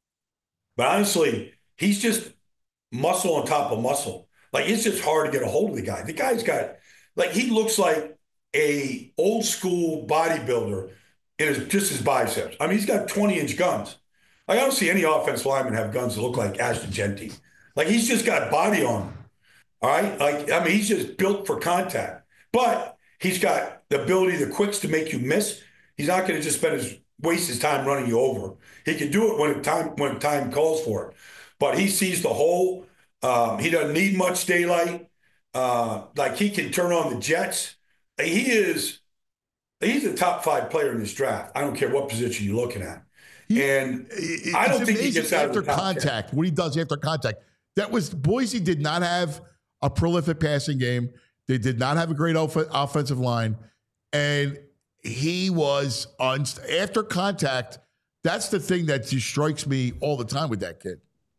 But honestly, he's just muscle on top of muscle. Like, it's just hard to get a hold of the guy. The guy's got, like, he looks like a old school bodybuilder in his, just his biceps. I mean, he's got twenty inch guns. Like, I don't see any offensive lineman have guns that look like Ashton Jeanty. Like, he's just got body on him. All right. Like, I mean, he's just built for contact, but he's got the ability, the quicks to make you miss. He's not going to just spend his waste his time running you over. He can do it when time when time calls for it. But he sees the hole. Um, he doesn't need much daylight. Uh, like, he can turn on the jets. He is he's a top five player in this draft. I don't care what position you're looking at. He, and I don't think he gets out after of the top contact. ten. What he does after contact. That was Boise did not have a prolific passing game. They did not have a great off- offensive line, and he was on after contact. That's the thing that just strikes me all the time with that kid.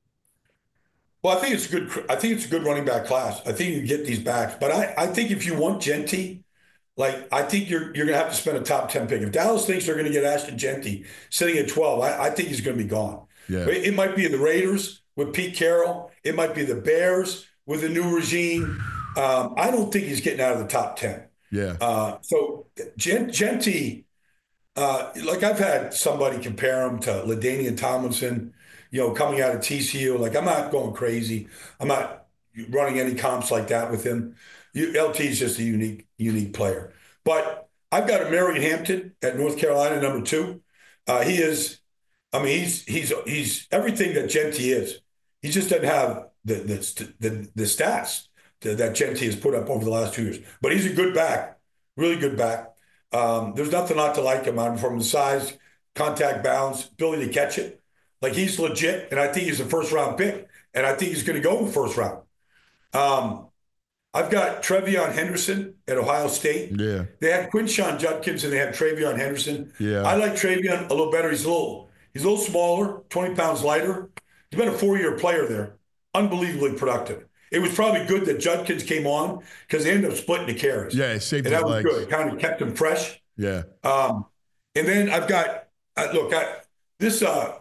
Well, I think it's a good. I think it's a good running back class. I think you can get these backs, but I, I think if you want Jeanty, like, I think you're you're going to have to spend a top ten pick. If Dallas thinks they're going to get Ashton Jeanty sitting at twelve, I, I think he's going to be gone. Yeah. It, it might be the Raiders with Pete Carroll. It might be the Bears with the new regime. Um, I don't think he's getting out of the top ten. Yeah. Uh, so Jeanty, uh, like, I've had somebody compare him to LaDainian Tomlinson, you know, coming out of T C U. Like, I'm not going crazy. I'm not running any comps like that with him. You, L T is just a unique, unique player. But I've got a Marion Hampton at North Carolina, number two. Uh, he is, I mean, he's he's he's everything that Jeanty is. He just doesn't have the the the, the stats that Jeanty has put up over the last two years. But he's a good back, really good back. Um, there's nothing not to like him on from the size, contact balance, ability to catch it. Like, he's legit, and I think he's a first-round pick, and I think he's going to go in the first round. Um, I've got Trevion Henderson at Ohio State. Yeah. They had Quinshon Judkins, and they had Trevion Henderson. Yeah. I like Trevion a little better. He's a little, he's a little smaller, twenty pounds lighter. He's been a four-year player there. Unbelievably productive. It was probably good that Judkins came on because they ended up splitting the carries. Yeah, it saved and his that was legs. good. It kind of kept him fresh. Yeah. Um, and then I've got uh, look, I, this uh,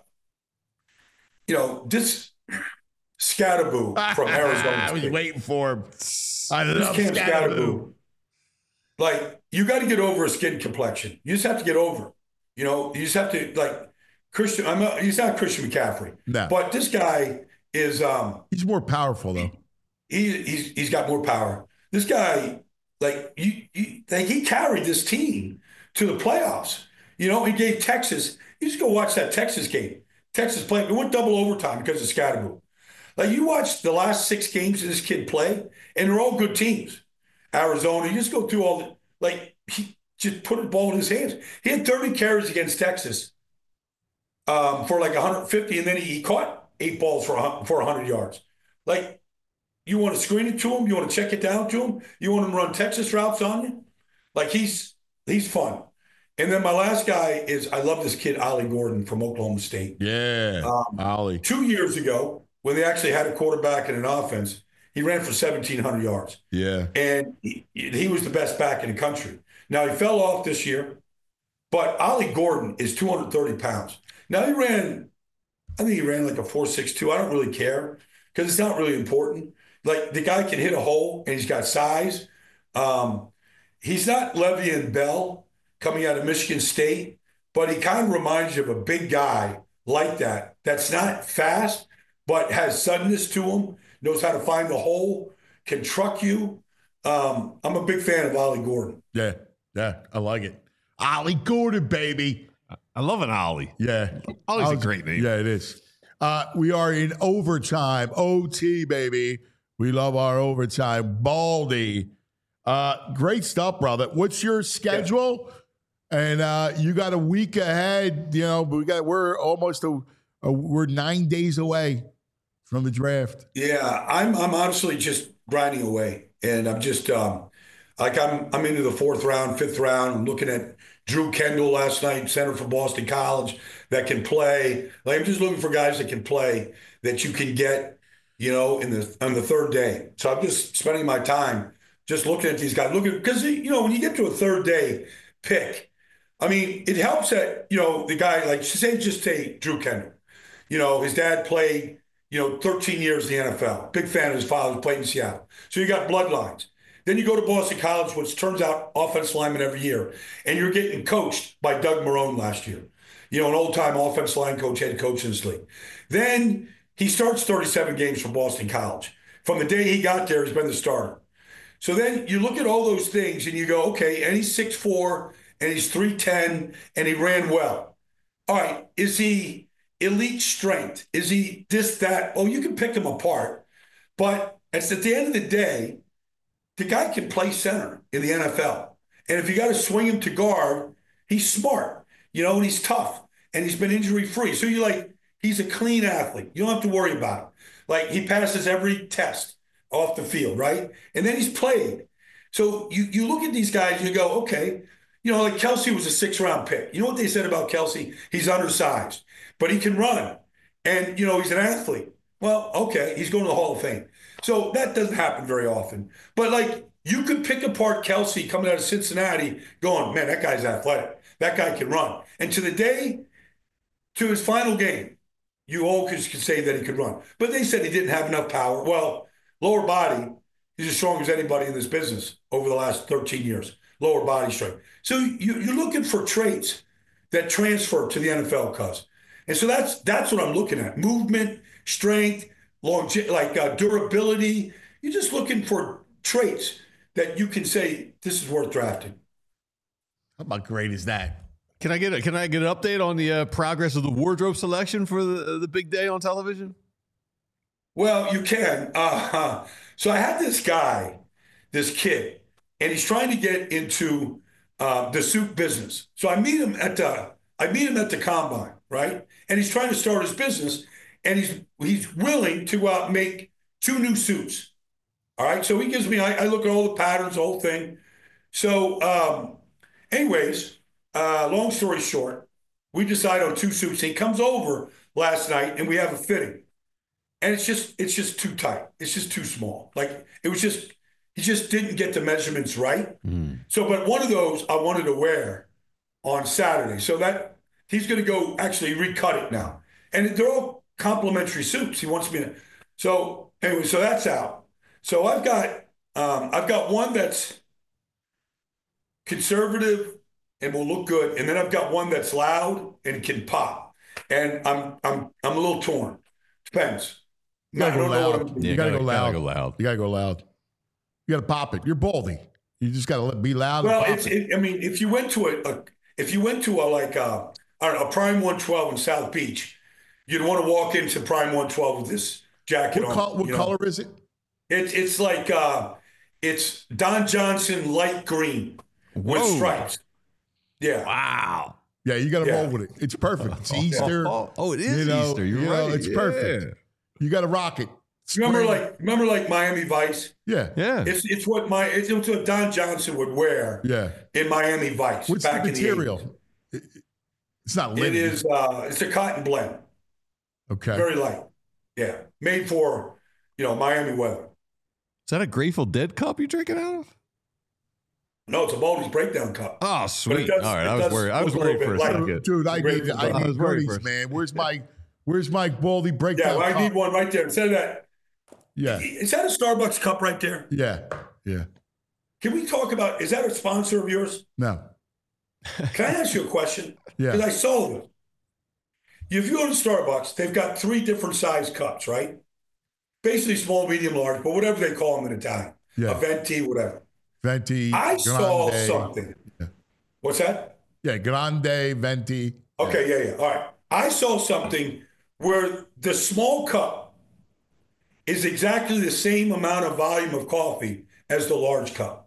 you know, this Scatterboo from Arizona. I was State. waiting for him. I This love Cam Scatterboo. Scatterboo. Like, you got to get over a skin complexion. You just have to get over it. You know, you just have to, like, Christian. I'm not, he's not Christian McCaffrey, No. but this guy is. Um, He's more powerful though. He, he's he's got more power. This guy, like you, you, like he carried this team to the playoffs. You know, he gave Texas. You just go watch that Texas game. Texas played. It went double overtime because of Scatterboo. Like, you watch the last six games of this kid play, and they're all good teams. Arizona. You just go through all the, like, he just put a ball in his hands. He had thirty carries against Texas um, for like one hundred fifty, and then he, he caught eight balls for for one hundred yards. Like. You want to screen it to him? You want to check it down to him? You want him to run Texas routes on you? Like, he's he's fun. And then my last guy is, I love this kid, Ollie Gordon from Oklahoma State. Yeah, Um, Ollie. Two years ago, when they actually had a quarterback and an offense, he ran for seventeen hundred yards. Yeah. And he, he was the best back in the country. Now, he fell off this year, but Ollie Gordon is two hundred thirty pounds. Now, he ran, I think he ran like a four six two. I don't really care because it's not really important. Like, the guy can hit a hole, and he's got size. Um, he's not Le'Veon Bell coming out of Michigan State, but he kind of reminds you of a big guy like that, that's not fast, but has suddenness to him, knows how to find the hole, can truck you. Um, I'm a big fan of Ollie Gordon. Yeah. Yeah. I like it. Ollie Gordon, baby. I love an Ollie. Yeah. Ollie's a great name. Yeah, it is. Uh, we are in overtime. O T, baby. We love our overtime. Baldy. Uh, great stuff, brother. What's your schedule? Yeah. And uh, you got a week ahead. You know, we got we're almost a, a we're nine days away from the draft. Yeah, I'm I'm honestly just grinding away, and I'm just um, like I'm I'm into the fourth round, fifth round. I'm looking at Drew Kendall last night, center for Boston College, that can play. Like I'm just looking for guys that can play that you can get, you know, in the on the third day. So I'm just spending my time just looking at these guys, looking because you know when you get to a third day pick, I mean it helps that you know the guy like say just take Drew Kendall. You know his dad played you know thirteen years in the N F L. Big fan of his father, played in Seattle. So you got bloodlines. Then you go to Boston College, which turns out offensive lineman every year, and you're getting coached by Doug Marrone last year. You know, an old-time offensive line coach, head coach in this league. Then he starts thirty-seven games for Boston College. From the day he got there, he's been the starter. So then you look at all those things and you go, okay, and he's six foot four, and he's three ten, and he ran well. All right, is he elite strength? Is he this, that? Oh, you can pick him apart. But it's at the end of the day, the guy can play center in the N F L. And if you got to swing him to guard, he's smart, you know, and he's tough, and he's been injury-free. So you're like, he's a clean athlete. You don't have to worry about him. Like, he passes every test off the field, right? And then he's played. So you you look at these guys and you go, okay, you know, like Kelce was a six-round pick. You know what they said about Kelce? He's undersized, but he can run. And, you know, he's an athlete. Well, okay, he's going to the Hall of Fame. So that doesn't happen very often. But, like, you could pick apart Kelce coming out of Cincinnati going, man, that guy's athletic. That guy can run. And to the day, to his final game, you all could, could say that he could run. But they said he didn't have enough power. Well, lower body, he's as strong as anybody in this business over the last thirteen years. Lower body strength. So you, you're looking for traits that transfer to the N F L, cuz. And so that's that's what I'm looking at. Movement, strength, longe- like uh, durability. You're just looking for traits that you can say, this is worth drafting. How about great is that? Can I get a, can I get an update on the uh, progress of the wardrobe selection for the the big day on television? Well, you can. Uh, so I had this guy, this kid, and he's trying to get into uh, the suit business. So I meet him at the I meet him at the combine, right? And he's trying to start his business, and he's he's willing to uh, make two new suits. All right. So he gives me. I, I look at all the patterns, the whole thing. So, um, anyways. Uh, long story short, we decide on two suits. He comes over last night and we have a fitting. And it's just it's just too tight. It's just too small. Like it was just, he just didn't get the measurements right. Mm. So, but one of those I wanted to wear on Saturday. So that he's going to go actually recut it now. And they're all complimentary suits. He wants me to. So anyway, so that's out. So I've got, um, I've got one that's conservative and will look good, and then I've got one that's loud and can pop, and I'm I'm I'm a little torn. Depends. You gotta go loud. Yeah, you gotta, gotta go loud. Gotta go loud. You gotta go loud. You gotta pop it. You're Baldy. You just gotta be loud. Well, and it's, pop it. it, I mean, if you went to a, a if you went to a like a, I don't know, a Prime one twelve in South Beach, you'd want to walk into Prime one twelve with this jacket what on. Col- what color know? Is it? It's it's like uh, it's Don Johnson light green Whoa. with stripes. Yeah. Wow. Yeah, you got to yeah. roll with it. It's perfect. It's Easter. Oh, oh it is you know, Easter. You're you right. Know, it's yeah. perfect. You got to rock it. Remember, Spring. like remember, like Miami Vice. Yeah, yeah. It's it's what my it's, it's what Don Johnson would wear. Yeah. In Miami Vice. What's back the in material? the it, it's not linen. It is. Uh, it's a cotton blend. Okay. Very light. Yeah, made for you know Miami weather. Is that a Grateful Dead cup you're drinking out of? No, it's a Baldy's Breakdown cup. Oh, sweet. Does, All right, I was worried. I was worried for a light. second. Dude, I need, I I need was worried goodies, for- man. Where's my, where's my Baldy Yeah, breakdown? well, I cup? need one right there. Instead of that, Yeah, is that a Starbucks cup right there? yeah, yeah. Can we talk about? Is that a sponsor of yours? No, Can I ask you a question? Yeah. Because I saw them. If you go to Starbucks, they've got three different size cups, right? Basically small, medium, large, but whatever they call them in Italian. Yeah. A venti, whatever. venti. I saw grande. something. Yeah. What's that? Yeah, grande, venti. Okay, yeah, yeah. All right. I saw something where the small cup is exactly the same amount of volume of coffee as the large cup.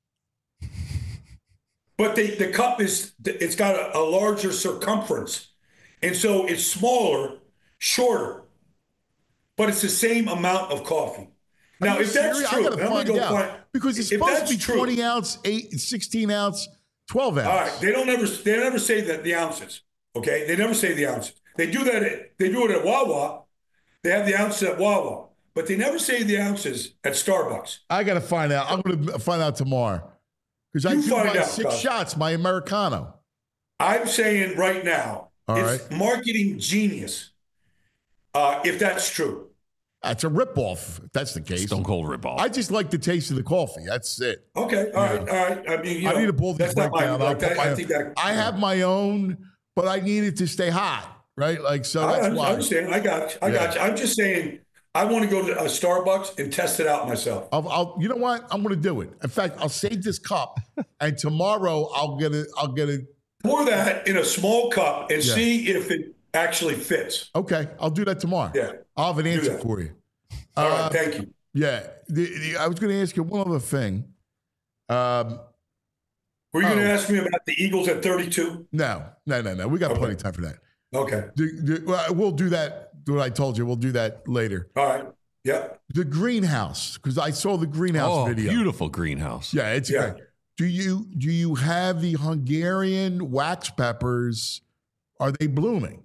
But the, the cup is, it's got a, a larger circumference. And so it's smaller, shorter, but it's the same amount of coffee. Now, if that's serious? true, I gotta I'm find gonna go out. find, Because it's if supposed to that's be true- twenty ounce, eight, sixteen ounce, twelve ounce. All right, they don't ever they never say that the ounces. Okay, they never say the ounces. They do that. At, they do it at Wawa. They have the ounces at Wawa, but they never say the ounces at Starbucks. I got to find out. I'm going to find out tomorrow. Because I You do find my out, six Cuz. shots, my Americano. I'm saying right now, All it's right. marketing genius. Uh, if that's true, That's a ripoff, if that's the case. Stone cold ripoff. I just like the taste of the coffee. That's it. okay, all right, all right. I mean, you I know, need to pull this that's not my- breakdown. I'll like, put I, my- I think that I have my own, but I need it to stay hot, right? Like, so I, that's I why. understand. I got you. I got you. I'm just saying. I want to go to a Starbucks and test it out myself. I'll, I'll, you know what? I'm going to do it. In fact, I'll save this cup, and tomorrow I'll get it. I'll get it. Pour that in a small cup and Yeah. see if it actually fits. Okay, I'll do that tomorrow. Yeah. I'll have an answer that. for you. All Uh, right, thank you. Yeah, the, the, I was going to ask you one other thing. Um, Were you going oh. to ask me about the Eagles at thirty-two? no, no, no, no. We got Okay. plenty of time for that. Okay. The, the, well, we'll do that. What I told you, we'll do that later. All right. Yep. The greenhouse, because I saw the greenhouse Oh, video. beautiful greenhouse. Yeah, it's Yeah. great. Do you do you have the Hungarian wax peppers? Are they blooming?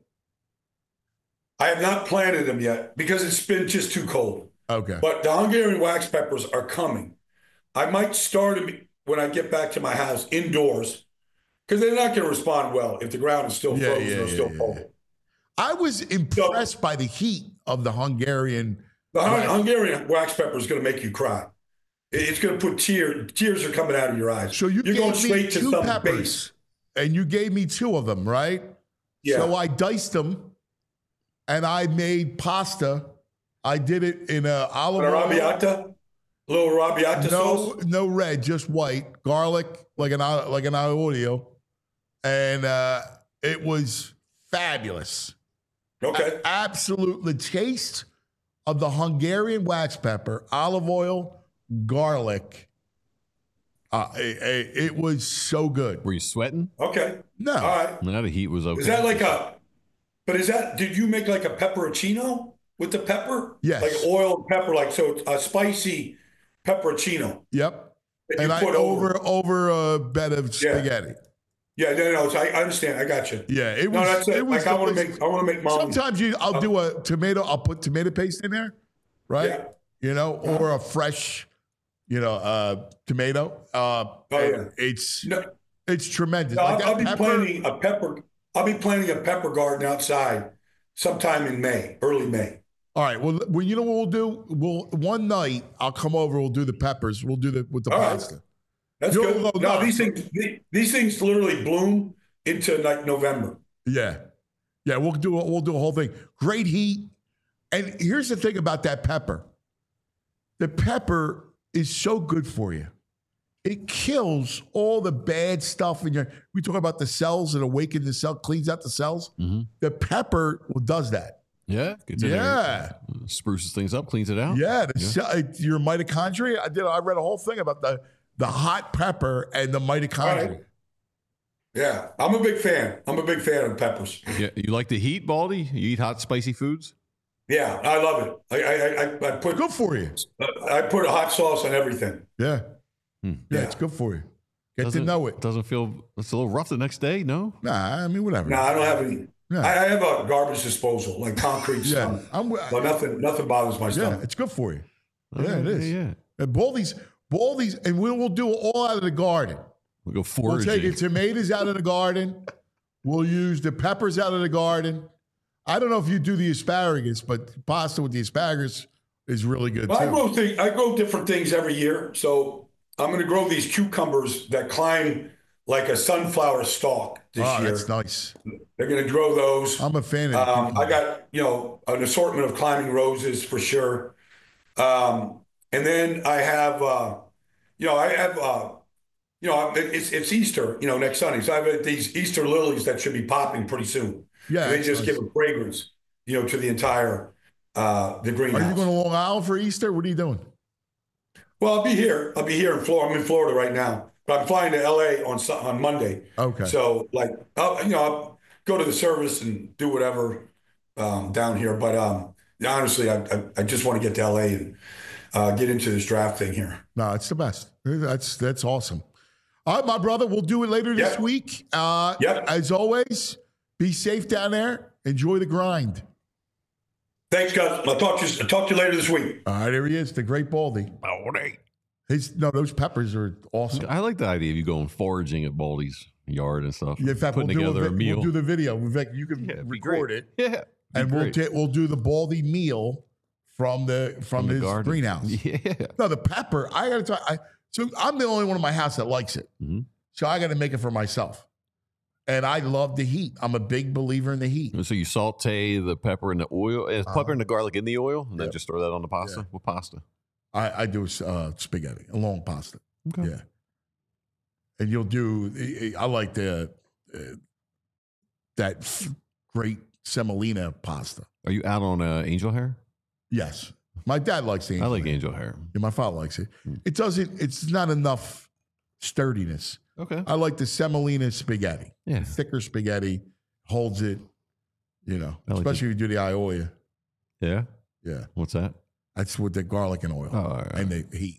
I have not planted them yet because it's been just too cold. Okay. But the Hungarian wax peppers are coming. I might start them when I get back to my house indoors because they're not going to respond well if the ground is still Yeah, frozen yeah, or yeah, still yeah. cold. I was impressed by the heat of the Hungarian. The Hun- wax. Hungarian wax pepper is going to make you cry. It- It's going to put tears. Tears are coming out of your eyes. So you You're gave going me straight to two some peppers, base. and you gave me two of them, right? Yeah. So I diced them, and I made pasta. I did it in a olive An oil. arrabbiata, a little arrabbiata No, sauce. no red, just white, garlic, like an like an aiolio, and uh, it was fabulous. Okay. A- absolute the taste of the Hungarian wax pepper, olive oil, garlic. Uh, it, it, it was so good. Were you sweating? Okay. No, All right. I mean, that heat was okay. Is that like a? But is that? Did you make like a pepperoncino with the pepper? Yes. Like oil and pepper, like so a spicy pepperoncino. yep. that you And I put over over a bed of Yeah. spaghetti. Yeah, no, no. So I, I understand. I got you. Yeah, it was. No, that's it. it was like I want to delicious. make. I want to make mom. Sometimes you, I'll do a tomato. I'll put tomato paste in there, right? Yeah. You know, or a fresh, you know, uh, tomato. Uh, Oh, and yeah. It's No, it's tremendous. no, Like I'll, that I'll be pepper- planting a pepper. I'll be planting a pepper garden outside sometime in May, early May. All right. Well, well, you know what we'll do? We'll one night I'll come over. We'll do the peppers. We'll do the with the All right. pasta. That's You'll good. go No, nuts. these things. These things literally bloom into like November. Yeah, yeah. We'll do a, we'll do a whole thing. Great heat. And here's the thing about that pepper. The pepper is so good for you. It kills all the bad stuff in your. We talk about the cells that awaken the cell, cleans out the cells. Mhm. The pepper does that. Yeah. Gets in there, Yeah, spruces things up, cleans it out. yeah. The cell, it- your mitochondria. I did. I read a whole thing about the the hot pepper and the mitochondria. Right. Yeah, I'm a big fan. I'm a big fan of peppers. Yeah. You like the heat, Baldy? You eat hot, spicy foods? Yeah, I love it. I I, I, I put Good for you. I put a hot sauce on everything. Yeah, Hmm. yeah. Yeah. It's good for you. Get Doesn't- to know it. Doesn't feel, it's a little rough the next day, no? Nah, I mean whatever. No, I don't have any. Yeah. I, I have a garbage disposal, like concrete Yeah, stuff. I'm. But nothing nothing bothers my Yeah, stomach. it's good for you. Oh, Yeah, it is. Yeah. And Baldy's, Baldy's, and we will do it all out of the garden. We'll go We'll foraging. take the tomatoes out of the garden. We'll use the peppers out of the garden. I don't know if you do the asparagus, but pasta with the asparagus is really good Well, I too. grow thing, I grow different things every year. So I'm going to grow these cucumbers that climb like a sunflower stalk this Oh, year. that's nice. They're going to grow those. I'm a fan of Um, the I got, you know, an assortment of climbing roses for sure. Um, and then I have, uh, you know, I have, uh, you know, it's it's Easter, you know, next Sunday. So I have these Easter lilies that should be popping pretty soon. Yeah, they that's just nice. give a fragrance. you know, to the entire uh, the greenhouse. Are you going to Long Island for Easter? What are you doing? Well, I'll be here. I'll be here in Florida. I'm in Florida right now, but I'm flying to L A on on Monday. Okay. So, like, I'll, you know, I'll go to the service and do whatever um, down here. But um, honestly, I, I I just want to get to L A and uh, get into this draft thing here. No, it's the best. That's that's awesome. All right, my brother, we'll do it later this Yep. week. Uh, Yep. As always, be safe down there. Enjoy the grind. Thanks, guys. I'll talk to you. I'll talk to you later this week. All right, there he is, the great Baldy. Baldy. His, no, those peppers are awesome. I like the idea of you going foraging at Baldy's yard and stuff. In fact, we'll putting do, together a, a, vi- meal. we'll do the video. In fact, you can Yeah, it'd be record great. it, Yeah. and we'll great. ta- we'll do the Baldy meal from the from, From the his garden. greenhouse. Yeah. No, the pepper. I got to tell. I so I'm the only one in my house that likes it. Mhm. So I got to make it for myself. And I love the heat. I'm a big believer in the heat. So you saute the pepper and the oil, and Uh-huh. pepper and the garlic in the oil, and then Yep. just throw that on the pasta. Yeah. What pasta? I, I do uh, spaghetti, a long pasta. Okay. Yeah. And you'll do. I like the uh, that great semolina pasta. Are you out on uh, angel hair? Yes, my dad likes the. I like hair. angel hair. Yeah, my father likes it. Mm. It doesn't. It's not enough sturdiness. Okay. I like the semolina spaghetti. Yeah. The thicker spaghetti holds it. You know, I like especially if you do the aioli. Yeah. Yeah, What's that? that's with the garlic and oil Oh, all right. and the heat.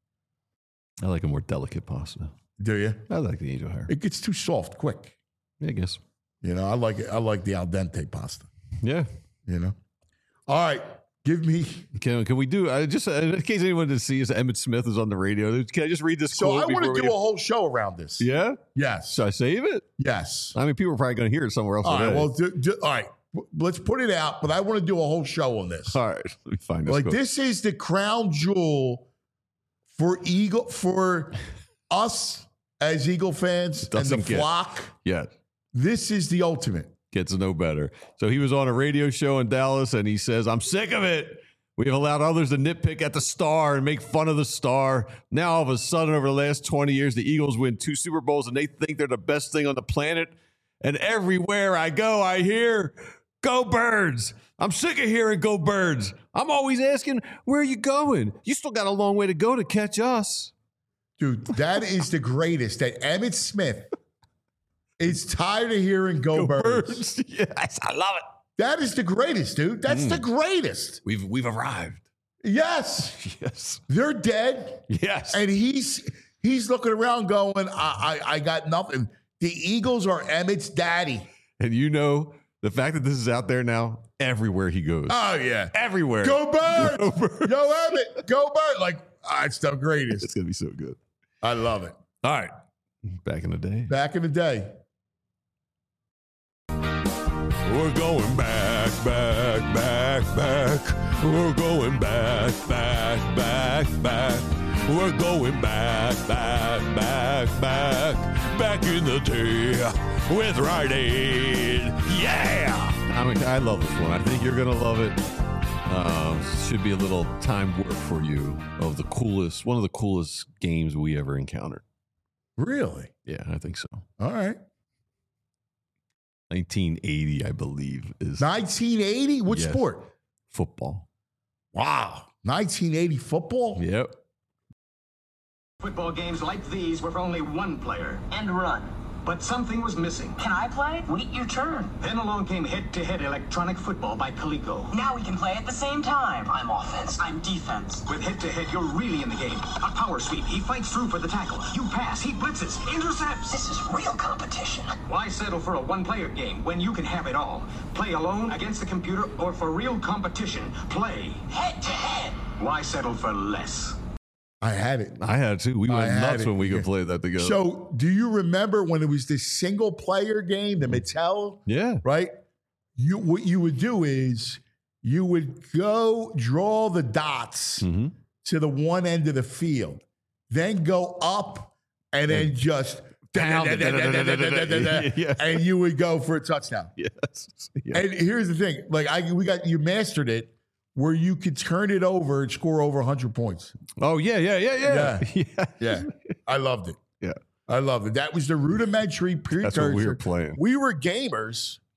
I like a more delicate pasta. Do you? I like the angel hair. It gets too soft quick. Yeah, I guess. You know, I like it. I like the al dente pasta. Yeah. You know. All right, give me. Can, can we do, I just, uh, in case anyone didn't see us, Emmett Smith is on the radio. Can I just read this So quote I want before to we do get- a whole show around this. Yeah? Yes. Should I save it? Yes. I mean, people are probably going to hear it somewhere else All right. today. Well, do, do, all right. Let's put it out. But I want to do a whole show on this. All right. Let me find this Like quote. this is the crown jewel for Eagle for us as Eagle fans and the Doesn't get- flock. Yeah. This is the ultimate. Gets no better. So he was on a radio show in Dallas and he says, I'm sick of it. We have allowed others to nitpick at the star and make fun of the star. Now, all of a sudden, over the last twenty years, the Eagles win two Super Bowls and they think they're the best thing on the planet. And everywhere I go, I hear, go Birds. I'm sick of hearing go Birds. I'm always asking, where are you going? You still got a long way to go to catch us. Dude, that is the greatest. That Emmett Smith is tired of hearing go, birds. Yes, I love it. That is the greatest, dude. That's the greatest. We've we've arrived. Yes. Yes. They're dead. Yes. And he's he's looking around going, I, I, I got nothing. The Eagles are Emmett's daddy. And you know, the fact that this is out there now, everywhere he goes. Oh, yeah. everywhere. Go Birds. Go Birds. Yo, Emmett, go Birds. Like, ah, it's the It's greatest. going to be so good. I love it. All right. Back in the day. Back in the day. We're going back, back, back, back. We're going back, back, back, back. We're going back, back, back, back. Back in the day with Rite Aid. Yeah! I mean, I love this one. I think you're going to love it. Uh, should be a little time warp for you of the coolest, one of the coolest games we ever encountered. Really? Yeah, I think so. All right. nineteen eighty, I believe, is nineteen eighty? What Yes. sport? football. Wow. nineteen eighty football? Yep. Football games like these were for only one player. And run. But something was missing. Can I play? Wait your turn. Then along came head-to-head electronic football by Coleco. Now we can play at the same time. I'm offense. I'm defense. With head-to-head, you're really in the game. A power sweep. He fights through for the tackle. You pass. He blitzes. Intercepts. This is real competition. Why settle for a one-player game when you can have it all? Play alone, against the computer, or for real competition. Play Head to head. Why settle for less? I had it. I had to. We I went had nuts it, when we could yeah. play that together. So, do you remember when it was this single player game, the Mattel? yeah. Right? You what you would do is you would go draw the dots Mhm. to the one end of the field, then go up and then just Pound it. Yeah. and you would go for a touchdown. Yes. Yeah. And here's the thing: like I, we got you mastered it, where you could turn it over and score over one hundred points. Oh, yeah, yeah, yeah, yeah. Yeah. Yeah, I loved it. Yeah. I loved it. That was the rudimentary precursor. That's what we were playing. We were gamers.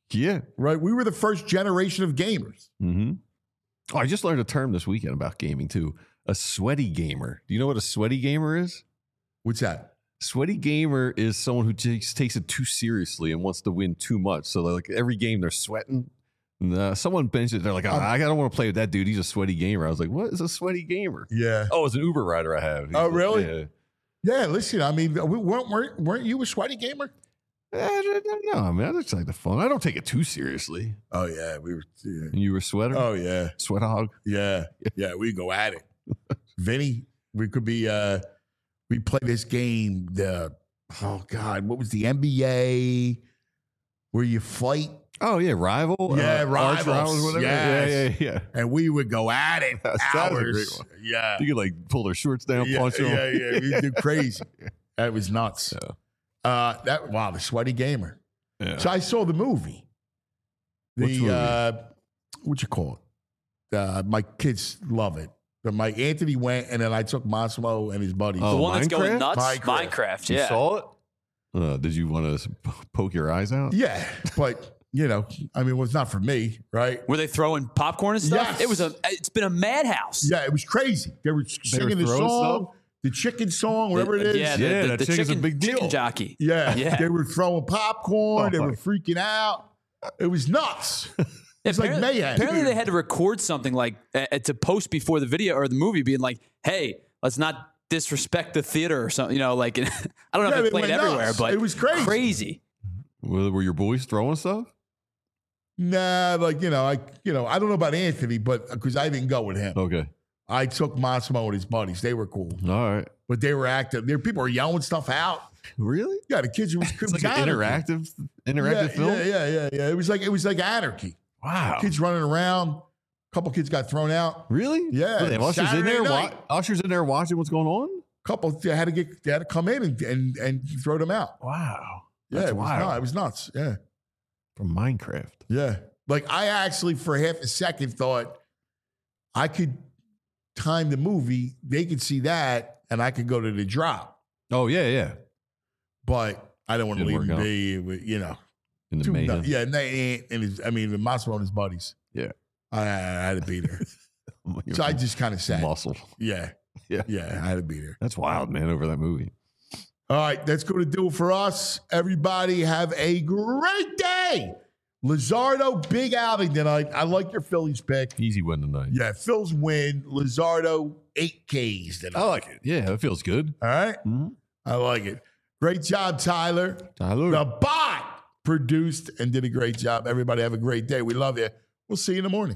Yeah. Right? We were the first generation of gamers. Mm-hmm. Oh, I just learned a term this weekend about gaming, too. A sweaty gamer. Do you know what a sweaty gamer is? What's that? Sweaty gamer is someone who takes, takes it too seriously and wants to win too much. So, like, every game they're sweating. And, uh, someone benches it. They're like, oh, I don't want to play with that dude. He's a sweaty gamer. I was like, what is a sweaty gamer? Yeah. Oh, it's an Uber rider I have. He's Oh, like, really? Yeah. Yeah, listen, I mean, we weren't, weren't, weren't you a sweaty gamer? I don't know. I mean, I just like the fun. I don't take it too seriously. Oh, yeah. We were. Yeah. And you were a sweater? Oh, yeah. Sweat hog? Yeah. Yeah, we go at it. Vinny, we could be, uh, we play this game, the, oh, God, what was the N B A where you fight? Oh, yeah, Rival? Yeah, uh, Rivals. Rivals, whatever. Yes. Yeah, yeah, yeah. And we would go at it That was a hours. great one. Yeah. You could like pull their shorts down, yeah, punch them. yeah, yeah. We do crazy. That was nuts. Yeah. Uh, that wow, the sweaty gamer. Yeah. So I saw the movie. Which The movie? uh, what you call it? Uh, my kids love it. But my Anthony went, and then I took Massimo and his buddies. Oh, The one that's going Minecraft? nuts? Minecraft. Minecraft, You yeah. saw it? Uh, did you want to poke your eyes out? Yeah, but you know, I mean, it was not for me, right? Were they throwing popcorn and stuff? Yes. It was a. It's been a madhouse. Yeah, it was crazy. They were singing the throwing song, stuff? the chicken song, whatever it is. Yeah, the, Yeah, the, that the chicken's a chicken, big deal. chicken jockey. Yeah, Yeah. they were throwing popcorn. Oh, they my- were freaking out. It was nuts. It's like apparently, mayhem. apparently they had to record something like uh, to post before the video or the movie, being like, "Hey, let's not disrespect the theater or something." You know, like I don't know Yeah, if they it played went everywhere, nuts. but It was crazy. Crazy. Were, were your boys throwing stuff? Nah, like you know, I you know, I don't know about Anthony, but because I didn't go with him, Okay. I took Massimo and his buddies. They were cool, All right. but they were active. There, people were yelling stuff out. Really? Yeah, the kids. It was, it It's was like an anarchy. interactive, interactive yeah, film? Yeah, yeah, yeah, yeah. It was like it was like anarchy. Wow. Kids running around. A couple kids got thrown out. Really? Yeah, What, they have ushers in Saturday there? night. Wa- ushers in there watching what's going on? Couple they had to get they had to come in and and, and throw them out. Wow. Yeah, That's it was wild. nuts. It was nuts. Yeah, From Minecraft. yeah. Like I actually for half a second thought I could time the movie. They could see that, and I could go to the drop. Oh, yeah, yeah. But I don't want to Didn't leave work him out. be. with, You know, In the too mayhem. nuts. Yeah, and, they, and his, I mean, Massimo and his buddies. Yeah. I, I had to beat her. So I just kind of sat. Muscle. Yeah, Yeah. yeah. I had to beat her. That's wild, man, over that movie. All right, that's going to do it for us. Everybody have a great day. Lizardo, big outing tonight. I like your Phillies pick. Easy win tonight. Yeah, Phil's win. Lizardo, eight Ks tonight. I like it. Yeah, it feels good. All right? Mhm. I like it. Great job, Tyler. Tyler. The bot produced and did a great job. Everybody have a great day. We love you. We'll see you in the morning.